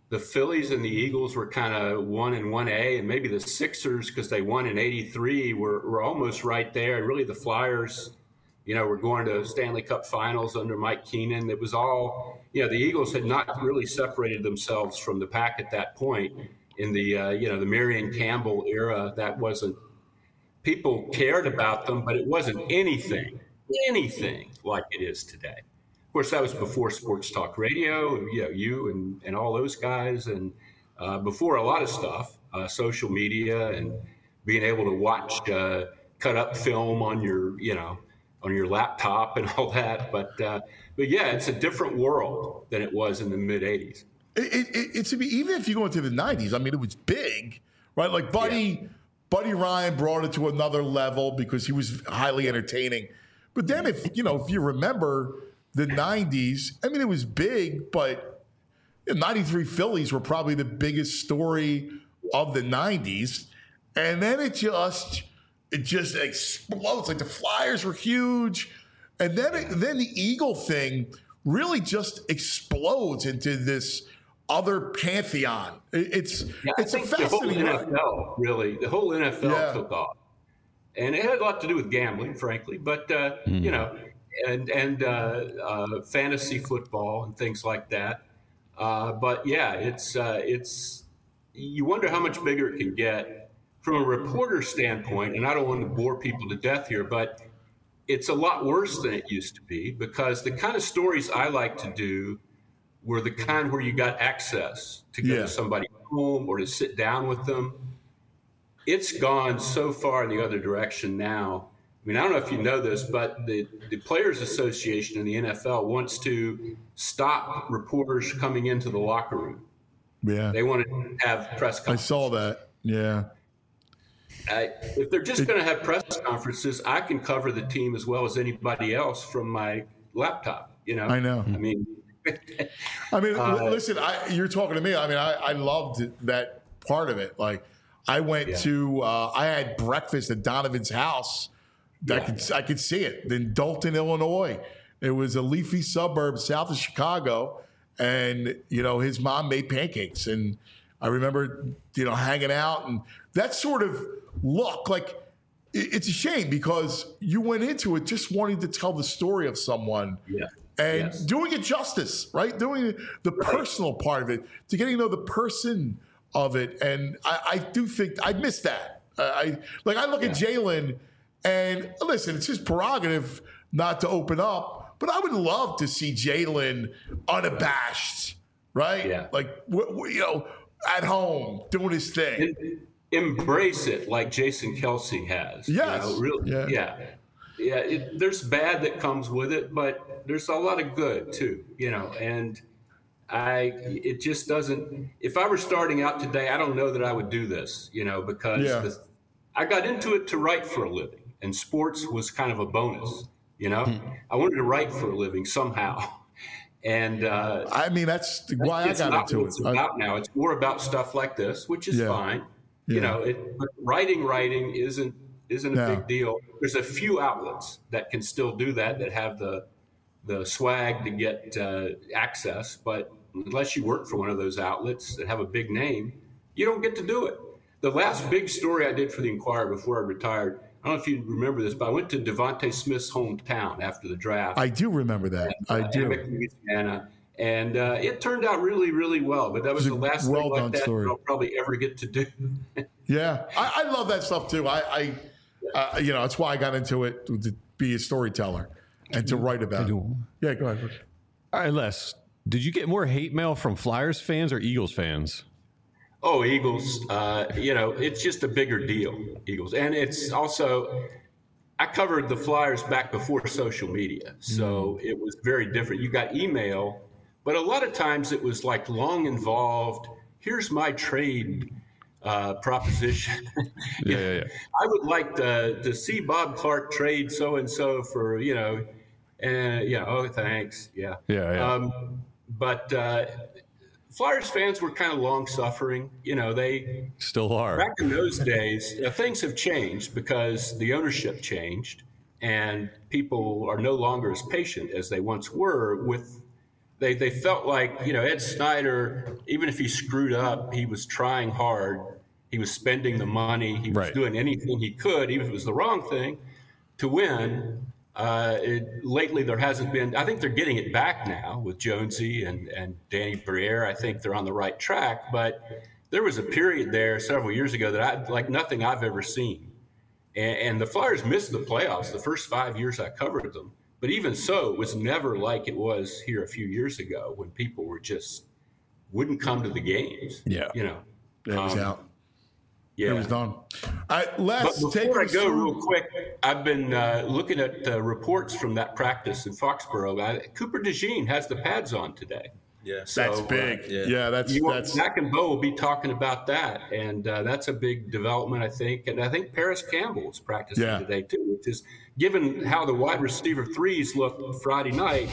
the Phillies and the Eagles were kind of one and one A, and maybe the Sixers, because they won in eighty-three, were, were almost right there. And really the Flyers, you know, were going to Stanley Cup finals under Mike Keenan. It was all, you know, the Eagles had not really separated themselves from the pack at that point. In the, uh, you know, the Marion Campbell era, that wasn't, people cared about them, but it wasn't anything, anything like it is today. Of course, that was before sports talk radio, you know, you and, and all those guys, and uh, before a lot of stuff, uh, social media and being able to watch uh, cut up film on your, you know, on your laptop and all that. But, uh, but yeah, it's a different world than it was in the mid eighties. It, it, it's even if you go into the nineties, I mean, it was big, right? Like Buddy, yeah. Buddy Ryan brought it to another level because he was highly entertaining. But then, if you know, if you remember the nineties, I mean, it was big, but the ninety-three Phillies were probably the biggest story of the nineties, and then it just it just explodes. Like the Flyers were huge, and then it, then the Eagle thing really just explodes into this other pantheon. It's yeah, it's I a think fascinating. The whole N F L really, the whole N F L Yeah. took off, and it had a lot to do with gambling, frankly. But uh, mm. you know, and and uh, uh, fantasy football and things like that. Uh, but yeah, it's uh, it's you wonder how much bigger it can get from a reporter standpoint. And I don't want to bore people to death here, but it's a lot worse than it used to be, because the kind of stories I like to do were the kind where you got access to go Yeah. to somebody's home or to sit down with them. It's gone so far in the other direction now. I mean, I don't know if you know this, but the, the Players Association in the N F L wants to stop reporters coming into the locker room. Yeah, They want to have press I conferences. saw that. Yeah. I, if they're just going to have press conferences, I can cover the team as well as anybody else from my laptop. You know, I know. I mean, I mean, Uh, l- listen, I, you're talking to me. I mean, I, I loved that part of it. Like, I went Yeah. to, uh, I had breakfast at Donovan's house. I Yeah. could, I could see it in Dalton, Illinois. It was a leafy suburb south of Chicago, and you know, his mom made pancakes, and I remember, you know, hanging out, and that sort of look. Like, it, it's a shame because you went into it just wanting to tell the story of someone. Yeah. And Yes. doing it justice, right? Doing the personal part of it, to getting to know the person of it. And I, I do think I miss that. Uh, I like I look at Jalen, and listen, it's his prerogative not to open up, but I would love to see Jalen unabashed, right? Yeah. Like w- w- you know, at home doing his thing. em- embrace it like Jason Kelsey has. Yes. You know, really, Yeah. yeah. Yeah. It, there's bad that comes with it, but there's a lot of good too, you know, and I, it just doesn't, if I were starting out today, I don't know that I would do this, you know, because Yeah. the, I got into it to write for a living, and sports was kind of a bonus, you know, I wanted to write for a living somehow. And, uh, I mean, that's why I it's got not into what it. it's I- about now. It's more about stuff like this, which is Yeah. fine. Yeah. You know, it, but writing, writing isn't isn't a No. big deal. There's a few outlets that can still do that, that have the the swag to get uh, access. But unless you work for one of those outlets that have a big name, you don't get to do it. The last big story I did for the Inquirer before I retired, I don't know if you remember this, but I went to Devontae Smith's hometown after the draft. I do remember that. I uh, do. Amherst, Louisiana. And uh, it turned out really, really well. But that was It's a the last well thing done like that story. I'll probably ever get to do. Yeah, I, I love that stuff too. I, I uh, you know, that's why I got into it, to be a storyteller and to write about it. Yeah, go ahead. All right, Les, did you get more hate mail from Flyers fans or Eagles fans? Oh, Eagles, uh, you know, it's just a bigger deal, Eagles. And it's also, I covered the Flyers back before social media, so it was very different. You got email, but a lot of times it was like long involved. Here's my trade uh, proposition. Yeah, yeah, yeah. I would like to, to see Bob Clark trade so-and-so for, you know, and, you know, oh, thanks. Yeah. Yeah, yeah. Um, but uh, Flyers fans were kind of long-suffering. You know, they Still are. back in those days, uh, things have changed because the ownership changed, and people are no longer as patient as they once were with They they felt like, you know, Ed Snyder, even if he screwed up, he was trying hard. He was spending the money. He was Right. doing anything he could, even if it was the wrong thing, to win. Uh, it, lately, there hasn't been. I think they're getting it back now with Jonesy and, and Danny Briere. I think they're on the right track. But there was a period there several years ago that I like nothing I've ever seen. And, and the Flyers missed the playoffs the first five years I covered them. But even so, it was never like it was here a few years ago when people were just wouldn't come to the games. Yeah. You know, It was Um, out. yeah. It was done. All right, Les, But take before I us go through. real quick, I've been uh, looking at uh, reports from that practice in Foxborough. Uh, Cooper DeJean has the pads on today. Yeah. So, That's uh, big. yeah. yeah. that's You, that's Zach and Bo will be talking about that, and uh, that's a big development, I think. And I think Paris Campbell is practicing Yeah. today too, which is given how the wide receiver threes looked Friday night.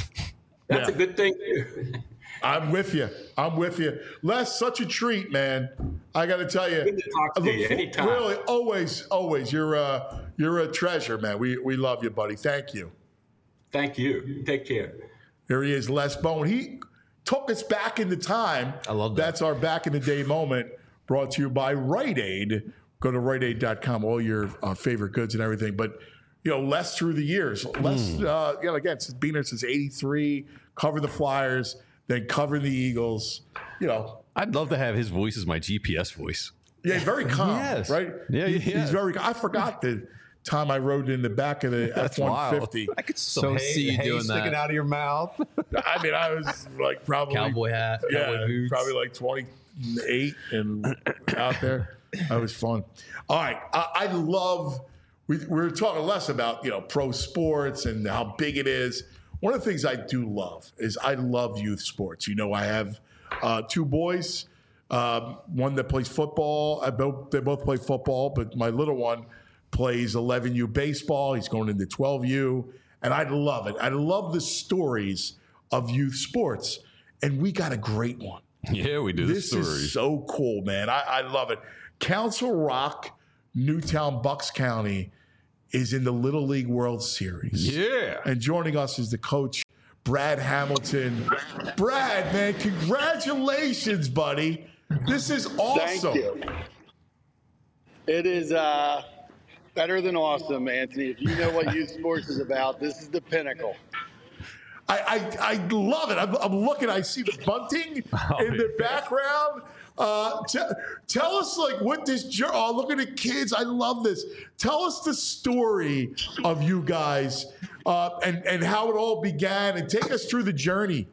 That's Yeah. a good thing too. I'm with you. I'm with you. Les, such a treat, man. I got to tell you. Good to talk to I look you for- anytime. Really, always, always. You're a you're a treasure, man. We we love you, buddy. Thank you. Thank you. Take care. Here he is, Les Bowen. He took us back into time. I love that. That's our back in the day moment. Brought to you by Rite Aid. Go to rite aid dot com. All your uh, favorite goods and everything. But you know, Les through the years. Les, uh, you know, again, since being there since eighty-three, cover the Flyers, then cover the Eagles. You know, I'd love to have his voice as my G P S voice. yeah, very calm, Yes. right? Yeah, He- yeah. He's very. I forgot the time I rode in the back of the That's F one fifty. I could so see you doing sticking that. out of your mouth. I mean, I was like probably Cowboy hat, yeah, cowboy boots. probably like twenty-eight and out there. That was fun. All right, I, I love. We, we were talking less about you know pro sports and how big it is. One of the things I do love is I love youth sports. You know, I have uh, two boys. Um, one that plays football. I both they both play football, but my little one plays eleven U baseball. He's going into twelve U, and I love it. I love the stories of youth sports, and we got a great one. Yeah, we do. This the is stories. so cool, man. I, I love it. Council Rock, Newtown, Bucks County is in the Little League World Series. Yeah. And joining us is the coach, Brad Hamilton. Brad, man, congratulations, buddy. This is awesome. Thank you. It is uh, better than awesome, Anthony. If you know what youth sports is about, this is the pinnacle. I, I, I love it. I'm, I'm looking. I see the bunting Oh, in the yeah. background. Uh, t- tell us, like, what this journey. Oh, look at the kids. I love this. Tell us the story of you guys uh, and and how it all began, and take us through the journey.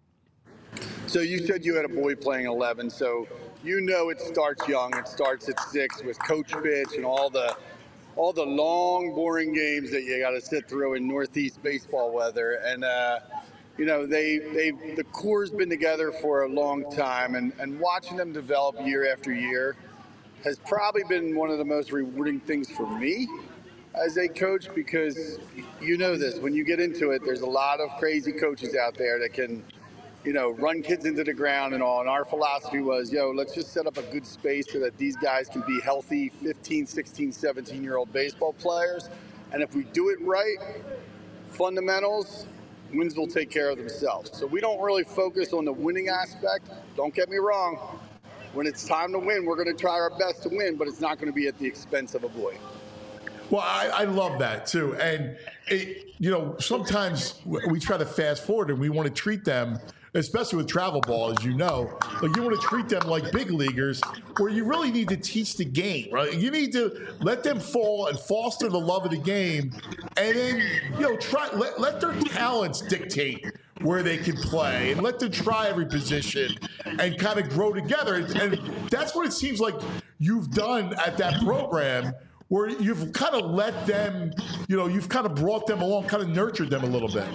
So you said you had a boy playing eleven, so you know it starts young. It starts at six with Coach Bitch and all the all the long, boring games that you got to sit through in Northeast baseball weather. And uh, you know they they the core's been together for a long time, and and watching them develop year after year has probably been one of the most rewarding things for me as a coach, because you know this, when you get into it, there's a lot of crazy coaches out there that can, you know, run kids into the ground and all. And our philosophy was, yo, let's just set up a good space so that these guys can be healthy fifteen, sixteen, seventeen-year-old baseball players. And if we do it right, fundamentals, wins will take care of themselves. So we don't really focus on the winning aspect. Don't get me wrong. When it's time to win, we're going to try our best to win, but it's not going to be at the expense of a boy. Well, I, I love that too. And, it, you know, sometimes we try to fast forward and we want to treat them, especially with travel ball, as you know, like you want to treat them like big leaguers, where you really need to teach the game, right? You need to let them fall and foster the love of the game. And then, you know, try let, let their talents dictate where they can play and let them try every position and kind of grow together. And that's what it seems like you've done at that program, where you've kind of let them, you know, you've kind of brought them along, kind of nurtured them a little bit.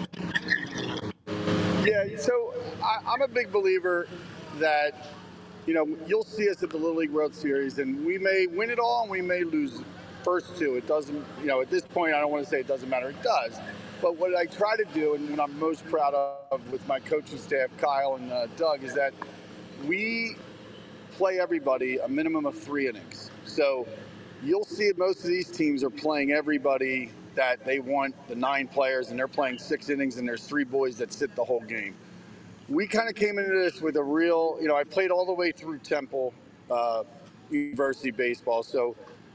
Yeah, so I, I'm a big believer that, you know, you'll see us at the Little League World Series, and we may win it all and we may lose first two. It doesn't, you know, at this point, I don't want to say it doesn't matter. It does. But what I try to do, and what I'm most proud of with my coaching staff, Kyle and uh, Doug, is that we play everybody a minimum of three innings. So you'll see most of these teams are playing everybody that they want, the nine players, and they're playing six innings, and there's three boys that sit the whole game. we kind of came into this with a real, you know, I played all the way through Temple uh, University baseball, so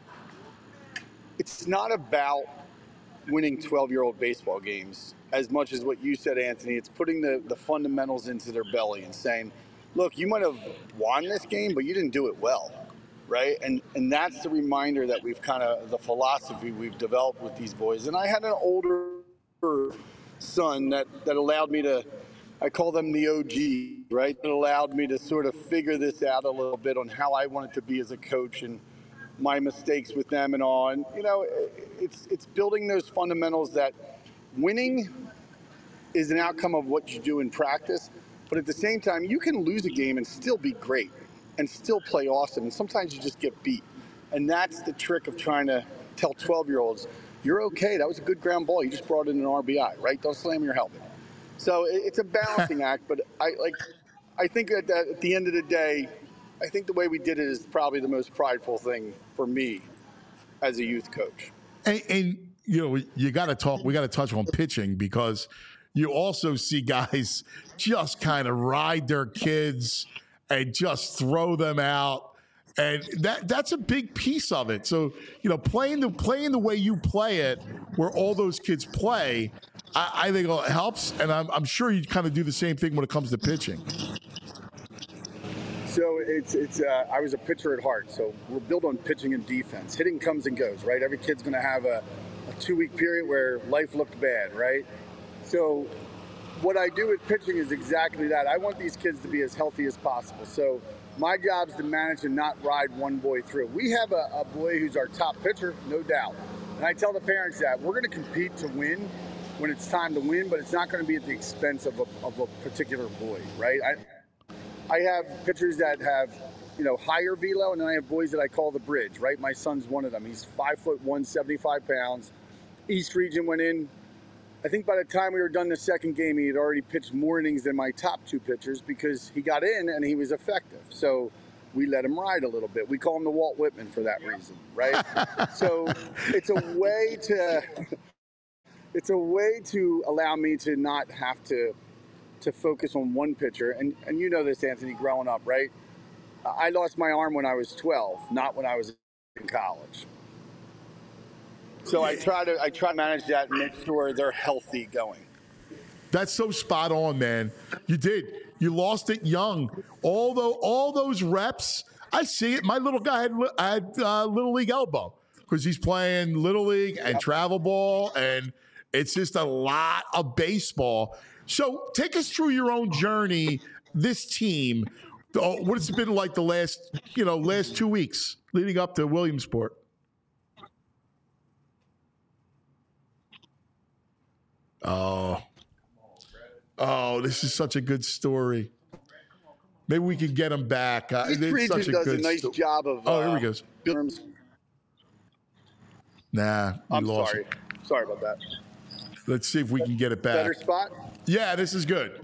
it's not about winning twelve-year-old baseball games as much as what you said, Anthony. It's putting the, the fundamentals into their belly and saying, look, you might have won this game, but you didn't do it well, right? And and that's the reminder that we've kind of, the philosophy we've developed with these boys. And I had an older son that, that allowed me to, I call them the O G, right? That allowed me to sort of figure this out a little bit on how I wanted to be as a coach and my mistakes with them and all. And, you know, it's it's building those fundamentals that winning is an outcome of what you do in practice. But at the same time, you can lose a game and still be great and still play awesome. And sometimes you just get beat. And that's the trick of trying to tell twelve-year-olds, you're okay. That was a good ground ball. You just brought in an R B I, right? Don't slam your helmet. So it's a balancing act. But I like, I think that at the end of the day, I think the way we did it is probably the most prideful thing for me as a youth coach. And, and you know, you got to talk. We got to touch on pitching because you also see guys just kind of ride their kids and just throw them out, and that that's a big piece of it. So you know, playing the playing the way you play it, where all those kids play, I, I think it helps, and I'm, I'm sure you kind of do the same thing when it comes to pitching. So it's it's. Uh, I was a pitcher at heart, so we're built on pitching and defense. Hitting comes and goes, right? Every kid's going to have a, a two-week period where life looked bad, right? So what I do with pitching is exactly that. I want these kids to be as healthy as possible. So my job is to manage and not ride one boy through. We have a, a boy who's our top pitcher, no doubt. And I tell the parents that we're going to compete to win when it's time to win, but it's not going to be at the expense of a, of a particular boy, right? I, I have pitchers that have, you know, higher velo, and then I have boys that I call the bridge, right? My son's one of them. He's five foot one, seventy-five pounds. East Region went in. I think by the time we were done the second game, he had already pitched more innings than my top two pitchers because he got in and he was effective. So we let him ride a little bit. We call him the Walt Whitman for that reason, right? So it's a way to, it's a way to allow me to not have to to focus on one pitcher. And, and you know this, Anthony, growing up, right? I lost my arm when I was twelve, not when I was in college. So I try to I try to manage that and make sure they're healthy going. That's so spot on, man. You did. You lost it young. Although all those reps, I see it. My little guy had, had uh, Little League elbow because he's playing Little League and travel ball, and it's just a lot of baseball. So take us through your own journey, this team. Oh, what has it been like the last, you know, last two weeks leading up to Williamsport? Oh, oh, this is such a good story. Maybe we can get him back. Uh, East it's Region such a does good a nice sto- job of. Oh, here uh, we go. Terms. Nah, we I'm lost sorry. it. Sorry about that. Let's see if we can get it back. Better spot? Yeah, this is good.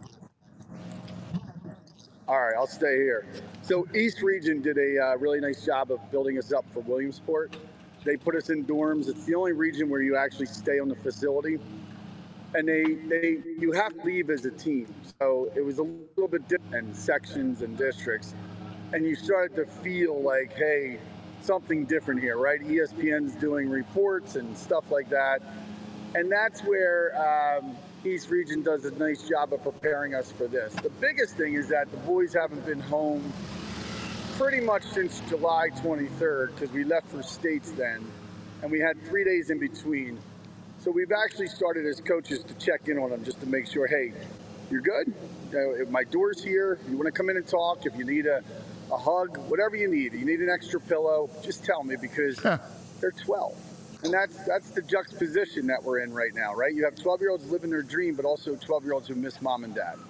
All right, I'll stay here. So East Region did a uh, really nice job of building us up for Williamsport. They put us in dorms. It's the only region where you actually stay on the facility. And they, they you have to leave as a team. So it was a little bit different in sections and districts. And you started to feel like, hey, something different here, right? E S P N's doing reports and stuff like that. And that's where um, East Region does a nice job of preparing us for this. The biggest thing is that the boys haven't been home pretty much since July twenty-third because we left for states then, and we had three days in between. So we've actually started as coaches to check in on them just to make sure, hey, you're good? Uh, my door's here. You want to come in and talk? If you need a, a hug, whatever you need. You need an extra pillow, just tell me because they're twelve. And that's that's the juxtaposition that we're in right now, right? You have twelve-year-olds living their dream, but also twelve-year-olds who miss mom and dad.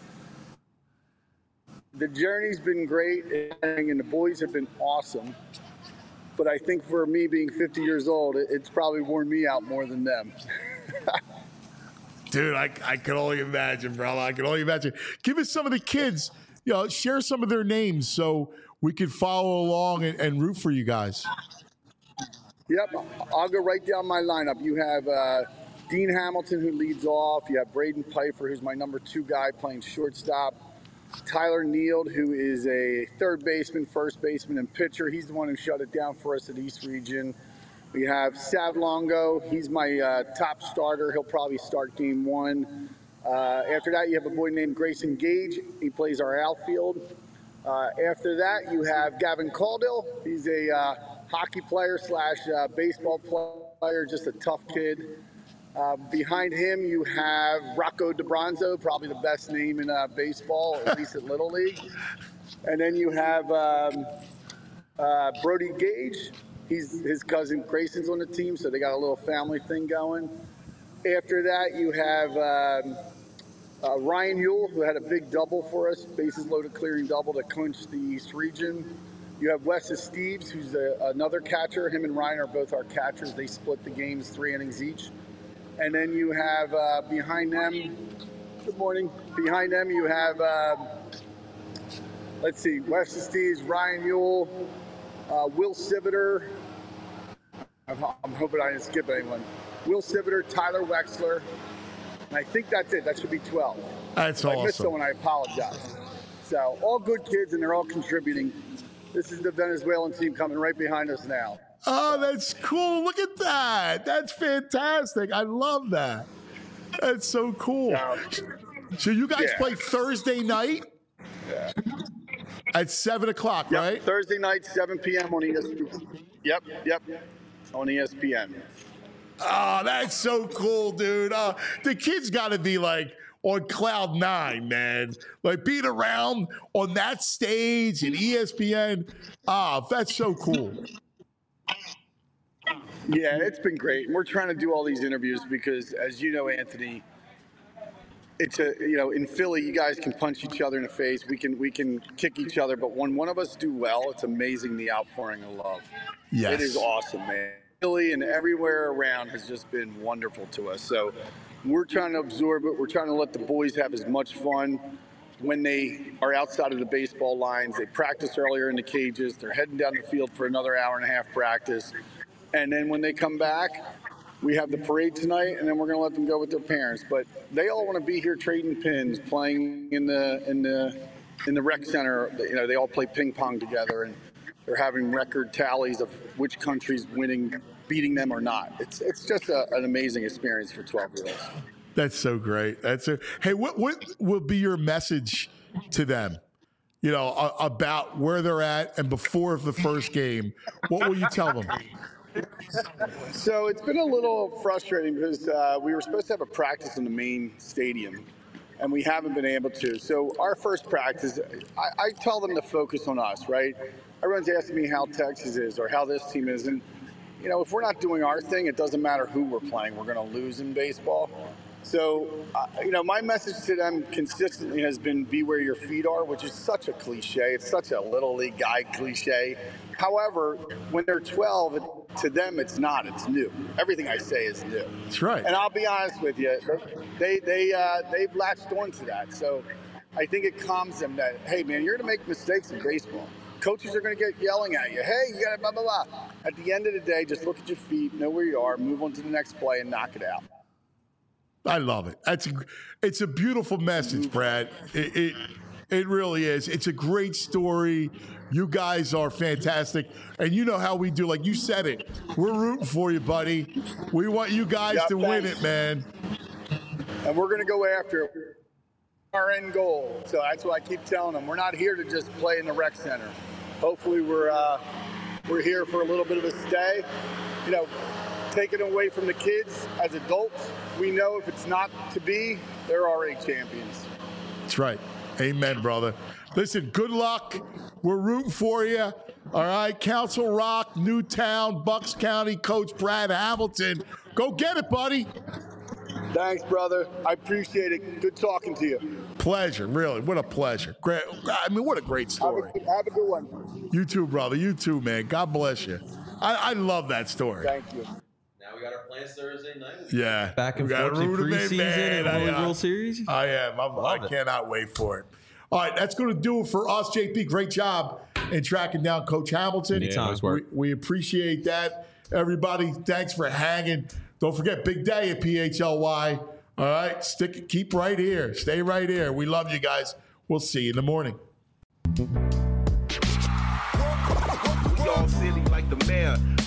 The journey's been great, and the boys have been awesome. But I think for me being fifty years old, it's probably worn me out more than them. Dude, I, I can only imagine, bro. I can only imagine. Give us some of the kids, you know, share some of their names so we can follow along and, and root for you guys. Yep, I'll go right down my lineup. You have uh, Dean Hamilton, who leads off. You have Braden Pfeiffer, who's my number two guy playing shortstop. Tyler Neild, who is a third baseman, first baseman, and pitcher. He's the one who shut it down for us at East Region. We have Sav Longo. He's my uh, top starter. He'll probably start game one. Uh, after that, you have a boy named Grayson Gage. He plays our outfield. Uh, after that, you have Gavin Caudill. He's a uh, hockey player slash uh, baseball player, just a tough kid. Uh, behind him, you have Rocco DeBronzo, probably the best name in uh, baseball, at least at Little League. And then you have um, uh, Brody Gage. He's, his cousin Grayson's on the team, so they got a little family thing going. After that, you have um, uh, Ryan Ewell, who had a big double for us, bases loaded clearing double to clinch the East Region. You have Wes Steves, who's a, another catcher. Him and Ryan are both our catchers. They split the games three innings each. And then you have uh, behind them, good morning, behind them you have, uh, let's see, Wes Steves, Ryan Ewell, uh, Will Siviter. I'm, I'm hoping I didn't skip anyone. Will Siviter, Tyler Wexler, and I think that's it. That should be twelve. That's if awesome. I missed someone, I apologize. So all good kids, and they're all contributing. This is the Venezuelan team coming right behind us now. Oh, that's cool. Look at that. That's fantastic. I love that. That's so cool. So you guys yeah. play Thursday night Yeah. at seven o'clock, Yep, right? Thursday night, seven p.m. on E S P N. Yep, yep, on E S P N. Oh, that's so cool, dude. Uh, the kids got to be like on cloud nine, man. Like being around on that stage and E S P N. Ah, that's so cool. Yeah, it's been great. And we're trying to do all these interviews because, as you know, Anthony, it's a, you know, in Philly, you guys can punch each other in the face. We can, we can kick each other. But when one of us do well, it's amazing the outpouring of love. Yes. It is awesome, man. Philly and everywhere around has just been wonderful to us. So we're trying to absorb it. We're trying to let the boys have as much fun when they are outside of the baseball lines. They practice earlier in the cages. They're heading down the field for another hour and a half practice. And then when they come back, we have the parade tonight, and then we're going to let them go with their parents. But they all want to be here trading pins, playing in the in the in the rec center. You know, they all play ping pong together, and they're having record tallies of which country's winning, beating them or not. It's it's just a, an amazing experience for twelve-year-olds. That's so great. That's a, hey, what what will be your message to them? You know, a, about where they're at and before the first game. What will you tell them? So it's been a little frustrating because uh, we were supposed to have a practice in the main stadium, and we haven't been able to. So our first practice, I, I tell them to focus on us, right? Everyone's asking me how Texas is or how this team is. And, you know, if we're not doing our thing, it doesn't matter who we're playing. We're going to lose in baseball. So, uh, you know, my message to them consistently has been be where your feet are, which is such a cliche. It's such a little league guy cliche. However, when they're twelve, it, to them, it's not. It's new. Everything I say is new. That's right. And I'll be honest with you, they, they, uh, they've latched onto that. So I think it calms them that, hey, man, you're going to make mistakes in baseball. Coaches are going to get yelling at you. Hey, you got to blah, blah, blah. At the end of the day, just look at your feet, know where you are, move on to the next play, and knock it out. I love it. That's a, it's a beautiful message, Brad. It, it it really is. It's a great story. You guys are fantastic, and you know how we do. Like you said it, we're rooting for you, buddy. We want you guys Yeah, to thanks. win it, man. And we're going to go after it. Our end goal. So that's what I keep telling them. We're not here to just play in the rec center. Hopefully, we're uh, we're here for a little bit of a stay. You know. Taken away from the kids as adults, we know if it's not to be, they're already champions. That's right. Amen, brother. Listen, good luck. We're rooting for you. All right, Council Rock, Newtown, Bucks County, Coach Brad Hamilton. Go get it, buddy. Thanks, brother. I appreciate it. Good talking to you. Pleasure, really. What a pleasure. Great. I mean, what a great story. Have a, have a good one. You too, brother. You too, man. God bless you. I, I love that story. Thank you. Now we got our plans Thursday night. Yeah. Back and We gotta forth to root 'em in, preseason man. and I, World uh, World Series. I am. I'm, I it. cannot wait for it. All right, that's going to do it for us, J P. Great job in tracking down Coach Hamilton. Anytime. We, we appreciate that. Everybody, thanks for hanging Don't forget, big day at P H L Y. All right, stick, keep right here. Stay right here. We love you guys. We'll see you in the morning. Y'all silly like the mayor.